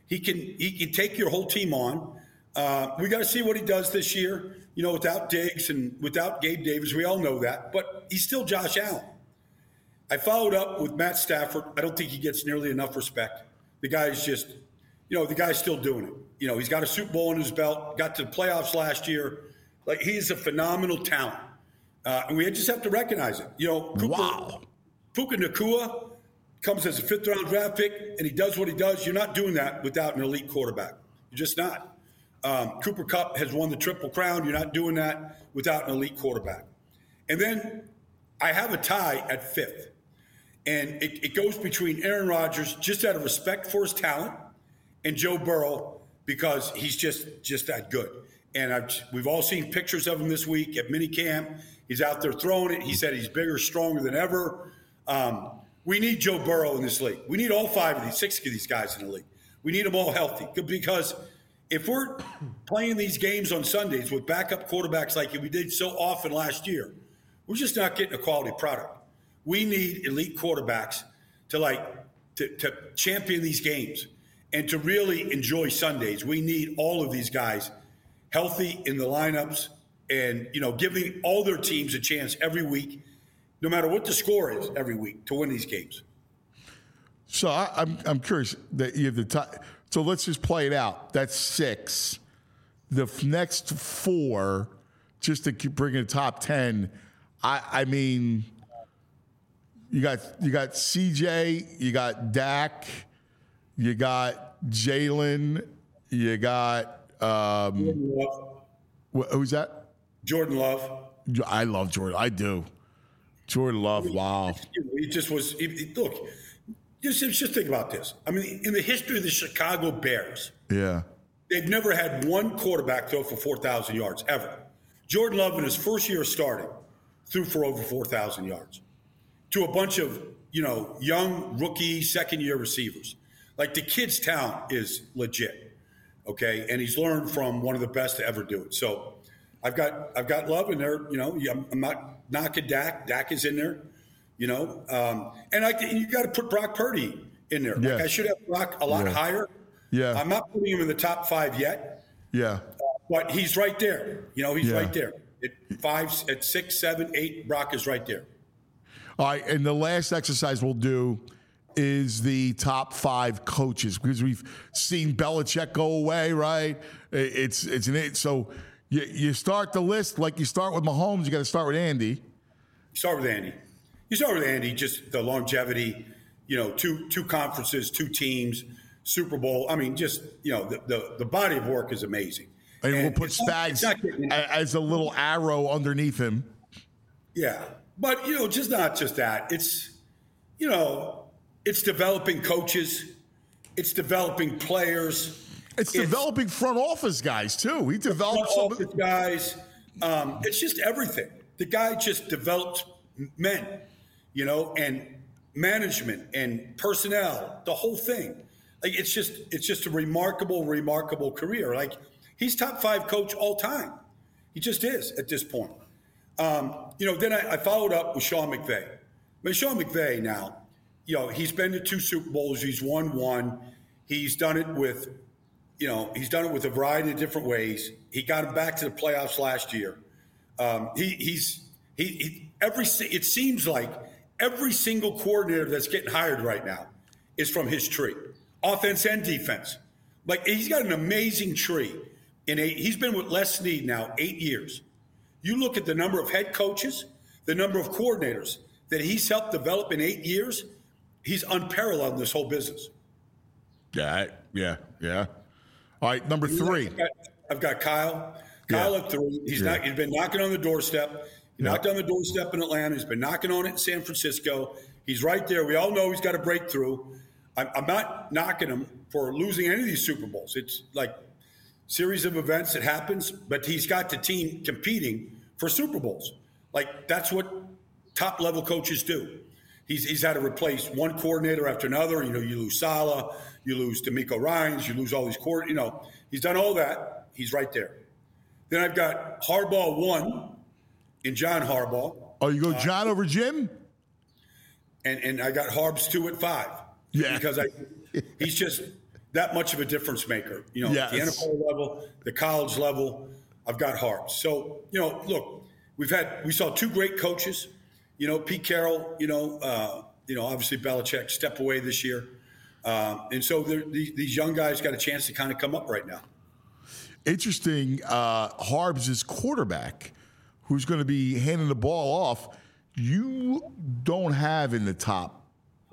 He can take your whole team on. We got to see what he does this year. Without Diggs and without Gabe Davis, we all know that. But he's still Josh Allen. I followed up with Matt Stafford. I don't think he gets nearly enough respect. The guy's just, the guy's still doing it. He's got a Super Bowl in his belt, got to the playoffs last year. Like, he's a phenomenal talent. And we just have to recognize it. Puka Nacua comes as a fifth-round draft pick, and he does what he does. You're not doing that without an elite quarterback. You're just not. Cooper Kupp has won the Triple Crown. You're not doing that without an elite quarterback. And then I have a tie at fifth. And it goes between Aaron Rodgers, just out of respect for his talent, and Joe Burrow, because he's just that good. And we've all seen pictures of him this week at minicamp. He's out there throwing it. He said he's bigger, stronger than ever. We need Joe Burrow in this league. We need all six of these guys in the league. We need them all healthy, because if we're playing these games on Sundays with backup quarterbacks like we did so often last year, we're just not getting a quality product. We need elite quarterbacks to champion these games and to really enjoy Sundays. We need all of these guys healthy in the lineups and, giving all their teams a chance every week, no matter what the score is every week, to win these games. So I'm curious that you have the time. So let's just play it out. That's 6. The next 4, just to bring in the top 10. I mean, you got CJ, you got Dak, you got Jalen, you got who's that? Jordan Love. I love Jordan. I do. Jordan Love. Wow. He just was. Look. Just think about this. I mean, in the history of the Chicago Bears, they've never had one quarterback throw for 4,000 yards, ever. Jordan Love, in his first year starting, threw for over 4,000 yards to a bunch of, young rookie second-year receivers. Like, the kid's talent is legit, okay? And he's learned from one of the best to ever do it. So I've got Love in there. I'm not knocking Dak. Dak is in there. And you got to put Brock Purdy in there. Like, I should have Brock a lot higher. Yeah, I'm not putting him in the top 5 yet. Yeah, but he's right there. He's right there. At 6, 7, 8, Brock is right there. All right, and the last exercise we'll do is the top 5 coaches, because we've seen Belichick go away. Right? So you start the list like you start with Mahomes. You got to start with Andy. Start with Andy, just the longevity, 2 conferences, 2 teams, Super Bowl. I mean, just, the body of work is amazing. And we'll put Spags as a little arrow underneath him. Yeah. But, just not just that. It's, it's developing coaches. It's developing players. It's developing front office guys, too. He developed front office guys. It's just everything. The guy just developed men. And management and personnel, the whole thing. Like, it's just a remarkable, remarkable career. Like, he's top 5 coach all time. He just is at this point. Then I followed up with Sean McVay. Sean McVay now, he's been to 2 Super Bowls. He's won 1. He's done it with, a variety of different ways. He got him back to the playoffs last year. It seems like every single coordinator that's getting hired right now is from his tree, offense and defense. Like, he's got an amazing tree. He's been with Les Snead now 8 years. You look at the number of head coaches, the number of coordinators that he's helped develop in 8 years, he's unparalleled in this whole business. Yeah. All right, number 3. I've got Kyle. Kyle at 3. He's been knocking on the doorstep. He knocked on the doorstep in Atlanta. He's been knocking on it in San Francisco. He's right there. We all know he's got a breakthrough. I'm not knocking him for losing any of these Super Bowls. It's like series of events that happens, but he's got the team competing for Super Bowls. Like, that's what top-level coaches do. He's had to replace one coordinator after another. You lose Saleh, you lose DeMeco Ryans, you lose all these coordinators. He's done all that. He's right there. Then I've got Harbaugh 1 and John Harbaugh. Oh, you go John over Jim? And I got Harbs 2 at 5. Yeah. Because he's just, that much of a difference maker. You know, Yes. at the NFL level, the college level, I've got Harbs. So, you know, look, we saw two great coaches. You know, Pete Carroll, obviously Belichick step away this year. And so these young guys got a chance to kind of come up right now. Interesting, Harbs' quarterback, who's going to be handing the ball off, you don't have in the top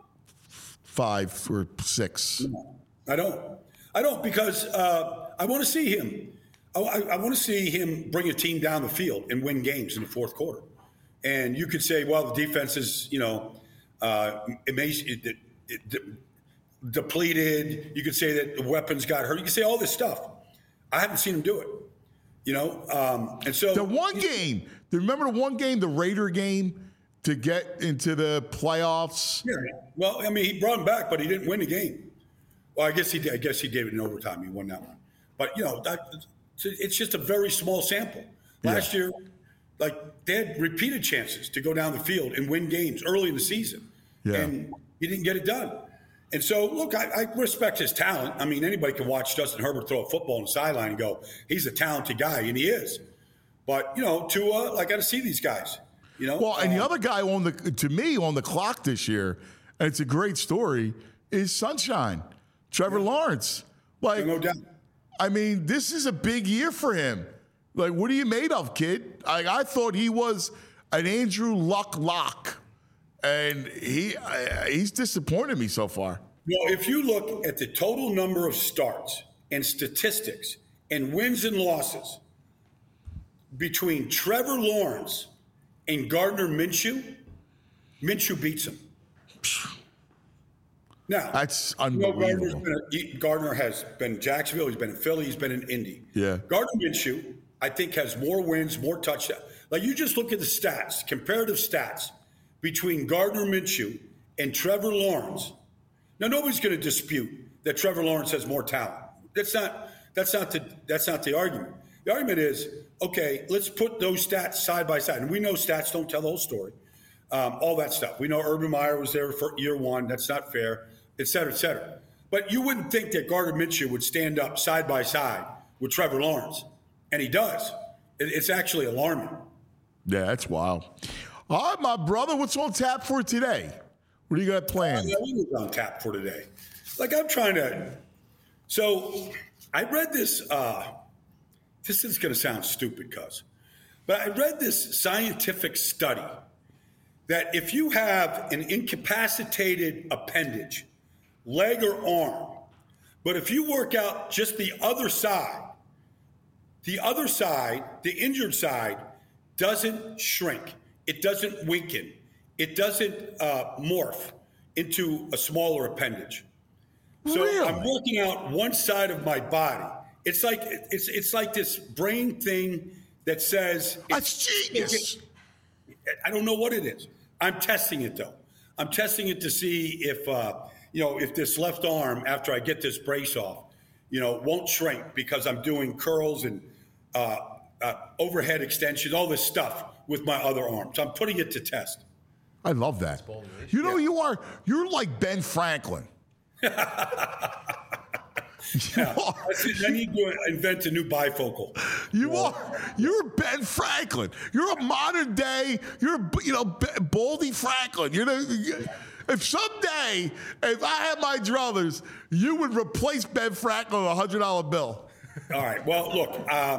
5 or 6. No, I don't because I want to see him. I want to see him bring a team down the field and win games in the fourth quarter. And you could say, well, the defense is, depleted. You could say that the weapons got hurt. You could say all this stuff. I haven't seen him do it, and so the one game. Remember the one game, the Raider game, to get into the playoffs. Yeah. Well, I mean, he brought him back, but he didn't win the game. Well, I guess he did. I guess he did it in overtime. He won that one. But it's just a very small sample. Last year, they had repeated chances to go down the field and win games early in the season, and he didn't get it done. And so, look, I respect his talent. I mean, anybody can watch Justin Herbert throw a football on the sideline and go, he's a talented guy, and he is. But, Tua, I got to see these guys. Well, and the other guy on the clock this year, and it's a great story, is Sunshine, Trevor Lawrence. No doubt. I mean, this is a big year for him. What are you made of, kid? I thought he was an Andrew Luck lock. And he's disappointed me so far. Well, if you look at the total number of starts and statistics and wins and losses between Trevor Lawrence and Gardner Minshew, Minshew beats him. Now, that's unbelievable. Gardner has been in Jacksonville. He's been in Philly. He's been in Indy. Yeah. Gardner Minshew, I think, has more wins, more touchdowns. You just look at the stats, comparative stats between Gardner Minshew and Trevor Lawrence. Now, nobody's going to dispute that Trevor Lawrence has more talent. That's not the argument. The argument is, okay, let's put those stats side by side. And we know stats don't tell the whole story. All that stuff. We know Urban Meyer was there for year one. That's not fair, et cetera, et cetera. But you wouldn't think that Gardner Minshew would stand up side by side with Trevor Lawrence. And he does. It's actually alarming. Yeah, that's wild. All right, my brother, what's on tap for today? What do you got planned? What was on tap for today? I'm trying to. So I read this. This is going to sound stupid, but I read this scientific study that if you have an incapacitated appendage, leg or arm, but if you work out just the other side, the injured side, doesn't shrink. It doesn't weaken. It doesn't morph into a smaller appendage. So really? I'm working out one side of my body. It's like this brain thing that says that's genius. I don't know what it is. I'm testing it though. I'm testing it to see if this left arm after I get this brace off, won't shrink because I'm doing curls and overhead extensions, all this stuff with my other arm. So I'm putting it to test. I love that. You're like Ben Franklin. I need to invent a new bifocal. You're Ben Franklin. You're a modern day. You're Baldy Franklin. If someday, if I had my druthers, you would replace Ben Franklin with a $100 bill. All right. Well, look,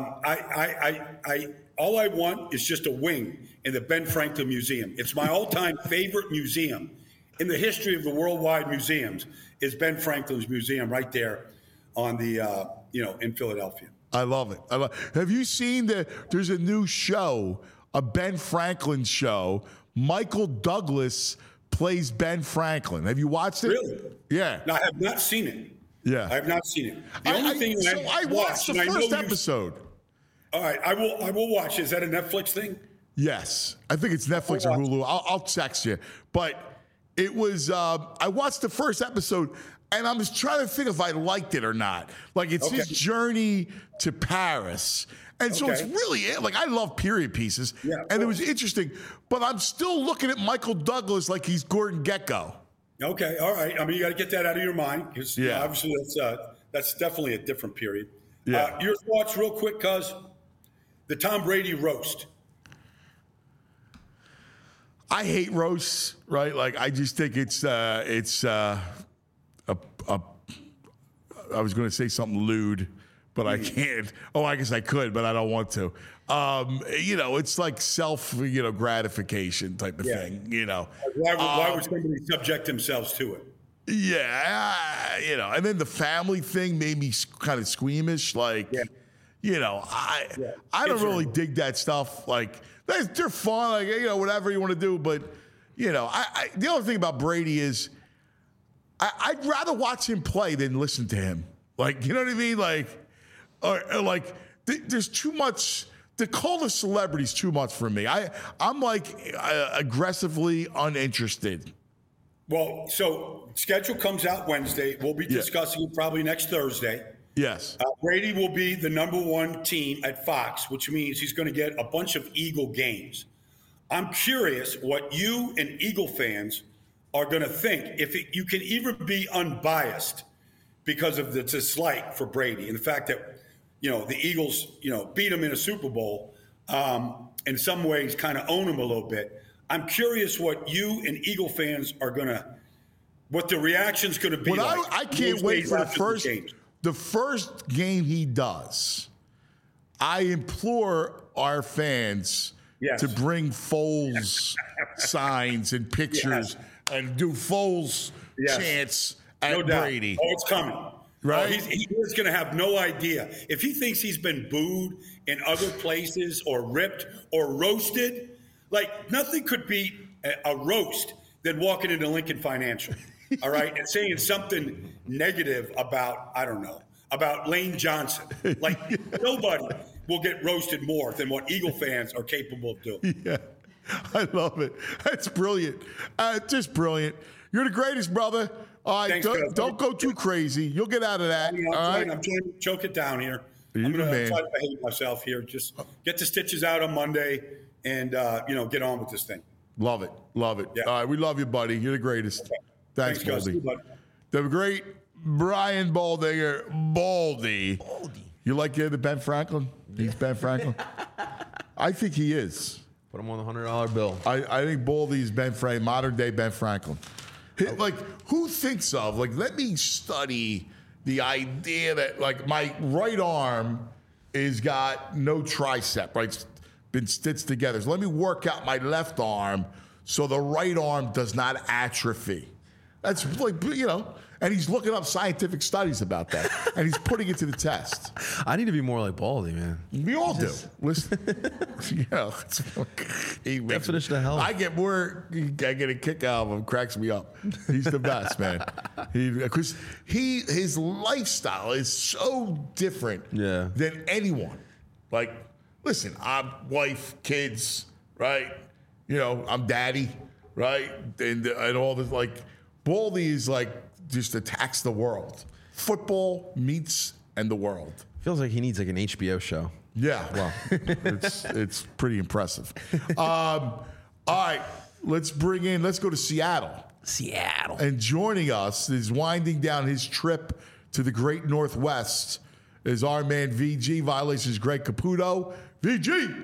all I want is just a wing in the Ben Franklin Museum. It's my all-time favorite museum in the history of the worldwide museums. Is Ben Franklin's museum right there on the in Philadelphia. I love it. Have you seen there's a new show, a Ben Franklin show. Michael Douglas plays Ben Franklin. Have you watched it? Really? Yeah. No, I have not seen it. Yeah. I have not seen it. The only thing I watched the first episode. All right, I will watch. Is that a Netflix thing? Yes. I think it's Netflix or Hulu. I'll text you. But it was I watched the first episode and I was trying to think if I liked it or not. It's his journey to Paris. And so it's really, I love period pieces. Yeah, and it was interesting. But I'm still looking at Michael Douglas like he's Gordon Gekko. Okay, all right. I mean, you got to get that out of your mind because obviously that's definitely a different period. Yeah. Your thoughts, real quick, cuz the Tom Brady roast. I hate roasts, right? Like I just think it's I was going to say something lewd, but I can't. Oh, I guess I could, but I don't want to. It's like self, gratification type of thing. Why would somebody subject themselves to it? Yeah, and then the family thing made me kind of squeamish. Like, I don't really dig that stuff. Like, they're fun, like, whatever you want to do. But, the other thing about Brady is I'd rather watch him play than listen to him. Like, you know what I mean? Like, or like, there's too much. The call of celebrity is too much for me. I'm like aggressively uninterested. Well, so schedule comes out Wednesday. We'll be discussing it probably next Thursday. Yes. Brady will be the number one team at Fox, which means he's going to get a bunch of Eagle games. I'm curious what you and Eagle fans are going to think. You can even be unbiased because of the dislike for Brady and the fact that, the Eagles, beat him in a Super Bowl, in some ways kind of own him a little bit. I'm curious what you and Eagle fans what the reaction's going to be like. I can't wait for the first game he does. I implore our fans to bring Foles signs and pictures and do Foles chants at Brady. Oh, it's coming. Right? He is going to have no idea. If he thinks he's been booed in other places or ripped or roasted, like nothing could beat a roast than walking into Lincoln Financial, all right, and saying something negative about, I don't know, about Lane Johnson. Like nobody will get roasted more than what Eagle fans are capable of doing. Yeah, I love it. That's brilliant. Just brilliant. You're the greatest, brother. All right, Thanks, don't go too crazy. You'll get out of that. I'm trying to choke it down here. I'm going to try to behave myself here. Just get the stitches out on Monday and, get on with this thing. Love it. Love it. Yeah. All right, we love you, buddy. You're the greatest. Okay. Thanks, Baldy. The great Brian Baldinger. Baldy. You like the Ben Franklin? He's Ben Franklin? I think he is. Put him on the $100 bill. I think Baldy's Ben Franklin, modern day Ben Franklin. Like, who thinks of, like, let me study the idea that, like, my right arm is got no tricep, right? It's been stitched together. So let me work out my left arm so the right arm does not atrophy. That's like, and he's looking up scientific studies about that, and he's putting it to the test. I need to be more like Baldy, man. We all do. Listen, Definition of health. I get a kick out of him. Cracks me up. He's the best, man. Because his lifestyle is so different than anyone. Like, listen, I'm wife, kids, right? I'm daddy, right? And all this, like, Baldy is like just attacks the world. Football, meats, and the world. Feels like he needs like an HBO show. Yeah, well, it's pretty impressive. All right, let's go to Seattle. And joining us is winding down his trip to the Great Northwest is our man VG, Violations Greg Caputo. VG!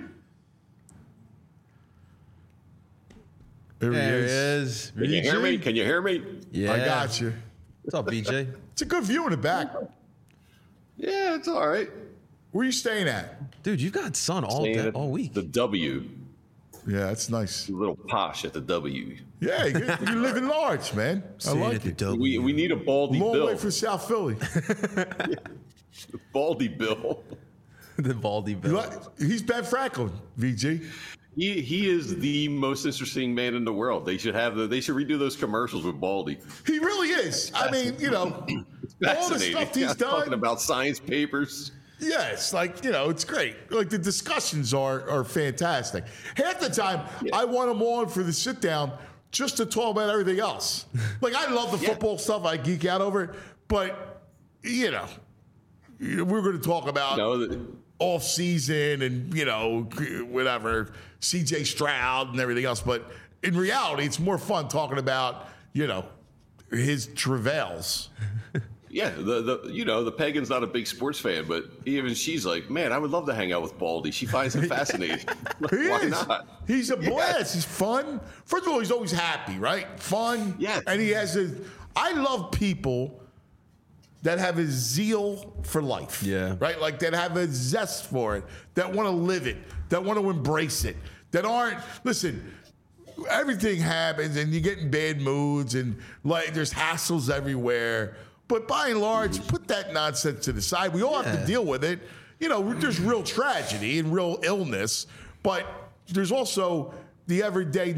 There he is. Can you hear me? Can you hear me? Yeah. I got you. What's up, BJ? It's a good view in the back. Yeah, it's all right. Where are you staying at? Dude, you've got sun all week. The W. Yeah, that's nice. A little posh at the W. Yeah, you're living large, man. I like it. We need a Baldy Long Bill. way from South Philly. The Baldy Bill. The Baldy Bill. He's Ben Franklin, VG. He is the most interesting man in the world. They should redo those commercials with Baldy. He really is. I mean, all the stuff he's done. Talking about science papers. Yeah, it's like, it's great. Like the discussions are fantastic. Half the time, I want him on for the sit down just to talk about everything else. Like, I love the football stuff. I geek out over it. But, we're going to talk about off season and, whatever, CJ Stroud and everything else. But in reality, it's more fun talking about, his travails. Yeah, the pagan's not a big sports fan, but even she's like, man, I would love to hang out with Baldy. She finds him fascinating. Why not? He's a blast. He's fun. First of all, he's always happy, right? Fun. Yeah. And he has I love people that have a zeal for life. Yeah. Right? Like that have a zest for it, that want to live it, that want to embrace it, that aren't, listen, everything happens and you get in bad moods and like there's hassles everywhere. But by and large, put that nonsense to the side. We all have to deal with it. You know, there's real tragedy and real illness, but there's also the everyday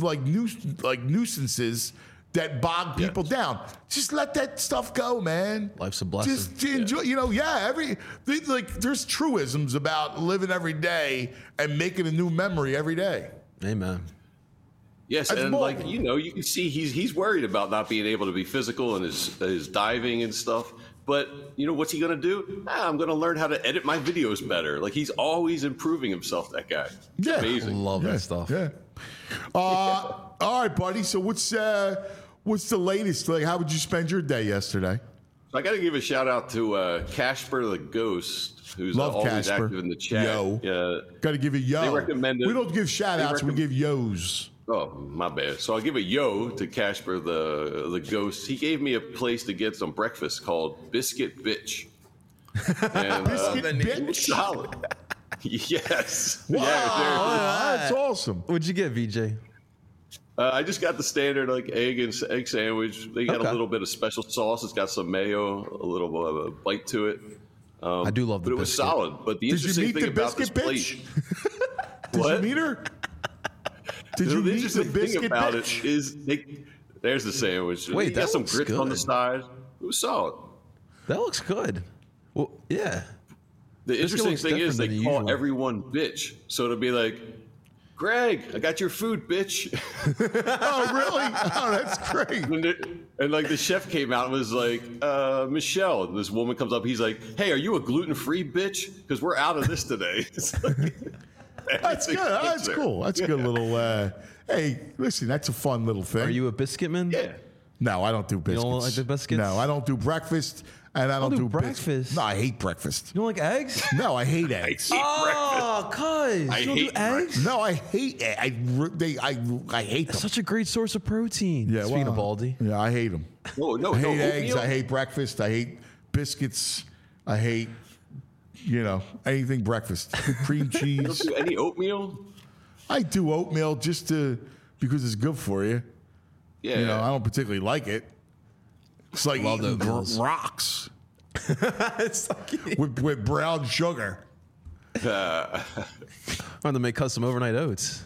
nuisances that bog people down. Just let that stuff go, man. Life's a blessing. Just enjoy. You know, there's truisms about living every day and making a new memory every day. Amen. Yes, That's and bold. you can see he's worried about not being able to be physical and his diving and stuff. But what's he gonna do? I'm gonna learn how to edit my videos better. Like he's always improving himself. That guy. It's amazing. Love that stuff. Yeah. All right, buddy. So what's the latest? Like, how would you spend your day yesterday? I got to give a shout out to Casper the Ghost, who's always Casper. active in the chat. Yo. Yeah. Got to give a yo. They recommended. We don't give shout outs. We give yos. Oh, my bad. So I'll give a yo to Casper the Ghost. He gave me a place to get some breakfast called Biscuit Bitch. And, Biscuit Bitch? It was solid. Yes. Wow. Yeah, That's awesome. What'd you get, VJ? I just got the standard egg sandwich. They got a little bit of special sauce. It's got some mayo, a little of a bite to it. I do love the but it was biscuit. solid. But the Did you interesting meet thing the about this biscuit place, bitch? Did What? you meet her? Did you the meet the interesting thing biscuit about bitch? it is there's the sandwich. Wait, you that got some looks grits on the good. side. It was solid. That looks good. Well, yeah. The interesting looks thing is different they than the call usual. everyone bitch. So to be like, Greg, I got your food, bitch. Oh, really? Oh, that's great. And like the chef came out and was like, Michelle, and this woman comes up. He's like, hey, are you a gluten-free bitch? Because we're out of this today. It's like, That's good. That's cool. That's a good little. Hey, listen, that's a fun little thing. Are you a biscuit man? Yeah. No, I don't do biscuits. don't like the biscuits? No, I don't do breakfast, and I don't do do breakfast? biscuits. No, I hate breakfast. You don't like eggs? No, I hate eggs. Oh, cuz. You don't do hate eggs? No, I hate. I hate them. Such a great source of protein. Yeah, Speaking well, of Baldy. Yeah, I hate them. No, I hate eggs. oatmeal? I hate breakfast. I hate biscuits. I hate, anything breakfast. Cream You don't cheese. do any oatmeal? I do oatmeal because it's good for you. Yeah. I don't particularly like it. It's like Love eating oatmeals. rocks It's like, with brown sugar. I'm going to make custom overnight oats.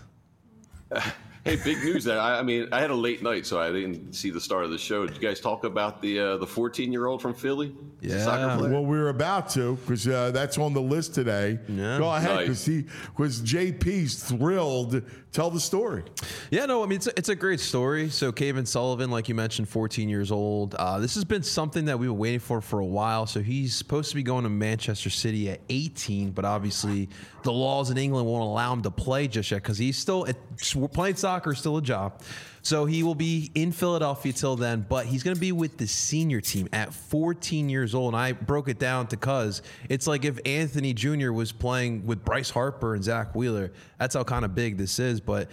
Hey, big news! I mean, I had a late night, so I didn't see the start of the show. Did you guys talk about the 14-year-old from Philly? Yeah. Soccer player? Well, we're about to because that's on the list today. Yeah. Go ahead, Nice. because JP's thrilled. Tell the story. Yeah, no, I mean, it's a great story. So, Caven Sullivan, like you mentioned, 14 years old. This has been something that we've been waiting for a while. So, he's supposed to be going to Manchester City at 18, but obviously the laws in England won't allow him to play just yet because he's still playing soccer is still a job. So, he will be in Philadelphia till then, but he's going to be with the senior team at 14 years old. And I broke it down to cuz it's like if Anthony Jr. was playing with Bryce Harper and Zach Wheeler. That's how kind of big this is. But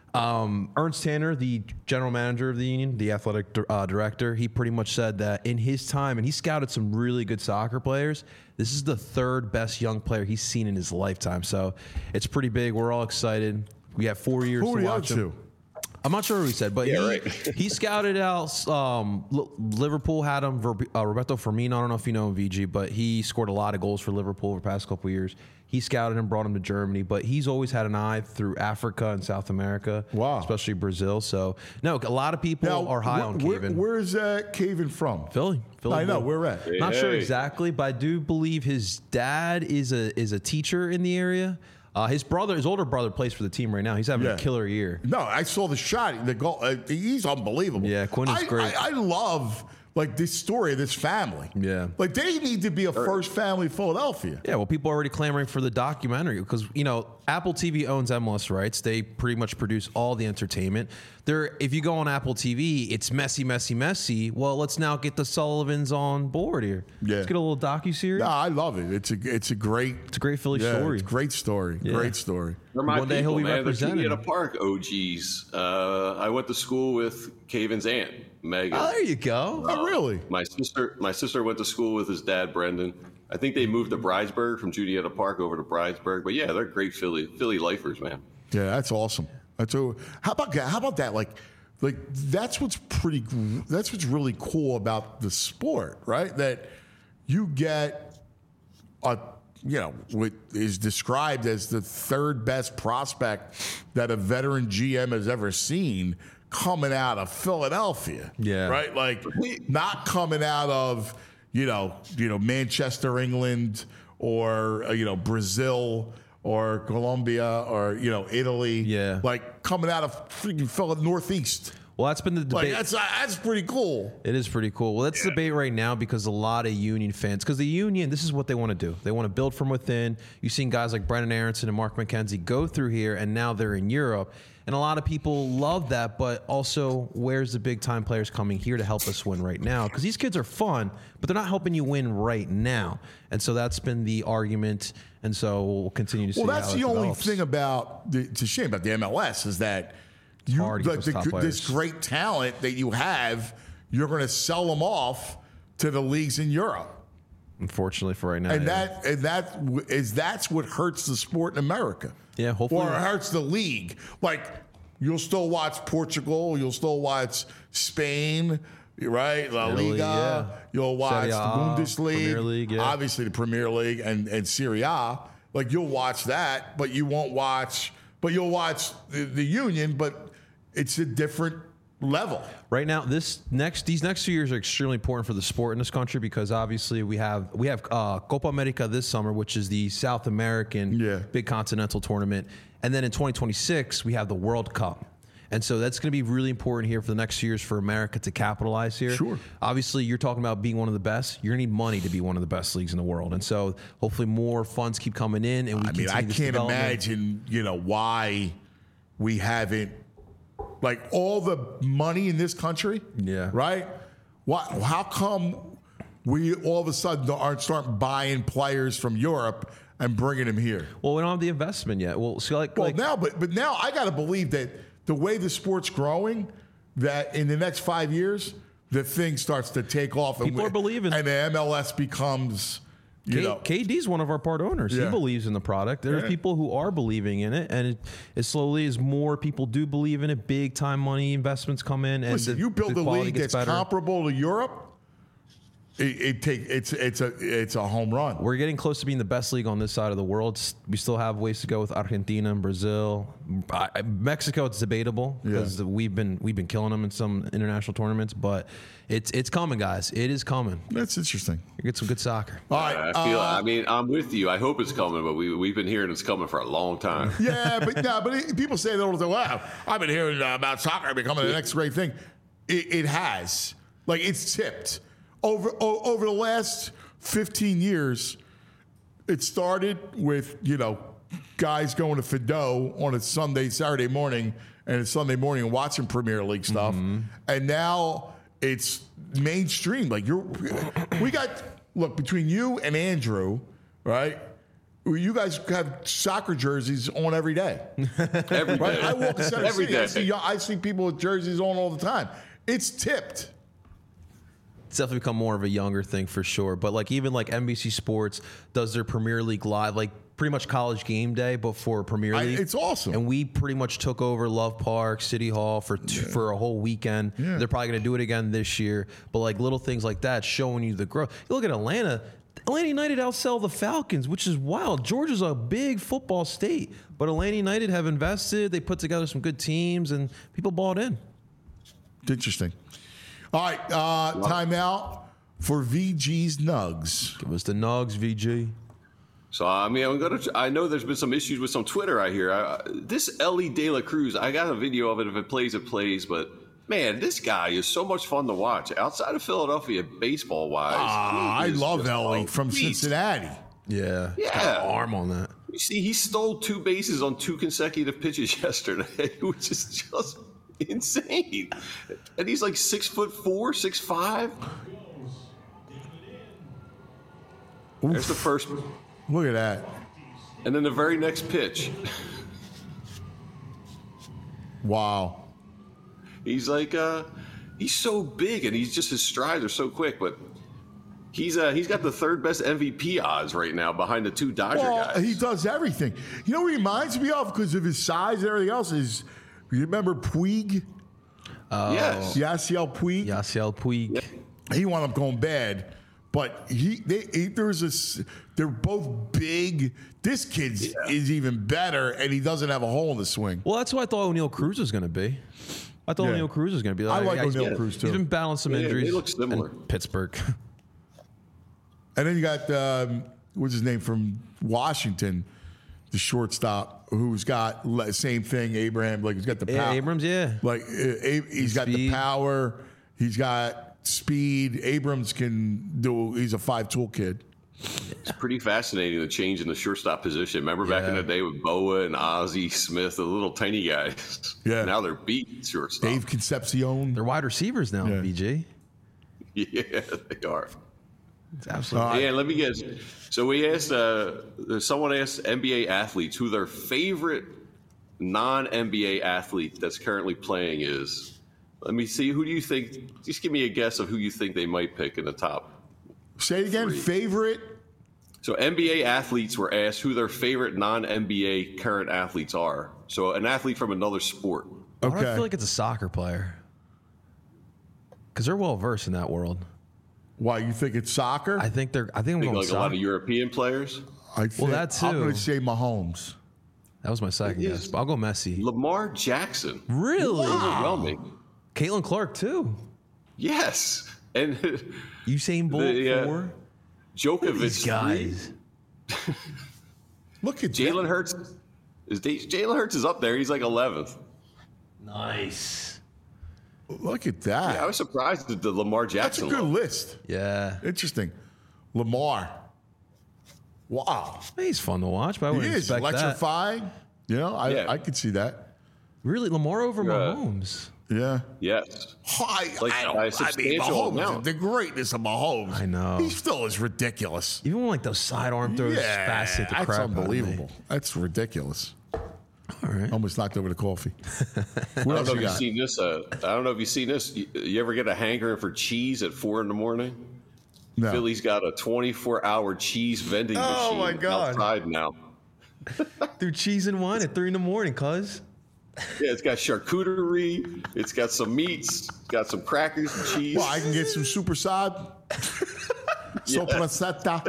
Ernst Tanner, the general manager of the union, the athletic director, he pretty much said that in his time, and he scouted some really good soccer players, this is the third best young player he's seen in his lifetime. So it's pretty big. We're all excited. We have 4 years Who are to you watch up him. to? I'm not sure what he said, but right. he scouted out. Liverpool had him. Roberto Firmino. I don't know if you know him, VG, but he scored a lot of goals for Liverpool over the past couple of years. He scouted him, brought him to Germany, but he's always had an eye through Africa and South America, Wow. especially Brazil. So, no, a lot of people are high on Caven. Where's Caven from? Philly. I know. Where at? Not sure Hey. exactly, but I do believe his dad is a teacher in the area. His older brother plays for the team right now. He's having a killer year. No, I saw the shot. The goal. He's unbelievable. Yeah, Quinn is great. I love like this story of this family. Yeah. Like they need to be a first family Philadelphia. Yeah, well, people are already clamoring for the documentary because, Apple TV owns MLS rights. They pretty much produce all the entertainment. If you go on Apple TV, it's messy, messy, messy. Well, let's now get the Sullivans on board here. Yeah. Let's get a little docuseries. No, I love it. It's a great Philly story. It's a great story. Yeah. Great story. They're my One day people, he'll be man. represented. They're Julietta Park OGs. I went to school with Caven's aunt, Megan. Oh, there you go. Oh, really? My sister went to school with his dad, Brendan. I think they moved to Bridesburg from Julietta Park over to Bridesburg. But yeah, they're great Philly lifers, man. Yeah, that's awesome. How about that? Like that's what's really cool about the sport, right? That you get what is described as the third best prospect that a veteran GM has ever seen coming out of Philadelphia. Yeah. Right? Like not coming out of, Manchester, England, or Brazil or Colombia or, Italy. Yeah. Like coming out of freaking Philadelphia, Northeast. Well, that's been the debate. Like that's pretty cool. It is pretty cool. Well, that's the debate right now because a lot of Union fans, because the Union, this is what they want to do. They want to build from within. You've seen guys like Brendan Aronson and Mark McKenzie go through here, and now they're in Europe. And a lot of people love that, but also, where's the big-time players coming here to help us win right now? Because these kids are fun, but they're not helping you win right now. And so that's been the argument, and so we'll continue to see how it Well, that's the only develops. thing it's a shame about the MLS is that this great talent that you have, you're going to sell them off to the leagues in Europe. Unfortunately for right now. And that's what hurts the sport in America. Yeah, hopefully. Or it hurts the league. Like, you'll still watch Portugal, you'll still watch Spain, right? La Italy, Liga. yeah. You'll watch Serie A, the Bundesliga. Premier League, yeah. Obviously the Premier League and Serie A. Like, you'll watch that, but you won't watch you'll watch the Union, but it's a different level. Right now, these next 2 years are extremely important for the sport in this country because obviously we have Copa America this summer, which is the South American big continental tournament, and then in 2026 we have the World Cup. And so that's going to be really important here for the next years for America to capitalize here. Sure. Obviously, you're talking about being one of the best. You're going to need money to be one of the best leagues in the world. And so hopefully more funds keep coming in. And I can't imagine, why we haven't, like, all the money in this country. Yeah. Right? How come we all of a sudden aren't starting buying players from Europe and bringing them here? Well, we don't have the investment yet. Well, so now I got to believe that the way the sport's growing, that in the next 5 years, the thing starts to take off. People are believing. And the MLS becomes, KD's one of our part owners. Yeah. He believes in the product. There are people who are believing in it. And it slowly, as more people do believe in it, big time money investments come in. And listen, you build a league that's comparable to Europe, it's a home run. We're getting close to being the best league on this side of the world. We still have ways to go with Argentina and Brazil. Mexico, it's debatable because we've been killing them in some international tournaments, but it's coming, guys. It is coming. That's interesting. You get some good soccer. All right. I'm with you. I hope it's coming, but we've been hearing it's coming for a long time. Yeah, but people say that all the time. Wow, I've been hearing about soccer becoming the next great thing. It has. Like, it's tipped. Over the last 15 years, it started with, guys going to Fido on a Saturday morning and a Sunday morning and watching Premier League stuff. Mm-hmm. And now it's mainstream. Like, between you and Andrew, right? You guys have soccer jerseys on every day. Every day. I walk in Center Every City. day. I see people with jerseys on all the time. It's tipped. It's definitely become more of a younger thing for sure. But even NBC Sports does their Premier League live, like pretty much college game day, but for Premier League. It's awesome. And we pretty much took over Love Park, City Hall for a whole weekend. Yeah. They're probably going to do it again this year. But little things like that showing you the growth. You look at Atlanta. Atlanta United outsell the Falcons, which is wild. Georgia's a big football state, but Atlanta United have invested. They put together some good teams, and people bought in. It's interesting. All right, time out for VG's Nugs. Give us the Nugs, VG. So, I know there's been some issues with some Twitter I hear. This Ellie De La Cruz, I got a video of it. If it plays, it plays. But Man, this guy is so much fun to watch. Outside of Philadelphia, baseball-wise. I love Ellie from Cincinnati. Yeah. Yeah. Got an arm on that. You see, he stole 2 bases on 2 consecutive pitches yesterday, which is just insane. And he's like 6'4", 6'5". There's the first. Look at that. And then the very next pitch. Wow. He's like, he's so big, and he's just, his strides are so quick, but he's got the 3rd best MVP odds right now behind the 2 Dodger guys. He does everything. You know what he reminds me of because of his size and everything else is, you remember Puig? Yes. Yasiel Puig? Yasiel Puig. Yeah. He wound up going bad, but they're both big. This kid is even better, and he doesn't have a hole in the swing. Well, that's what I thought O'Neal Cruz was going to be. I thought O'Neal Cruz was going to be. I like O'Neal Cruz, too. He's been battling some injuries. They look similar. In Pittsburgh. And then you got, what's his name, from Washington, the shortstop, who's got same thing, Abraham. Like, he's got the power. Yeah, Abrams, yeah. Like, he's got the power. He's got speed. Abrams can do, he's a 5-tool kid. It's pretty fascinating, the change in the shortstop position. Remember back in the day with Boa and Ozzie Smith, the little tiny guys? Yeah. Now they're beat shortstop. Dave Concepcion. They're wide receivers now, BJ. Yeah, they are. It's absolutely. And let me guess. So we asked, someone asked NBA athletes who their favorite non-NBA athlete that's currently playing is. Let me see. Who do you think? Just give me a guess of who you think they might pick in the top. Say it again. 3. Favorite? So NBA athletes were asked who their favorite non-NBA current athletes are. So an athlete from another sport. Okay. I feel like it's a soccer player because they're well versed in that world. Why, you think it's soccer? I think I'm going like soccer. A lot of European players. That too. I'm going to say Mahomes. That was my second guess, but I'll go Messi. Lamar Jackson. Really? Overwhelming. Caitlin Clark too. Yes, and Usain Bolt 4. Djokovic. These guys. Look at Jalen Hurts. Jalen Hurts is up there. He's like 11th. Nice. Look at that. Yeah, I was surprised at the Lamar Jackson. That's a good list. Yeah. Interesting. Lamar. Wow. He's fun to watch, but I wouldn't expect electrifying. that. You know, I could see that. Really? Lamar over Mahomes? Yeah. Yes. Mahomes, the greatness of Mahomes. I know. He still is ridiculous. Even when, like, those sidearm throws fascinate the crap that's out of me. unbelievable. That's ridiculous. All right. Almost knocked over the coffee. I don't know if you've seen this. I don't know if you've seen this. You ever get a hankering for cheese at 4 a.m? No. Philly's got a 24-hour cheese vending machine my God. outside now. Through cheese and wine at 3 a.m, cuz. Yeah, it's got charcuterie. It's got some meats. It's got some crackers and cheese. Well, I can get some supersad. Soprasetta.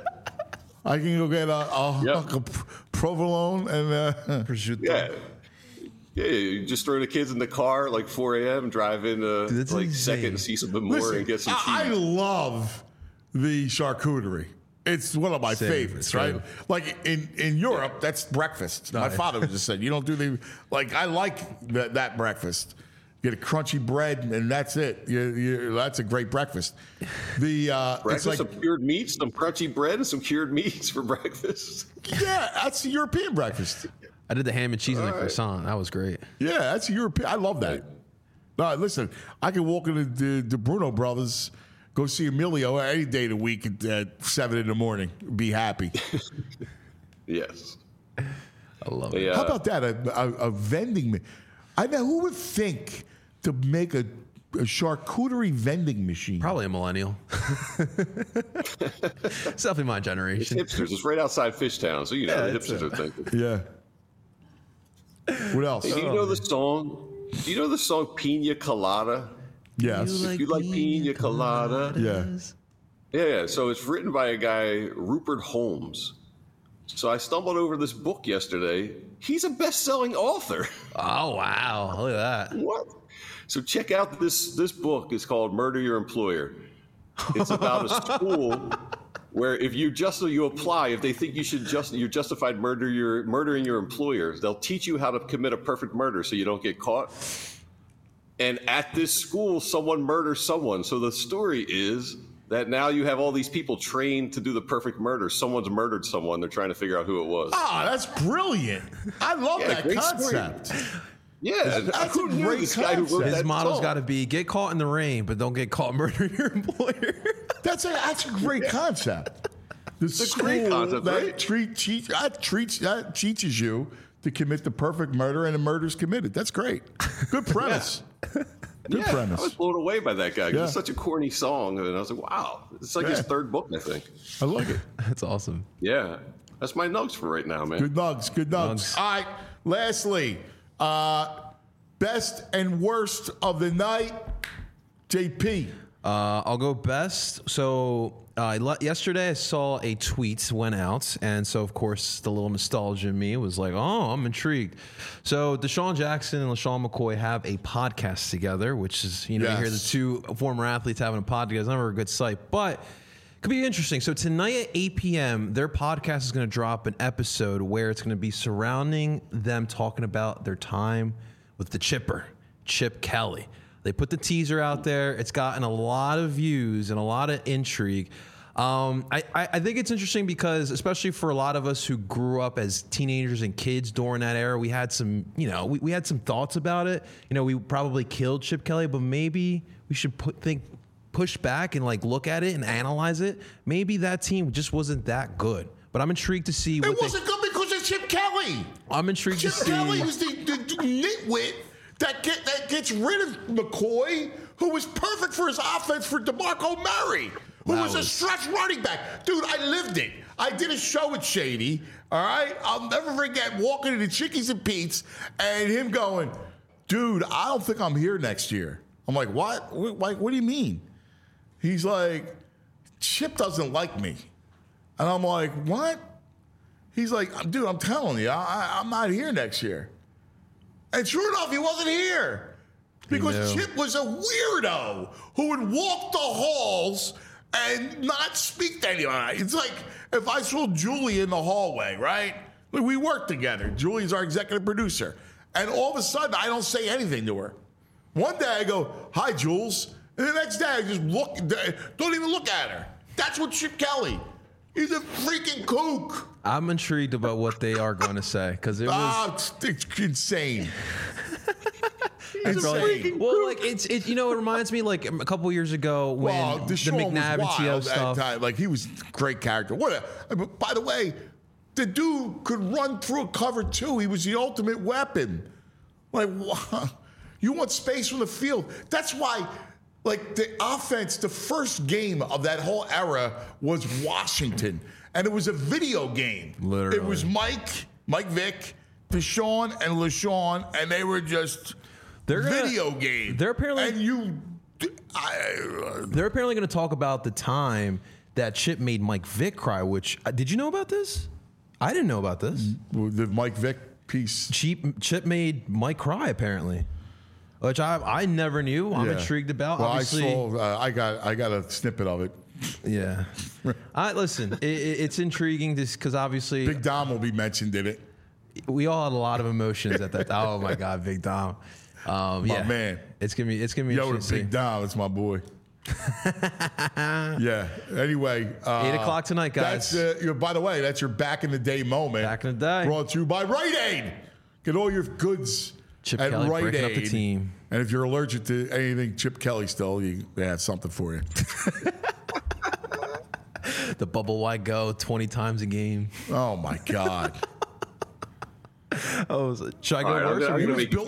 I can go get a provolone and prosciutto. Yeah, you just throw the kids in the car like 4 a.m. drive in like second and see something more and get some cheese. I love the charcuterie. It's one of my favorites, right? Like in Europe, that's breakfast. My father just said, you don't do I like that breakfast. Get a crunchy bread, and that's it. That's a great breakfast. Breakfast, it's like some cured meats, some crunchy bread, and some cured meats for breakfast. Yeah, that's the European breakfast. I did the ham and cheese and the croissant. That was great. Yeah, that's European. I love that. Listen, I can walk into the Bruno Brothers, go see Emilio any day of the week at 7 a.m. Be happy. Yes. I love it. How about that? A vending. I know who would think to make a charcuterie vending machine. Probably a millennial. It's definitely my generation. It's hipsters. It's right outside Fishtown, so the hipsters are thinking. Yeah. What else? Hey, do you know the song? Do you know the song Pina Colada? Yes. If you like Pina Colada. Yeah. So it's written by a guy, Rupert Holmes. So I stumbled over this book yesterday. He's a best-selling author. Oh, wow. Look at that. What? So check out this book. It's called Murder Your Employer. It's about a school where if you apply, if they think you're justified murdering your employer, they'll teach you how to commit a perfect murder so you don't get caught. And at this school, someone murders someone. So the story is that now you have all these people trained to do the perfect murder. Someone's murdered someone. They're trying to figure out who it was. Ah, that's brilliant. I love that concept. Story. Yeah, that's a great guy who wrote His that motto's song. got to be get caught in the rain, but don't get caught murdering your employer. That's a great concept. The It's a great concept, right? teaches you to commit the perfect murder, and the murder's committed. That's great. Good premise. Good premise. I was blown away by that guy. Yeah. It's such a corny song, and I was like, "Wow, it's like his third book, I think." I like it. That's awesome. Yeah, that's my nugs for right now, man. Good nugs. Good nugs. All right. Lastly, best and worst of the night, JP. I'll go best. So yesterday I saw a tweet went out, and so of course the little nostalgia in me was like, "Oh, I'm intrigued." So Deshaun Jackson and LaShawn McCoy have a podcast together, which is you hear the two former athletes having a podcast. It's never a good sight, but it could be interesting. So tonight at 8 p.m., their podcast is going to drop an episode where it's going to be surrounding them talking about their time with the Chipper, Chip Kelly. They put the teaser out there. It's gotten a lot of views and a lot of intrigue. I think it's interesting because, especially for a lot of us who grew up as teenagers and kids during that era, we had some, we had some thoughts about it. We probably killed Chip Kelly, but maybe we should push back and look at it and analyze it. Maybe that team just wasn't that good. But I'm intrigued to see. It wasn't good because of Chip Kelly. I'm intrigued to see. Chip Kelly was the nitwit that gets rid of McCoy, who was perfect for his offense for DeMarco Murray, who was a stretch running back. Dude, I lived it. I did a show at Shady, all right? I'll never forget walking into Chickies and Pete's and him going, dude, I don't think I'm here next year. I'm like, what? What do you mean? He's like, Chip doesn't like me. And I'm like, what? He's like, dude, I'm telling you, I'm not here next year. And sure enough, he wasn't here because Chip was a weirdo who would walk the halls and not speak to anyone. It's like if I saw Julie in the hallway, right? We work together. Julie's our executive producer. And all of a sudden, I don't say anything to her. One day I go, hi, Jules. And the next day I just don't even look at her. That's what Chip Kelly. He's a freaking kook. I'm intrigued about what they are going to say because it was it's insane. It's it reminds me like a couple years ago when the McNabb and TL stuff. Time. Like he was a great character. By the way, the dude could run through a cover too. He was the ultimate weapon. Like you want space from the field. That's why. Like the offense, the first game of that whole era was Washington, and it was a video game. Literally, it was Mike Vick, Deshaun, and LaShawn, and they were just video game. They're apparently they're apparently going to talk about the time that Chip made Mike Vick cry. Which did you know about this? I didn't know about this. The Mike Vick piece. Chip made Mike cry apparently. Which I never knew. I'm intrigued about. Well, obviously, I got a snippet of it. Yeah. Listen, it's intriguing because obviously Big Dom will be mentioned in it. We all had a lot Oh my God, Big Dom. My man. It's gonna be interesting. Big Dom, it's my boy. Yeah. Anyway, 8 o'clock tonight, guys. That's by the way, that's your back in the day moment. Back in the day. Brought to you by Rite Aid. Get all your goods. Chip at Kelly Rite breaking Aid. up the team. And if you're allergic to anything Chip Kelly stole, they have something for you. The bubble wide go 20 times a game. Oh my God. Should I go worse? I'm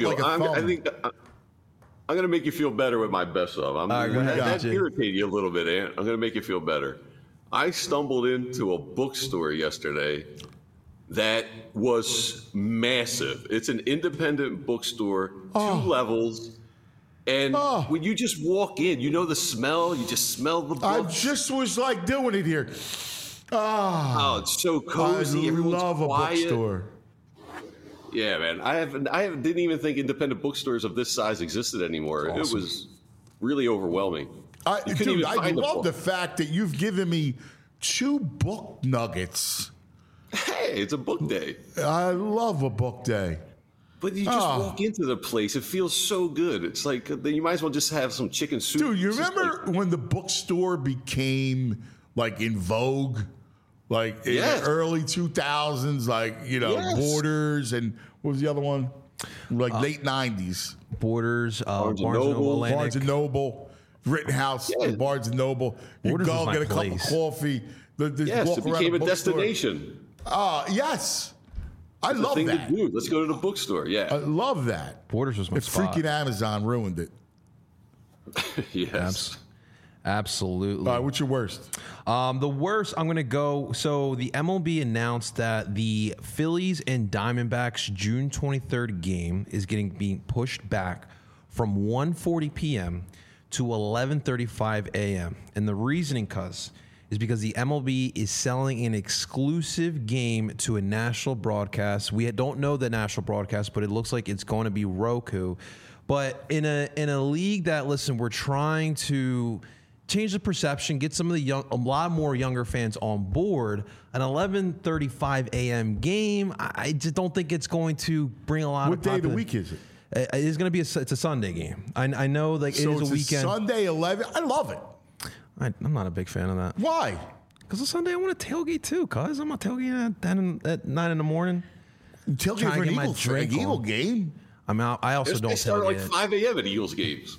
going to make you feel better with my best of. That irritated you a little bit, Ant. I'm going to make you feel better. I stumbled into a bookstore yesterday that was massive. It's an independent bookstore, 2 levels. And when you just walk in, you know the smell. You just smell the books. I just was like doing it here. Oh, it's so cozy. I Everyone's love quiet. A bookstore. Yeah, man. I didn't even think independent bookstores of this size existed anymore. Awesome. It was really overwhelming. I love the fact that you've given me 2 book nuggets. Hey, it's a book day. I love a book day. But you just walk into the place. It feels so good. It's like you might as well just have some chicken soup. Dude, you remember when the bookstore became like in vogue? Like in the early 2000s, like, Borders, and what was the other one? Like late 90s. Borders, Barnes & Noble, Barnes & Noble, Rittenhouse, Barnes & Noble. You Borders go was get a my cup of place. coffee. Yes, it became a destination. Yes. I It's love a thing that. to do. Let's go to the bookstore. Yeah. I love that. Borders was my If spot. freaking Amazon ruined it. Yes. Absolutely. All right, what's your worst? The worst, I'm going to go. So the MLB announced that the Phillies and Diamondbacks June 23rd game is being pushed back from 1:40 p.m. to 11:35 a.m. And the reasoning, is because the MLB is selling an exclusive game to a national broadcast. We don't know the national broadcast, but it looks like it's going to be Roku. But in a league that, listen, we're trying to change the perception, get some of a lot more younger fans on board. An 11:35 a.m. game, I just don't think it's going to bring a lot. What day of the week is it? It's going to be it's a Sunday game. I know, like, So it is a weekend. Sunday 11. I love it. I'm not a big fan of that. Why? Because on Sunday I want to tailgate too. Cause I'm not tailgating at 9 in the morning. Tailgate Trying for to an get my drink Eagle on. game? I'm out. I also don't They start tailgate. like 5 a.m. at Eagles games.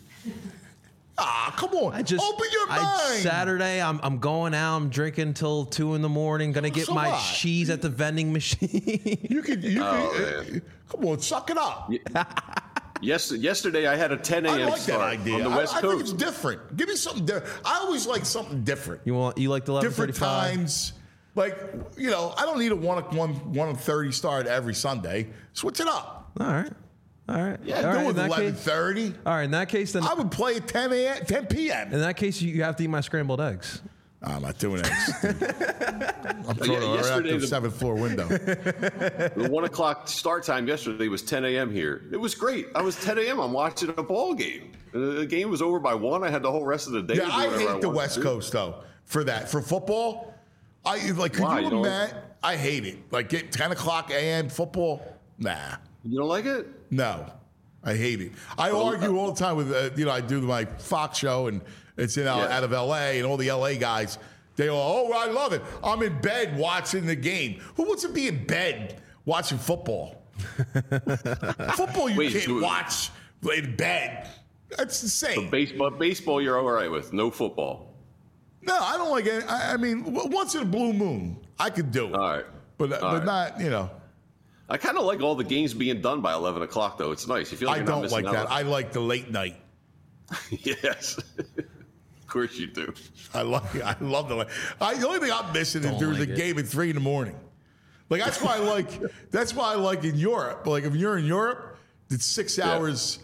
Come on. Open your mind. Saturday, I'm going out. I'm drinking till 2 in the morning. Gonna get So my what? cheese at the vending machine. You can come on, suck it up. Yesterday I had a 10 a.m. I like that start idea. on the West I think Coast. it's different. Give me something different. I always like something different. You like the 11:35? Different times. Like, I don't need a 1:30 start every Sunday. Switch it up. All right. Yeah, All do right, it in that case- 11:30. All right. In that case, then I would play at 10 p.m. in that case you have to eat my scrambled eggs. I'm not doing that. I'm throwing it right out yesterday the 7th floor window. The 1 o'clock start time yesterday was 10 a.m. here. It was great. I was 10 a.m. I'm watching a ball game. The game was over by 1. I had the whole rest of the day. Yeah, to do I whatever hate the wanted West to do. Coast though for that. For football, could Why? you You don't- imagine? I hate it. Like get 10 o'clock a.m. football. Nah, You don't like it? no, I hate it. I argue all the time with I do my Fox show and it's out of L.A. and all the L.A. guys. They all, I love it. I'm in bed watching the game. Who wants to be in bed watching football? Football you can't watch in bed. That's insane. Baseball, you're all right with. No football. No, I don't like it. I mean, once in a blue moon, I could do it. All right. But right. not, I kind of like all the games being done by 11 o'clock, though. It's nice. You feel like I you're not don't missing like out that. I like the late night. Yes. Of course you do. I love the late. The only thing I'm missing is there's a game at 3 in the morning. Like that's why I like in Europe. Like if you're in Europe, it's 6 hours.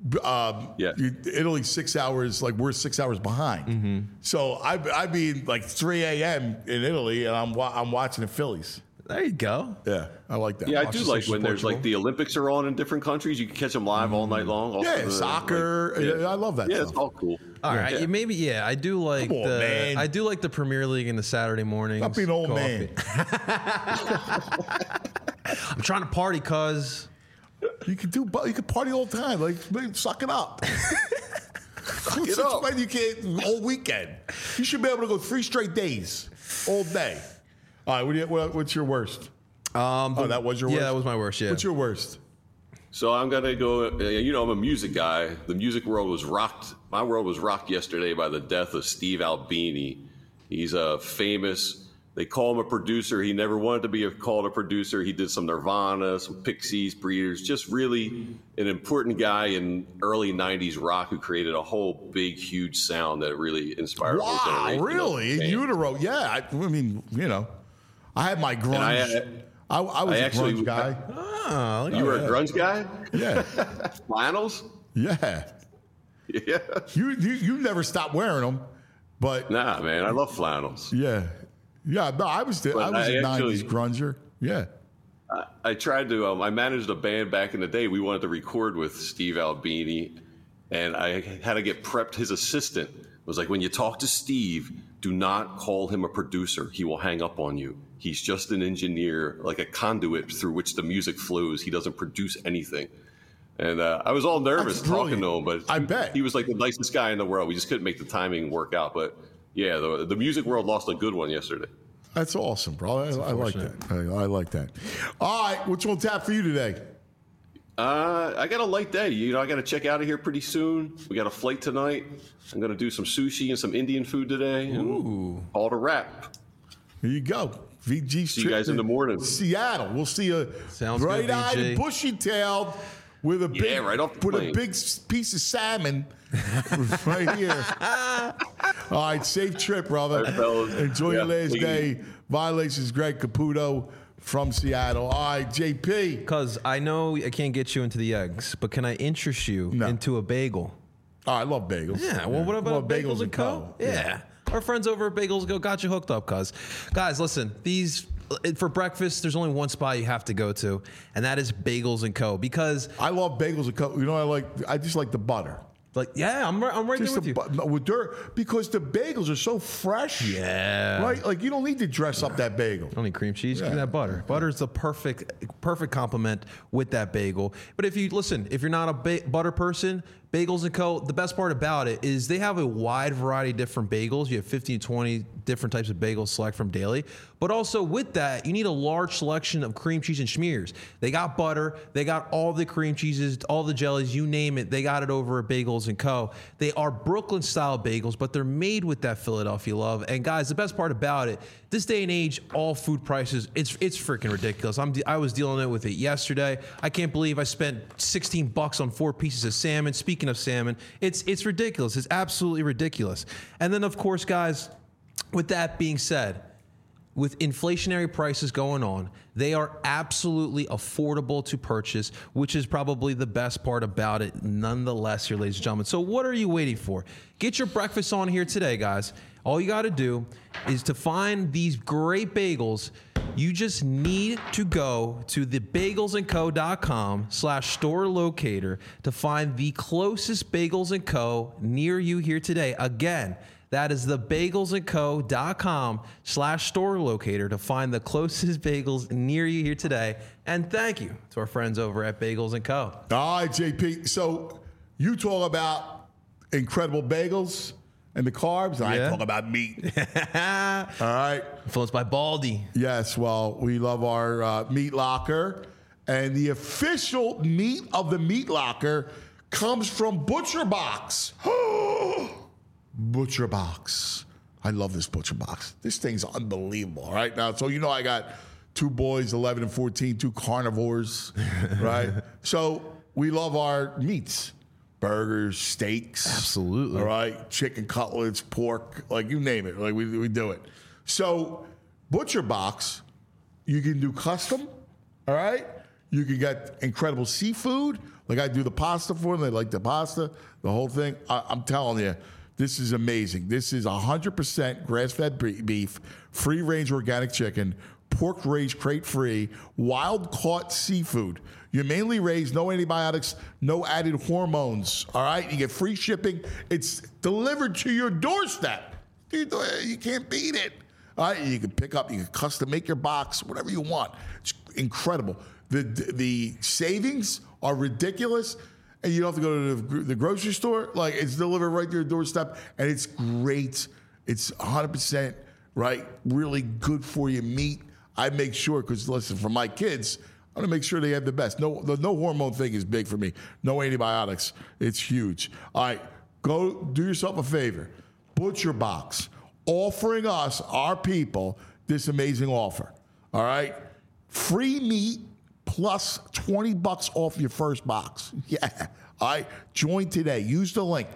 Italy's 6 hours. Like we're 6 hours behind. Mm-hmm. So I mean like 3 a.m. in Italy, and I'm watching the Phillies. There you go. Yeah, I like that. Yeah, I do like when there's like the Olympics are on in different countries. You can catch them live all night long. Also Yeah, soccer. I love that. Yeah, stuff. it's all cool. All right, I do like Come on, man. I do like the Premier League in the Saturday mornings. Stop being an old man. I'm trying to party, cuz. You can party all the time. Like suck it up. Suck it up. You can't all weekend. You should be able to go 3 straight days, all day. All right, what's your worst? That was your worst? Yeah, that was my worst, yeah. What's your worst? So I'm gonna go. I'm a music guy. The music world was rocked. My world was rocked yesterday by the death of Steve Albini. He's a famous. They call him a producer. He never wanted to be called a producer. He did some Nirvana, some Pixies, Breeders. Just really an important guy in early '90s rock who created a whole big, huge sound that really inspired a whole Wow, generation. really? In utero? Yeah. I mean, I had my grunge. I was a grunge guy. Oh, You were a grunge guy? Yeah. Flannels? Yeah. Yeah. You never stopped wearing them, but Nah, man, I love flannels. yeah. No, I was a actually- 90s grunger. Yeah. I tried to. I managed a band back in the day. We wanted to record with Steve Albini, and I had to get prepped. His assistant was like, "When you talk to Steve, do not call him a producer. He will hang up on you. He's just an engineer, like a conduit through which the music flows. He doesn't produce anything. And I was all nervous talking to him, but I bet he was like the nicest guy in the world. We just couldn't make the timing work out. But yeah, the music world lost a good one yesterday. That's awesome, bro. I like that. I like that. All right, what's on tap for you today? I got a light day. I got to check out of here pretty soon. We got a flight tonight. I'm going to do some sushi and some Indian food today. And call it a wrap. Here you go. VG See you guys in the morning. Seattle. We'll see you bright-eyed and bushy-tailed with a big, right off the plane. A big piece of salmon right here. All right, safe trip, brother. Right, enjoy your last day. Violations, Greg Caputo from Seattle. All right, JP. Because I know I can't get you into the eggs, but can I interest you into a bagel? Oh, I love bagels. Yeah, well, what about Bagels & Co.? Yeah. Our friends over at Bagels & Co. got you hooked up, cuz. Guys, listen, for breakfast, there's only one spot you have to go to, and that is Bagels & Co. Because I love Bagels & Co. I just like the butter. Like, yeah, I'm right there with you. Because the bagels are so fresh. Yeah. Right? Like, you don't need to dress up that bagel. Don't need cream cheese. Give me that butter. Butter is the perfect complement with that bagel. But if you're not a butter person, Bagels & Co., the best part about it is they have a wide variety of different bagels. You have 15 to 20 different types of bagels select from daily. But also with that, you need a large selection of cream cheese and schmears. They got butter. They got all the cream cheeses, all the jellies, you name it. They got it over at Bagels & Co. They are Brooklyn-style bagels, but they're made with that Philadelphia love. And guys, the best part about it, this day and age, all food prices, it's freaking ridiculous. I was dealing with it yesterday. I can't believe I spent $16 on 4 pieces of salmon. Speaking of salmon, it's ridiculous. It's absolutely ridiculous. And then, of course, guys, with that being said, with inflationary prices going on, they are absolutely affordable to purchase, which is probably the best part about it nonetheless here, ladies and gentlemen. So what are you waiting for? Get your breakfast on here today, guys. All you got to do is to find these great bagels. You just need to go to thebagelsandco.com/store locator to find the closest Bagels & Co. near you here today. Again, that is thebagelsandco.com/store locator to find the closest bagels near you here today. And thank you to our friends over at Bagels & Co. All right, JP. So you talk about incredible bagels and the carbs, and I talk about meat. All right. Influenced by Baldy. Yes, well, we love our Meat Locker. And the official meat of the Meat Locker comes from Butcher Box. Butcher Box. I love this Butcher Box. This thing's unbelievable. All right, now, so I got 2 boys, 11 and 14, 2 carnivores, right? So we love our meats. Burgers, steaks. Absolutely. All right, chicken cutlets, pork, like you name it. Like we do it. So Butcher Box, you can do custom, all right? You can get incredible seafood. Like I do the pasta for them. They like the pasta, the whole thing. I'm telling you, this is amazing. This is 100% grass-fed beef, free-range organic chicken, pork raised crate-free, wild-caught seafood. You're mainly raised, no antibiotics, no added hormones, all right? You get free shipping. It's delivered to your doorstep. Dude, you can't beat it. All right, you can pick up, you can custom make your box, whatever you want. It's incredible. The savings are ridiculous, and you don't have to go to the grocery store. Like, it's delivered right to your doorstep, and it's great. It's 100%, right, really good for you meat. I make sure, because listen, for my kids, I want to make sure they have the best. No hormone thing is big for me. No antibiotics. It's huge. All right, go do yourself a favor. Butcher Box, offering us, our people, this amazing offer. All right? Free meat plus $20 off your first box. Yeah. All right? Join today. Use the link,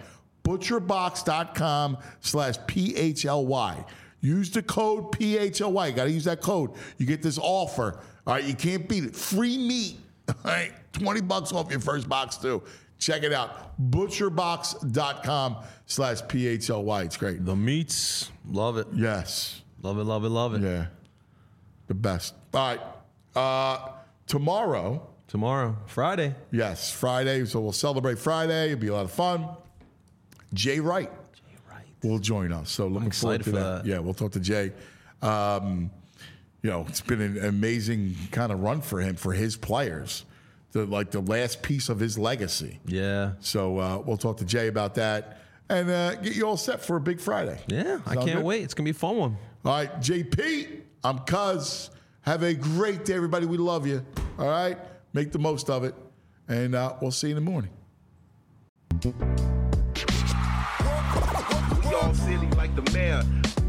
butcherbox.com/PHLY. Use the code PHLY. You got to use that code. You get this offer. All right? You can't beat it. Free meat. All right? $20 off your first box, too. Check it out. Butcherbox.com/PHLY. It's great. The meats. Love it. Yes. Love it, love it, love it. Yeah. The best. All right. Tomorrow. Friday. Yes, Friday. So we'll celebrate Friday. It'll be a lot of fun. Jay Wright. will join us. So looking forward to that. Yeah, we'll talk to Jay. It's been an amazing kind of run for him, for his players, the last piece of his legacy. Yeah. So we'll talk to Jay about that and get you all set for a big Friday. Yeah, I can't wait. It's going to be a fun one. All right, JP, I'm Cuz. Have a great day, everybody. We love you. All right? Make the most of it. And we'll see you in the morning. We all silly like the mayor.